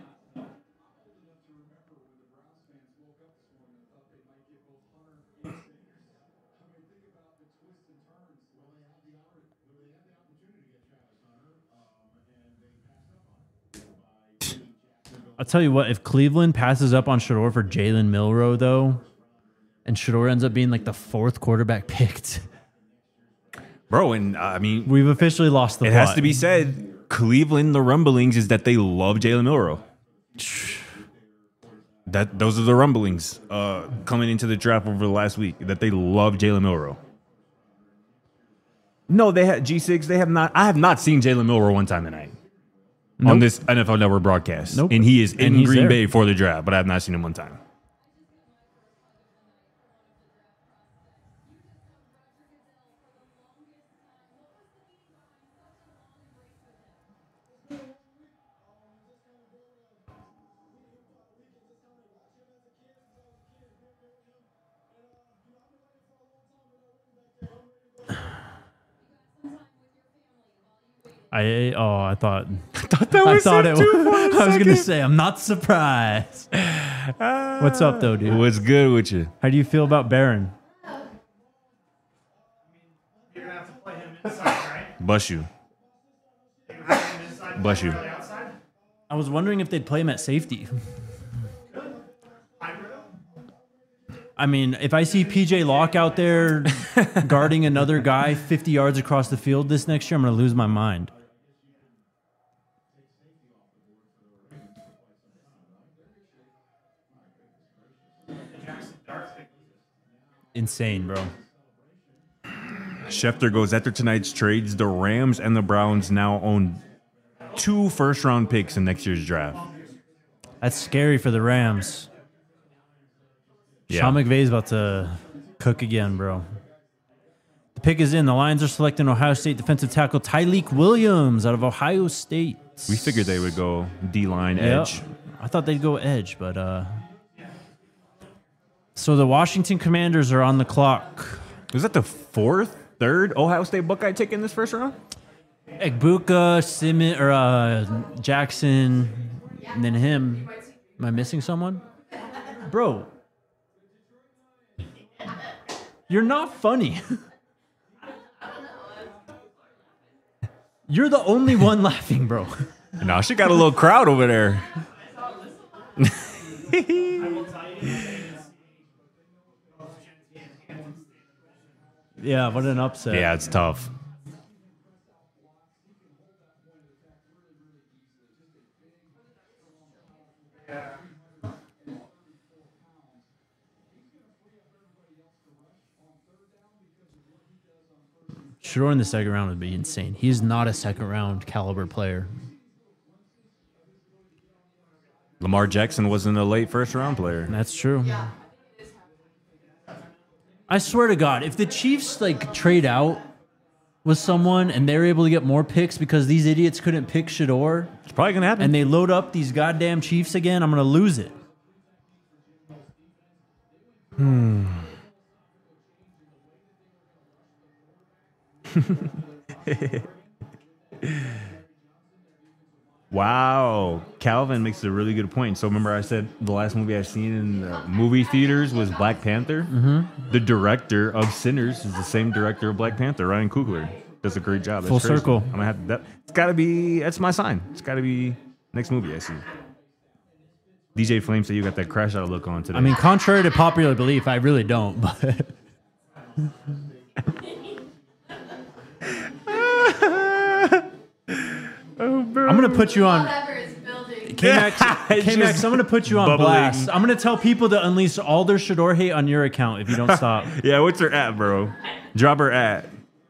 I'll tell you what, if Cleveland passes up on Shador for Jalen Milroe, though, and Shador ends up being like the fourth quarterback picked, Bro, and uh, I mean, we've officially lost the it plot. has to be said, Cleveland, the rumblings is that they love Jalen Milroe. That those are the rumblings uh, coming into the draft over the last week, that they love Jalen Milroe. No, they had G six. They have not. I have not seen Jalen Milroe one time tonight Nope. on this N F L Network broadcast. Nope. And he is And in he's Green there. Bay for the draft, but I have not seen him one time. I oh I thought I thought that I was thought it it. too for a Was, I was gonna second. say I'm not surprised. What's up though, dude? What's good with you? How do you feel about Barron? You're gonna have to play him inside, right? Bust you. You're gonna play him inside, Bless you. play outside? I was wondering if they'd play him at safety. I mean, if I see P J Locke out there guarding another guy fifty yards across the field this next year, I'm going to lose my mind. Insane, bro. Schefter goes after tonight's trades. The Rams and the Browns now own two first round picks in next year's draft. That's scary for the Rams. Sean McVay's about to cook again, bro. The pick is in. The Lions are selecting Ohio State defensive tackle Tyleek Williams out of Ohio State. We figured they would go D-line Yep. edge. I thought they'd go edge, but uh. So the Washington Commanders are on the clock. Was that the fourth, third Ohio State Buckeye tick in this first round? Egbuka, Simmons, or uh, Jackson, and then him. Am I missing someone? Bro. You're not funny. You're the only one laughing, bro. No, she got a little crowd over there. Yeah, what an upset. Yeah, it's tough. Shador in the second round would be insane. He's not a second round caliber player. Lamar Jackson wasn't a late first round player. That's true. I swear to God, if the Chiefs like trade out with someone and they're able to get more picks because these idiots couldn't pick Shador, It's probably gonna happen. and they load up these goddamn Chiefs again, I'm gonna lose it. Hmm. Wow, Calvin makes a really good point. So remember, I said the last movie I've seen in the movie theaters was Black Panther. Mm-hmm. The director of Sinners is the same director of Black Panther, Ryan Coogler. Does a great job. That's Full crazy. circle. I'm gonna have to, that. It's got to be. That's my sign. It's got to be next movie I see. D J Flame said you got that crash out look on today. I mean, contrary to popular belief, I really don't. But I'm gonna put you on. Whatever is building. K-Max, It's K-Max, just I'm gonna put you on bubbling. blast. I'm gonna tell people to unleash all their Shador hate on your account if you don't stop. yeah, what's her at, bro? Drop her at.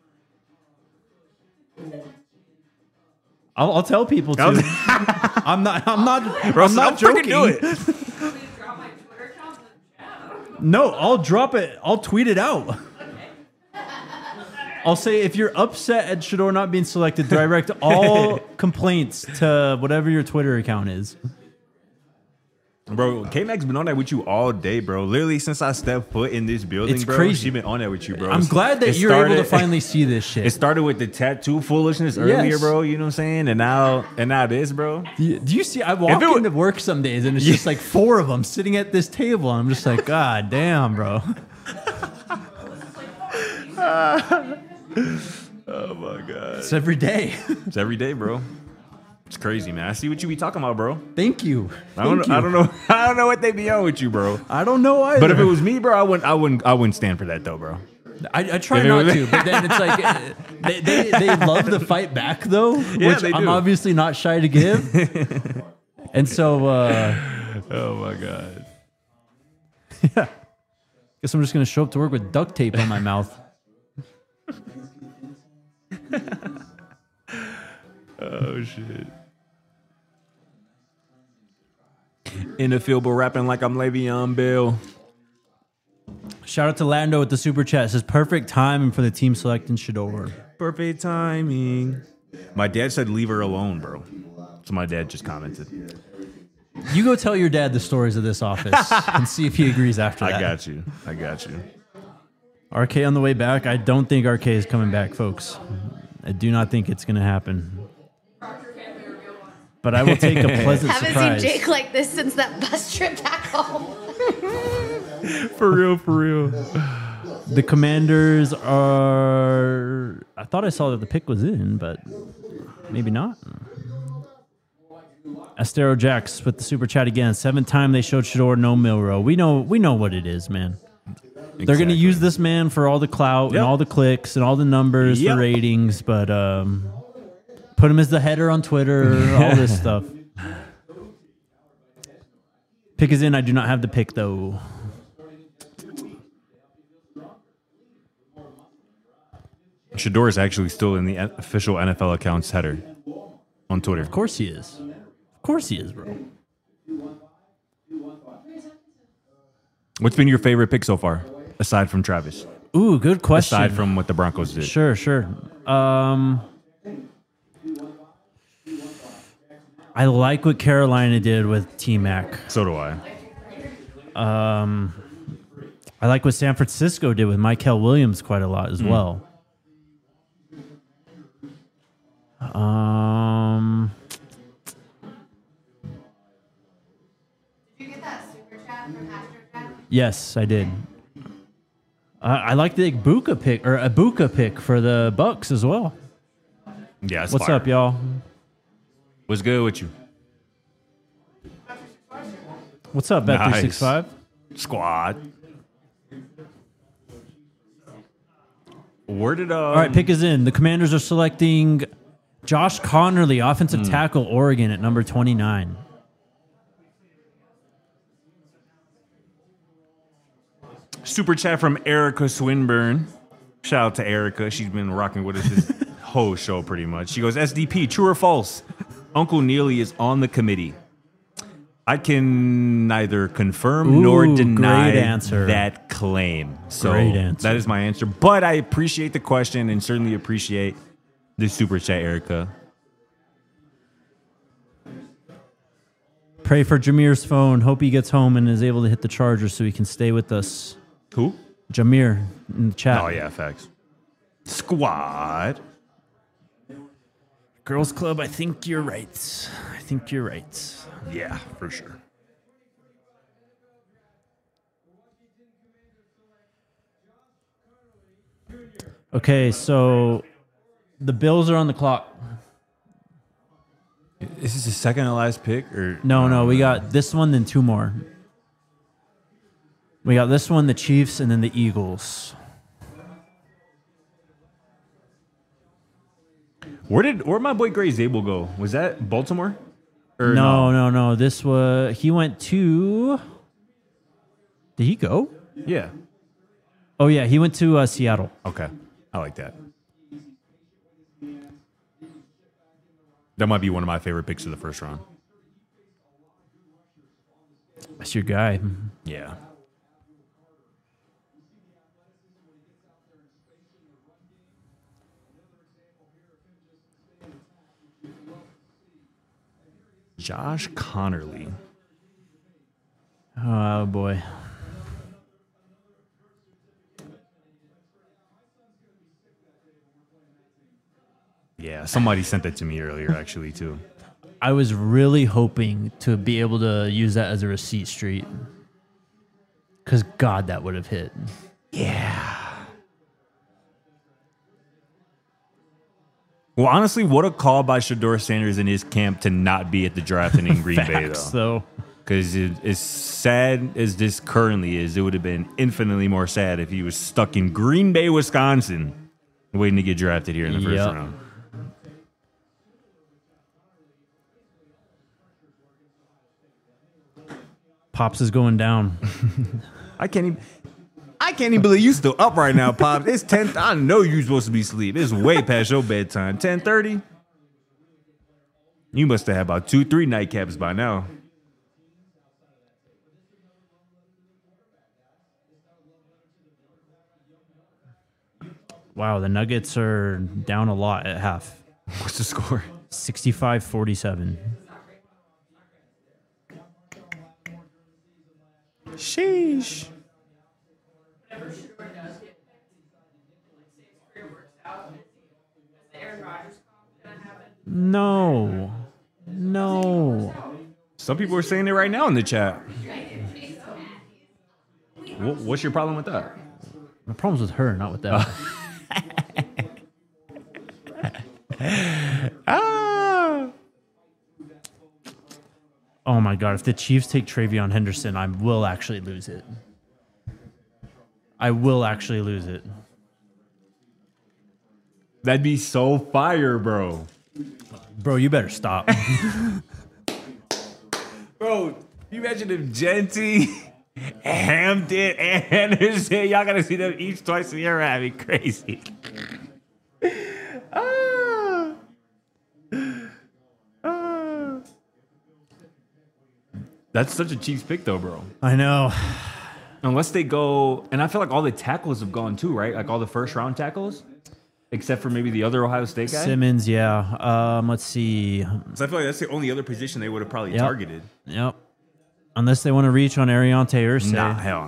I'll, I'll tell people to. I'm not. I'm not. Bro, I'm not freaking joking. do it. No, I'll drop it. I'll tweet it out. I'll say if you're upset at Shador not being selected, direct all complaints to whatever your Twitter account is. Bro, K-Mac's been on that with you all day, bro. Literally since I stepped foot in this building, It's bro. crazy. She been on that with you, bro. I'm glad that It you're able to started- finally see this shit. It started with the tattoo foolishness earlier, Yes. bro. You know what I'm saying? And now, and now this, bro. Do you, do you see? I walk it wa- into work some days and it's just like four of them sitting at this table, and I'm just like, God damn, bro. Oh my god, It's every day. it's every day, bro. It's crazy, man. I see what you be talking about, bro. Thank you. I don't. Thank I you. don't know. I don't know what they be on with you, bro. I don't know either. But if it was me, bro, I wouldn't. I wouldn't. I wouldn't stand for that, though, bro. I, I try If it not was- to, but then it's like uh, they, they they love the fight back though, Yeah, which they I'm do. obviously not shy to give. And so, uh, Oh my god. guess I'm just gonna show up to work with duct tape on my mouth. Oh shit. In the field, but rapping like I'm Le'Veon Bell. Shout out to Lando with the super chat. It says perfect timing for the team selecting Shador. Perfect timing. My dad said leave her alone, bro. So my dad just commented. You go tell your dad the stories of this office and see if he agrees after that. I got you. I got you. R K on the way back. I don't think R K is coming back, folks. I do not think it's going to happen. But I will take a pleasant Haven't surprise. seen Jake like this since that bus trip back home. For real, for real. The Commanders are. I thought I saw that the pick was in, but maybe not. Astero Jax with the super chat again. Seventh time they showed Shador, no Milrow. We know, we know what it is, man. They're going to use this man for all the clout Yep. and all the clicks and all the numbers Yep. for ratings, but um, put him as the header on Twitter, all this stuff. Pick is in. I do not have the pick though. Shador is actually still in the N- official N F L accounts header on Twitter. Of course he is. Of course he is, bro. What's been your favorite pick so far, aside from Travis? Ooh, good question. Aside from what the Broncos did. Sure, sure. Um, I like what Carolina did with T-Mac. So do I. Um, I like what San Francisco did with Michael Williams quite a lot as well. Um, Did you get that super chat from Astro yes, I did. Uh, I like the Ibuka pick or Ibuka pick for the Bucks as well. Yeah, it's What's fire. up, y'all? What's good with you? What's up, Bet Nice. three sixty-five? Squad. Where did uh? All right, pick is in. The Commanders are selecting Josh Connerly, offensive Hmm. tackle, Oregon at number twenty-nine. Super chat from Erica Swinburne. Shout out to Erica. She's been rocking with us this whole show pretty much. She goes, S D P, true or false? Uncle Neely is on the committee. I can neither confirm Ooh, nor deny great answer. that claim. So Great answer. that is my answer. But I appreciate the question and certainly appreciate the super chat, Erica. Pray for Jameer's phone. Hope he gets home and is able to hit the charger so he can stay with us. Who? Jameer in the chat. Oh, yeah, facts. Squad. Girls Club, I think you're right. I think you're right. Yeah, for sure. Okay, so the Bills are on the clock. Is this the second to last pick? Or No, no, we got this one, then two more. We got this one, the Chiefs, and then the Eagles. Where did where my boy Gray Zabel go? Was that Baltimore? Or No, no, no. This was he went to. Did he go? Yeah. Oh yeah, he went to uh, Seattle. Okay. I like that. That might be one of my favorite picks of the first round. That's your guy. Yeah. Josh Connerly. Oh boy. Yeah, somebody sent that to me earlier, actually, too. I was really hoping to be able to use that as a receipt street. Because, God, that would have hit. Yeah. Well, honestly, what a call by Shador Sanders and his camp to not be at the draft and in Green Bay, Facts, though. though. Because as sad as this currently is, it would have been infinitely more sad if he was stuck in Green Bay, Wisconsin, waiting to get drafted here in the first Yep. round. Pops is going down. I can't even. I can't even believe you still up right now, Pops. It's ten. I know you're supposed to be asleep. It's way past your bedtime. ten thirty. You must have had about two, three nightcaps by now. Wow, the Nuggets are down a lot at half. What's the score? sixty-five forty-seven. Sheesh. No. No. Some people are saying it right now in the chat. Wha- What's your problem with that? My problem's with her, not with that. Ah. Oh my God. If the Chiefs take Travion Henderson, I will actually lose it. I will actually lose it. That'd be so fire, bro. Bro, you better stop. Bro, you imagine if Genty, Hampton, and Henderson, y'all gotta see them each twice a year. That'd be crazy. Ah. Ah. That's such a Chiefs pick, though, bro. I know. Unless they go, and I feel like all the tackles have gone too, right? Like all the first round tackles, except for maybe the other Ohio State guy. Simmons, yeah. Um, let's see. So I feel like that's the only other position they would have probably Yep. targeted. Yep. Unless they want to reach on Ariante Ursay. Nah, hell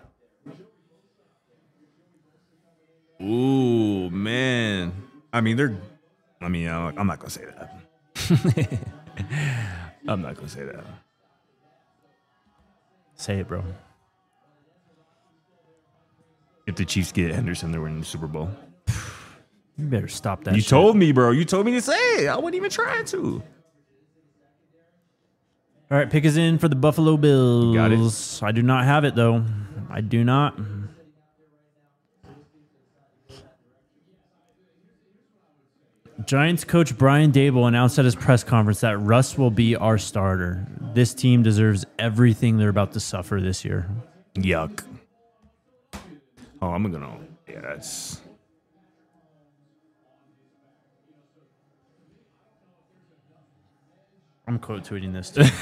no. Ooh, man. I mean, they're. I mean, I'm I'm not gonna say that. I'm not gonna say that. Say it, bro. If the Chiefs get Henderson, they're winning the Super Bowl. You better stop that You shit. told me, bro. You told me to say it. I wasn't even trying to. All right, pick is in for the Buffalo Bills. got it. I do not have it, though. I do not. Giants coach Brian Dable announced at his press conference that Russ will be our starter. This team deserves everything they're about to suffer this year. Yuck. Oh, I'm gonna. Yeah, that's. I'm quote tweeting this too.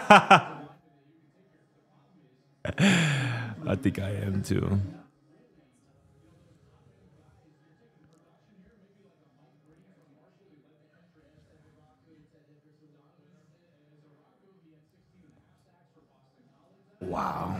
I think I am too. Wow.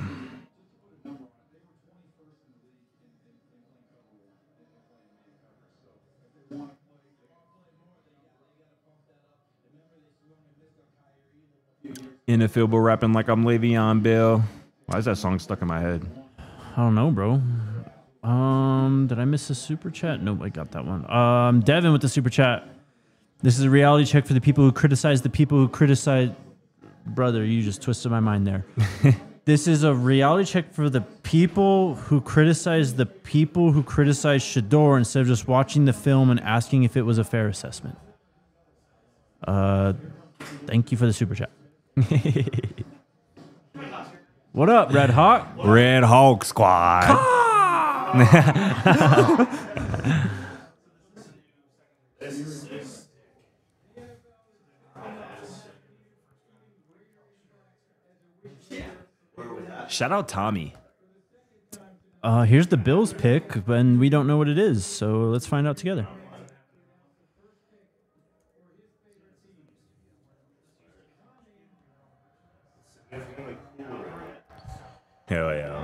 In the field, but rapping like I'm Le'Veon Bell. Why is that song stuck in my head? I don't know, bro. Um, did I miss a super chat? Nope, I got that one. Um, Devin with the super chat. This is a reality check for the people who criticize the people who criticize. Brother, you just twisted my mind there. This is a reality check for the people who criticize the people who criticize Shador instead of just watching the film and asking if it was a fair assessment. Uh, thank you for the super chat. What up, Red Hawk? Red Hawk Squad. Shout out Tommy. Uh, here's the Bills pick, and we don't know what it is, so let's find out together. Hell yeah.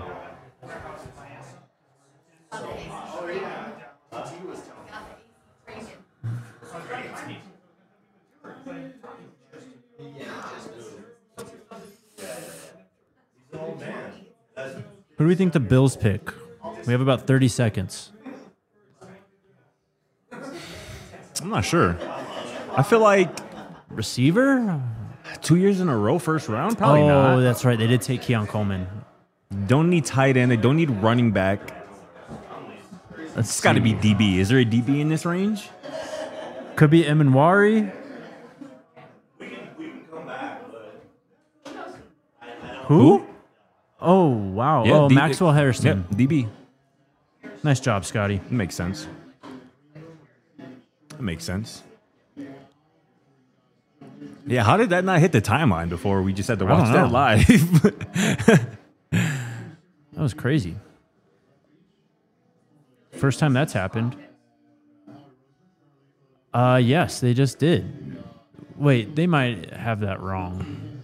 Who do we think the Bills pick? We have about thirty seconds. I'm not sure. I feel like Receiver? two years in a row, first round, probably oh, not. that's right. They did take Keon Coleman. Don't need tight end. They don't need running back. It's got to be D B. Is there a D B in this range? Could be Eminwari. Who? Oh, wow. oh, D- Maxwell Harrison. Yeah, D B. Nice job, Scotty. That makes sense. That makes sense. Yeah, how did that not hit the timeline before we just had to I watch don't that know. live? That was crazy. First time that's happened. Uh, yes, they just did. Wait, they might have that wrong.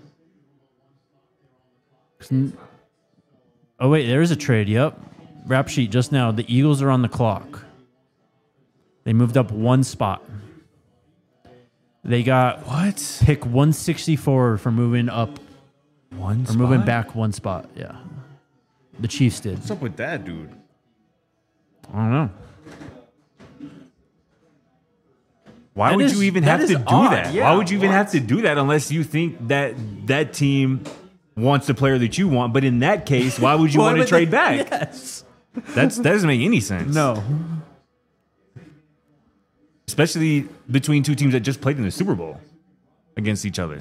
'Cause n- Oh, wait, there is a trade. Yep. Rap sheet just now. The Eagles are on the clock. They moved up one spot. They got What? pick one sixty-four for moving up One or moving back one spot. Yeah. The Chiefs did. What's up with that, dude? I don't know. Why That would is- you even that have is to do odd. that? Yeah, Why would you even what? have to do that unless you think that that team wants the player that you want? But in that case, why would you want to would trade they- back? Yes. That's that doesn't make any sense. No. Especially between two teams that just played in the Super Bowl against each other.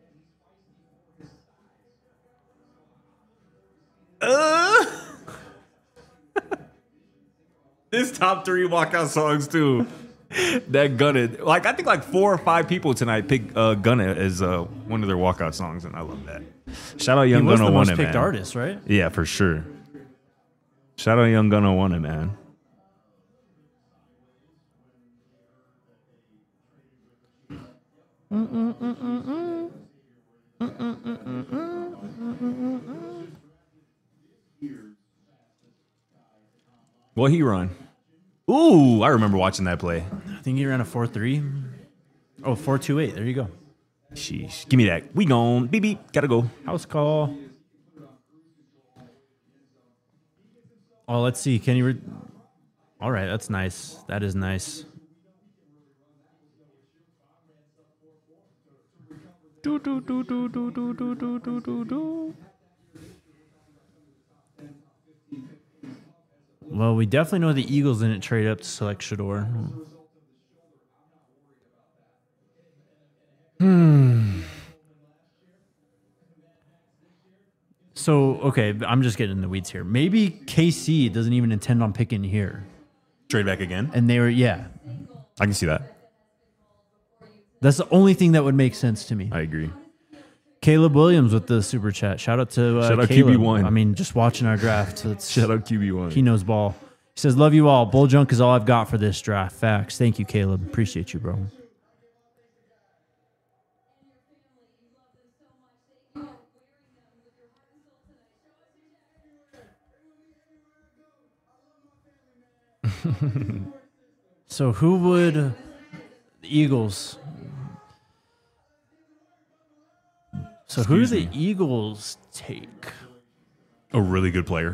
Uh, this top three walkout songs too. That Gunna, like I think like four or five people tonight picked uh, Gunna as uh, one of their walkout songs, and I love that. Shout out He Young was Gunna the won most it, picked man. artist, right? Yeah, for sure. Shout out Young Gunna won it, man. What he run? Ooh, I remember watching that play. I think he ran a four three. Oh, four two eight. There you go. Sheesh. Give me that. We gone. Beep, beep. Gotta go. House call. Oh, let's see. Can you? Re- All right, that's nice. That is nice. Do do do do do do do do do do do. Well, we definitely know the Eagles didn't trade up to select Shador. Hmm. So, okay, I'm just getting in the weeds here. Maybe K C doesn't even intend on picking here. Trade back again. And they were, yeah. I can see that. That's the only thing that would make sense to me. I agree. Caleb Williams with the super chat. Shout out to uh, Shout out Caleb. Q B one. I mean, just watching our draft. So it's, Shout out Q B one. he knows ball. He says, love you all. Bull junk is all I've got for this draft. Facts. Thank you, Caleb. Appreciate you, bro. So who would the Eagles? So who do the Eagles take? A really good player.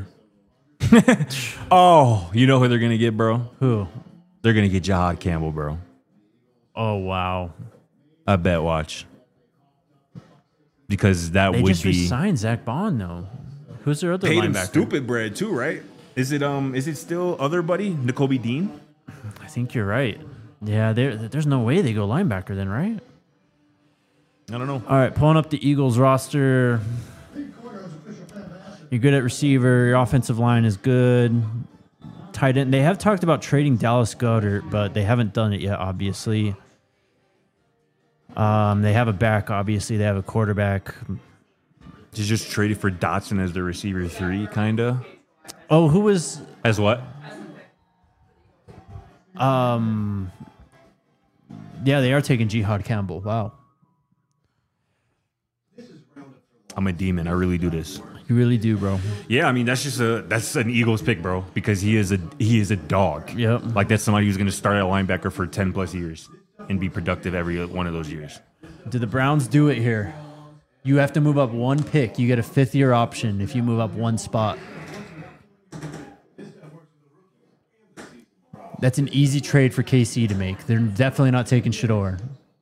Oh, you know who they're gonna get, bro? Who? They're gonna get Jahad Campbell, bro. Oh wow! I bet. Watch. Because that They would just be re-signed Zach Bond though. Who's their other paid him linebacker? stupid bread too, right? Is it um? Is it still other buddy N'Kobe Dean? I think you're right. Yeah, there. There's no way they go linebacker then, right? I don't know. All right, pulling up the Eagles roster. You're good at receiver. Your offensive line is good. Tight end. They have talked about trading Dallas Goedert, but they haven't done it yet, obviously. Um, they have a back, obviously. They have a quarterback. They just traded for Dotson as the receiver three, kinda. Oh, who was... As what? Um, yeah, they are taking Jihad Campbell. Wow. I'm a demon. I really do this. You really do, bro. Yeah, I mean that's just a that's an Eagles pick, bro, because he is a he is a dog. Yep. Like that's somebody who's going to start at linebacker for ten plus years and be productive every one of those years. Do the Browns do it here? You have to move up one pick. You get a fifth year option if you move up one spot. That's an easy trade for K C to make. They're definitely not taking Shador.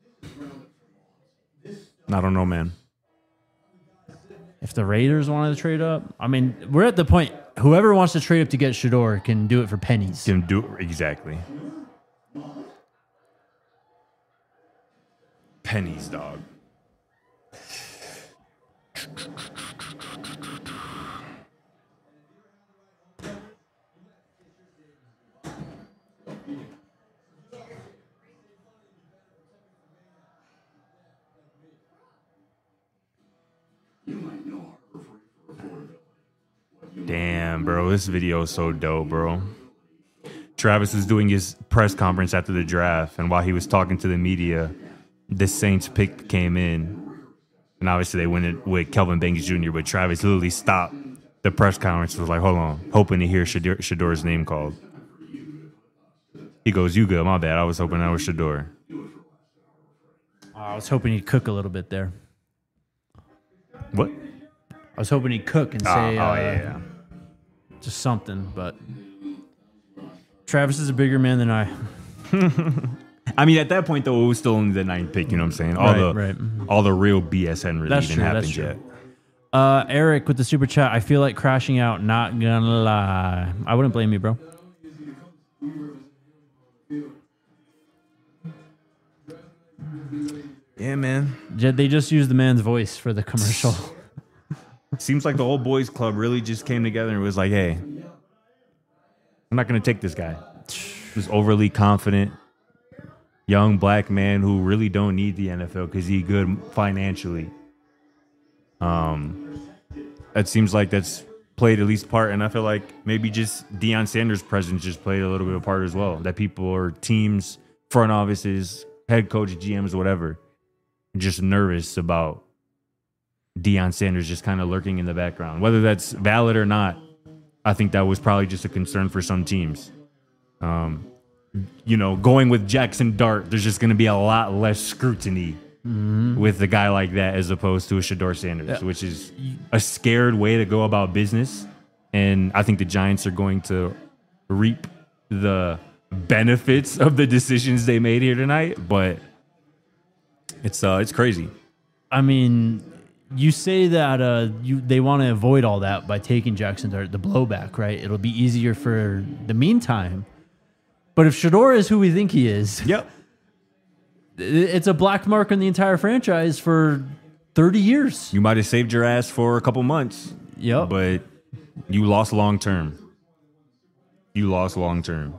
I don't know, man. If the Raiders wanted to trade up, I mean, we're at the point. Whoever wants to trade up to get Shador can do it for pennies. Can do exactly. Pennies, dog. Damn, bro, this video is so dope, bro. Travis was doing his press conference after the draft, and while he was talking to the media, the Saints pick came in, and obviously they went it with Kelvin Banks Junior, but Travis literally stopped the press conference, was like, hold on, hoping to hear Shador, Shador's name called. He goes, you good, my bad, I was hoping that was Shador. I was hoping he'd cook a little bit there. What? I was hoping he'd cook and say, Oh, oh uh, yeah, yeah. just something, but Travis is a bigger man than I. I mean, at that point, though, it was still only the ninth pick, you know what I'm saying? All Right, the right. all the real B S hadn't really That's even true, happened that's true. yet. Uh, Eric with the super chat. I feel like crashing out. Not gonna lie. I wouldn't blame you, bro. Yeah, man. J- They just used the man's voice for the commercial. Seems like the whole boys club really just came together and was like, hey, I'm not going to take this guy. He's overly confident, young black man who really don't need the N F L because he's good financially. Um, it seems like that's played at least part, and I feel like maybe just Deion Sanders' presence just played a little bit of part as well. That people or teams, front offices, head coach, G Ms, whatever, just nervous about Deion Sanders just kind of lurking in the background. Whether that's valid or not, I think that was probably just a concern for some teams. Um, you know, going with Jackson Dart, there's just going to be a lot less scrutiny mm-hmm. with a guy like that as opposed to a Shador Sanders, yeah. which is a scared way to go about business. And I think the Giants are going to reap the benefits of the decisions they made here tonight. But it's uh, it's crazy. I mean, you say that uh, you they want to avoid all that by taking Jackson Dart, the blowback, right? It'll be easier for the meantime. But if Shador is who we think he is, yep, it's a black mark on the entire franchise for thirty years. You might have saved your ass for a couple months. Yep. But you lost long term. You lost long term.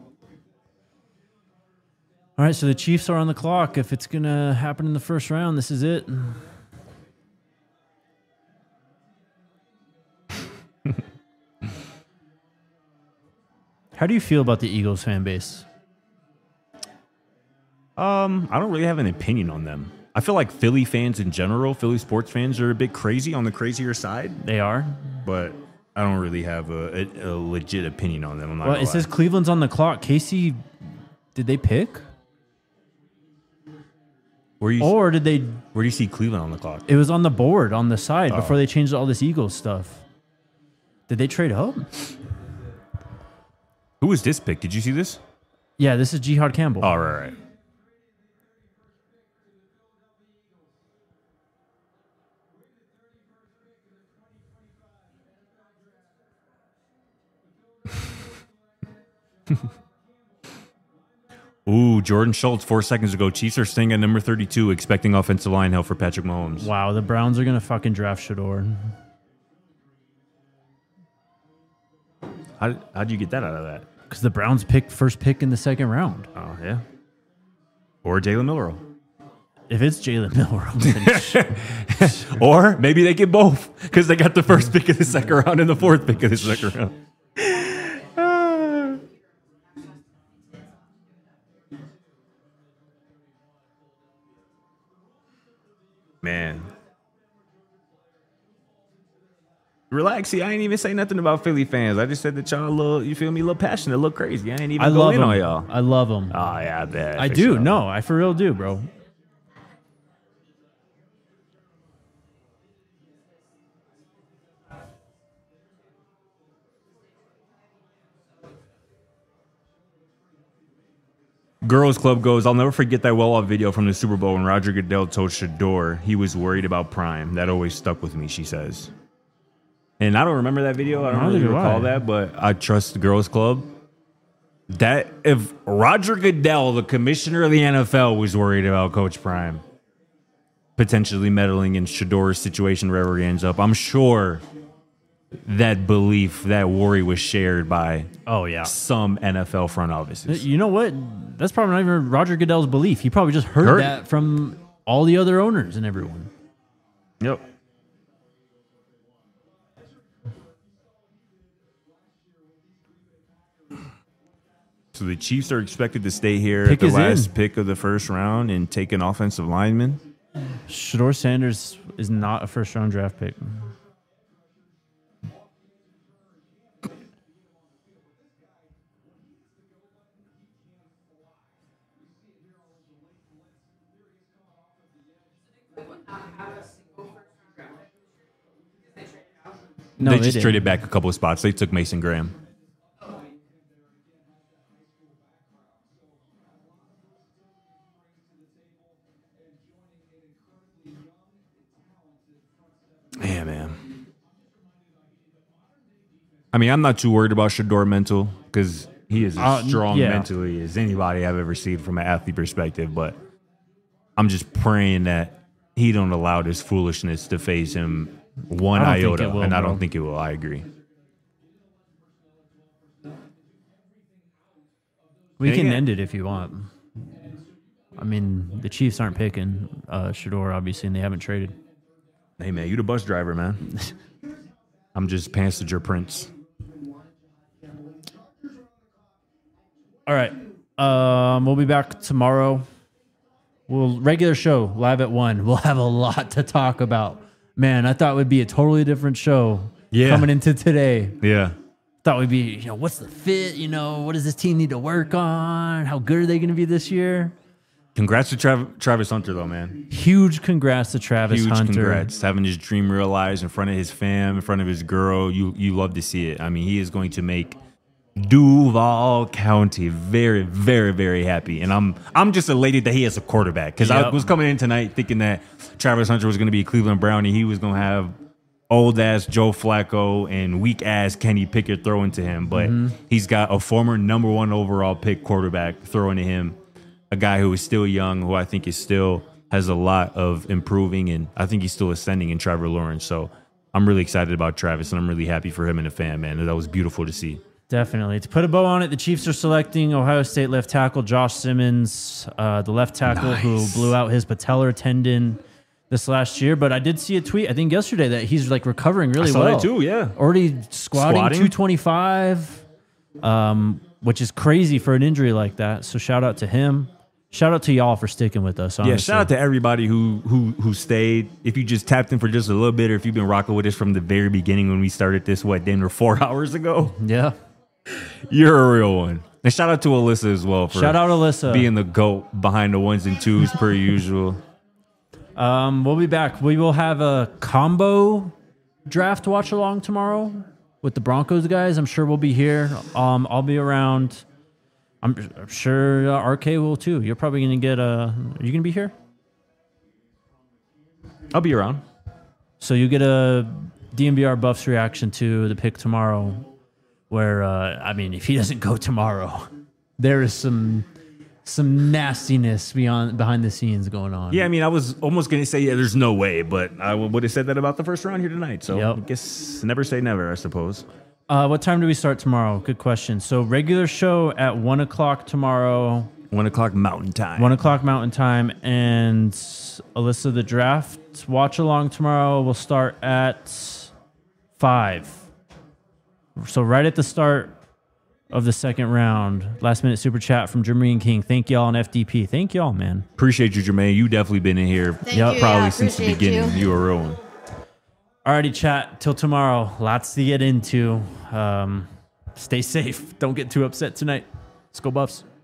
All right, so the Chiefs are on the clock. If it's going to happen in the first round, this is it. How do you feel about the Eagles fan base? Um, I don't really have an opinion on them. I feel like Philly fans in general, Philly sports fans are a bit crazy on the crazier side. They are. But I don't really have a, a, a legit opinion on them. I'm not well, gonna it lie. says Cleveland's on the clock. Casey, did they pick? Where you, or did they? Where do you see Cleveland on the clock? It was on the board on the side oh. before they changed all this Eagles stuff. Did they trade up? Who was this pick? Did you see this? Yeah, this is Jihad Campbell. Oh, right, right. Ooh, Jordan Schultz, four seconds ago. Chiefs are staying at number thirty-two, expecting offensive line help for Patrick Mahomes. Wow, the Browns are going to fucking draft Shador. How how'd you get that out of that? Because the Browns picked first pick in the second round. Oh, yeah. Or Jalen Milrow. If it's Jalen Milrow. Or maybe they get both because they got the first pick of the second round and the fourth pick of the second round. Man. Relax, see, I ain't even say nothing about Philly fans. I just said that y'all a little, you feel me, a little passionate, a little crazy. I ain't even I go love in them. on y'all. I love them. Oh, yeah, I bet. I for do. sure. No, I for real do, bro. Girls Club goes, I'll never forget that well-off video from the Super Bowl when Roger Goodell told Shador he was worried about Prime. That always stuck with me, she says. And I don't remember that video. I don't Neither really do recall I. that, but I trust the Girls Club. That if Roger Goodell, the commissioner of the N F L, was worried about Coach Prime potentially meddling in Shador's situation wherever he ends up, I'm sure that belief, that worry was shared by Oh yeah. some N F L front offices. You know what? That's probably not even Roger Goodell's belief. He probably just heard, Heard. that from all the other owners and everyone. Yep. So the Chiefs are expected to stay here Pick at is the last in. pick of the first round and take an offensive lineman. Shador Sanders is not a first round draft pick. No, they, they just didn't. traded back a couple of spots. They took Mason Graham. Yeah, man. I mean, I'm not too worried about Shador mental because he is as Uh, strong yeah. mentally as anybody I've ever seen from an athlete perspective. But I'm just praying that he don't allow this foolishness to phase him one I don't think iota, it will, and I bro. don't think it will. I agree. We Dang can it. end it if you want. I mean, the Chiefs aren't picking uh, Shador, obviously, and they haven't traded. Hey, man, you the bus driver, man. I'm just passenger prince. All right. Um, we'll be back tomorrow. We'll regular show live at one. We'll have a lot to talk about. Man, I thought it would be a totally different show Yeah. coming into today. Yeah. Thought we'd be, you know, what's the fit? You know, what does this team need to work on? How good are they going to be this year? Congrats to Trav- Travis Hunter, though, man. Huge congrats to Travis Huge Hunter. congrats. Having his dream realized in front of his fam, in front of his girl. You you love to see it. I mean, he is going to make Duval County very, very, very happy. And I'm I'm just elated that he has a quarterback. Because I Yep. was coming in tonight thinking that Travis Hunter was going to be a Cleveland Brown and he was going to have old-ass Joe Flacco and weak-ass Kenny Pickett throwing to him. But Mm-hmm. he's got a former number one overall pick quarterback throwing to him. A guy who is still young, who I think is still has a lot of improving, and I think he's still ascending in Trevor Lawrence. So I'm really excited about Travis, and I'm really happy for him and the fan, man. That was beautiful to see. Definitely. To put a bow on it, the Chiefs are selecting Ohio State left tackle Josh Simmons, uh, the left tackle who Nice. blew out his patellar tendon this last year. But I did see a tweet, I think yesterday, that he's like recovering really I saw well. that too, yeah. Already squatting, Squatting? two twenty-five, um, which is crazy for an injury like that. So shout out to him. Shout out to y'all for sticking with us. Honestly. Yeah, shout out to everybody who who who stayed. If you just tapped in for just a little bit, or if you've been rocking with us from the very beginning when we started this, what, damn near four hours ago, Yeah. you're a real one. And shout out to Alyssa as well for Shout out Alyssa. being the GOAT behind the ones and twos per usual. Um, we'll be back. We will have a combo draft watch along tomorrow with the Broncos guys. I'm sure we'll be here. Um, I'll be around. I'm, I'm sure uh, R K will too. You're probably gonna get a. Are you gonna be here? I'll be around. So you get a D M V R Buffs reaction to the pick tomorrow. Where uh, I mean, if he doesn't go tomorrow, there is some some nastiness beyond behind the scenes going on. Yeah, I mean, I was almost going to say, yeah, there's no way, but I would have said that about the first round here tonight. So Yep. I guess never say never, I suppose. Uh, what time do we start tomorrow? Good question. So regular show at one o'clock tomorrow. One o'clock Mountain Time. One o'clock Mountain Time, and Alyssa, the draft watch along tomorrow will start at five. So right at the start of the second round, last minute super chat from Jermaine King. Thank y'all on F D P. Thank y'all, man. Appreciate you, Jermaine. You definitely been in here Thank Yep. you. probably yeah, since the appreciate beginning. You. You were a real one. Alrighty, chat. Till tomorrow. Lots to get into. Um, stay safe. Don't get too upset tonight. Let's go Buffs.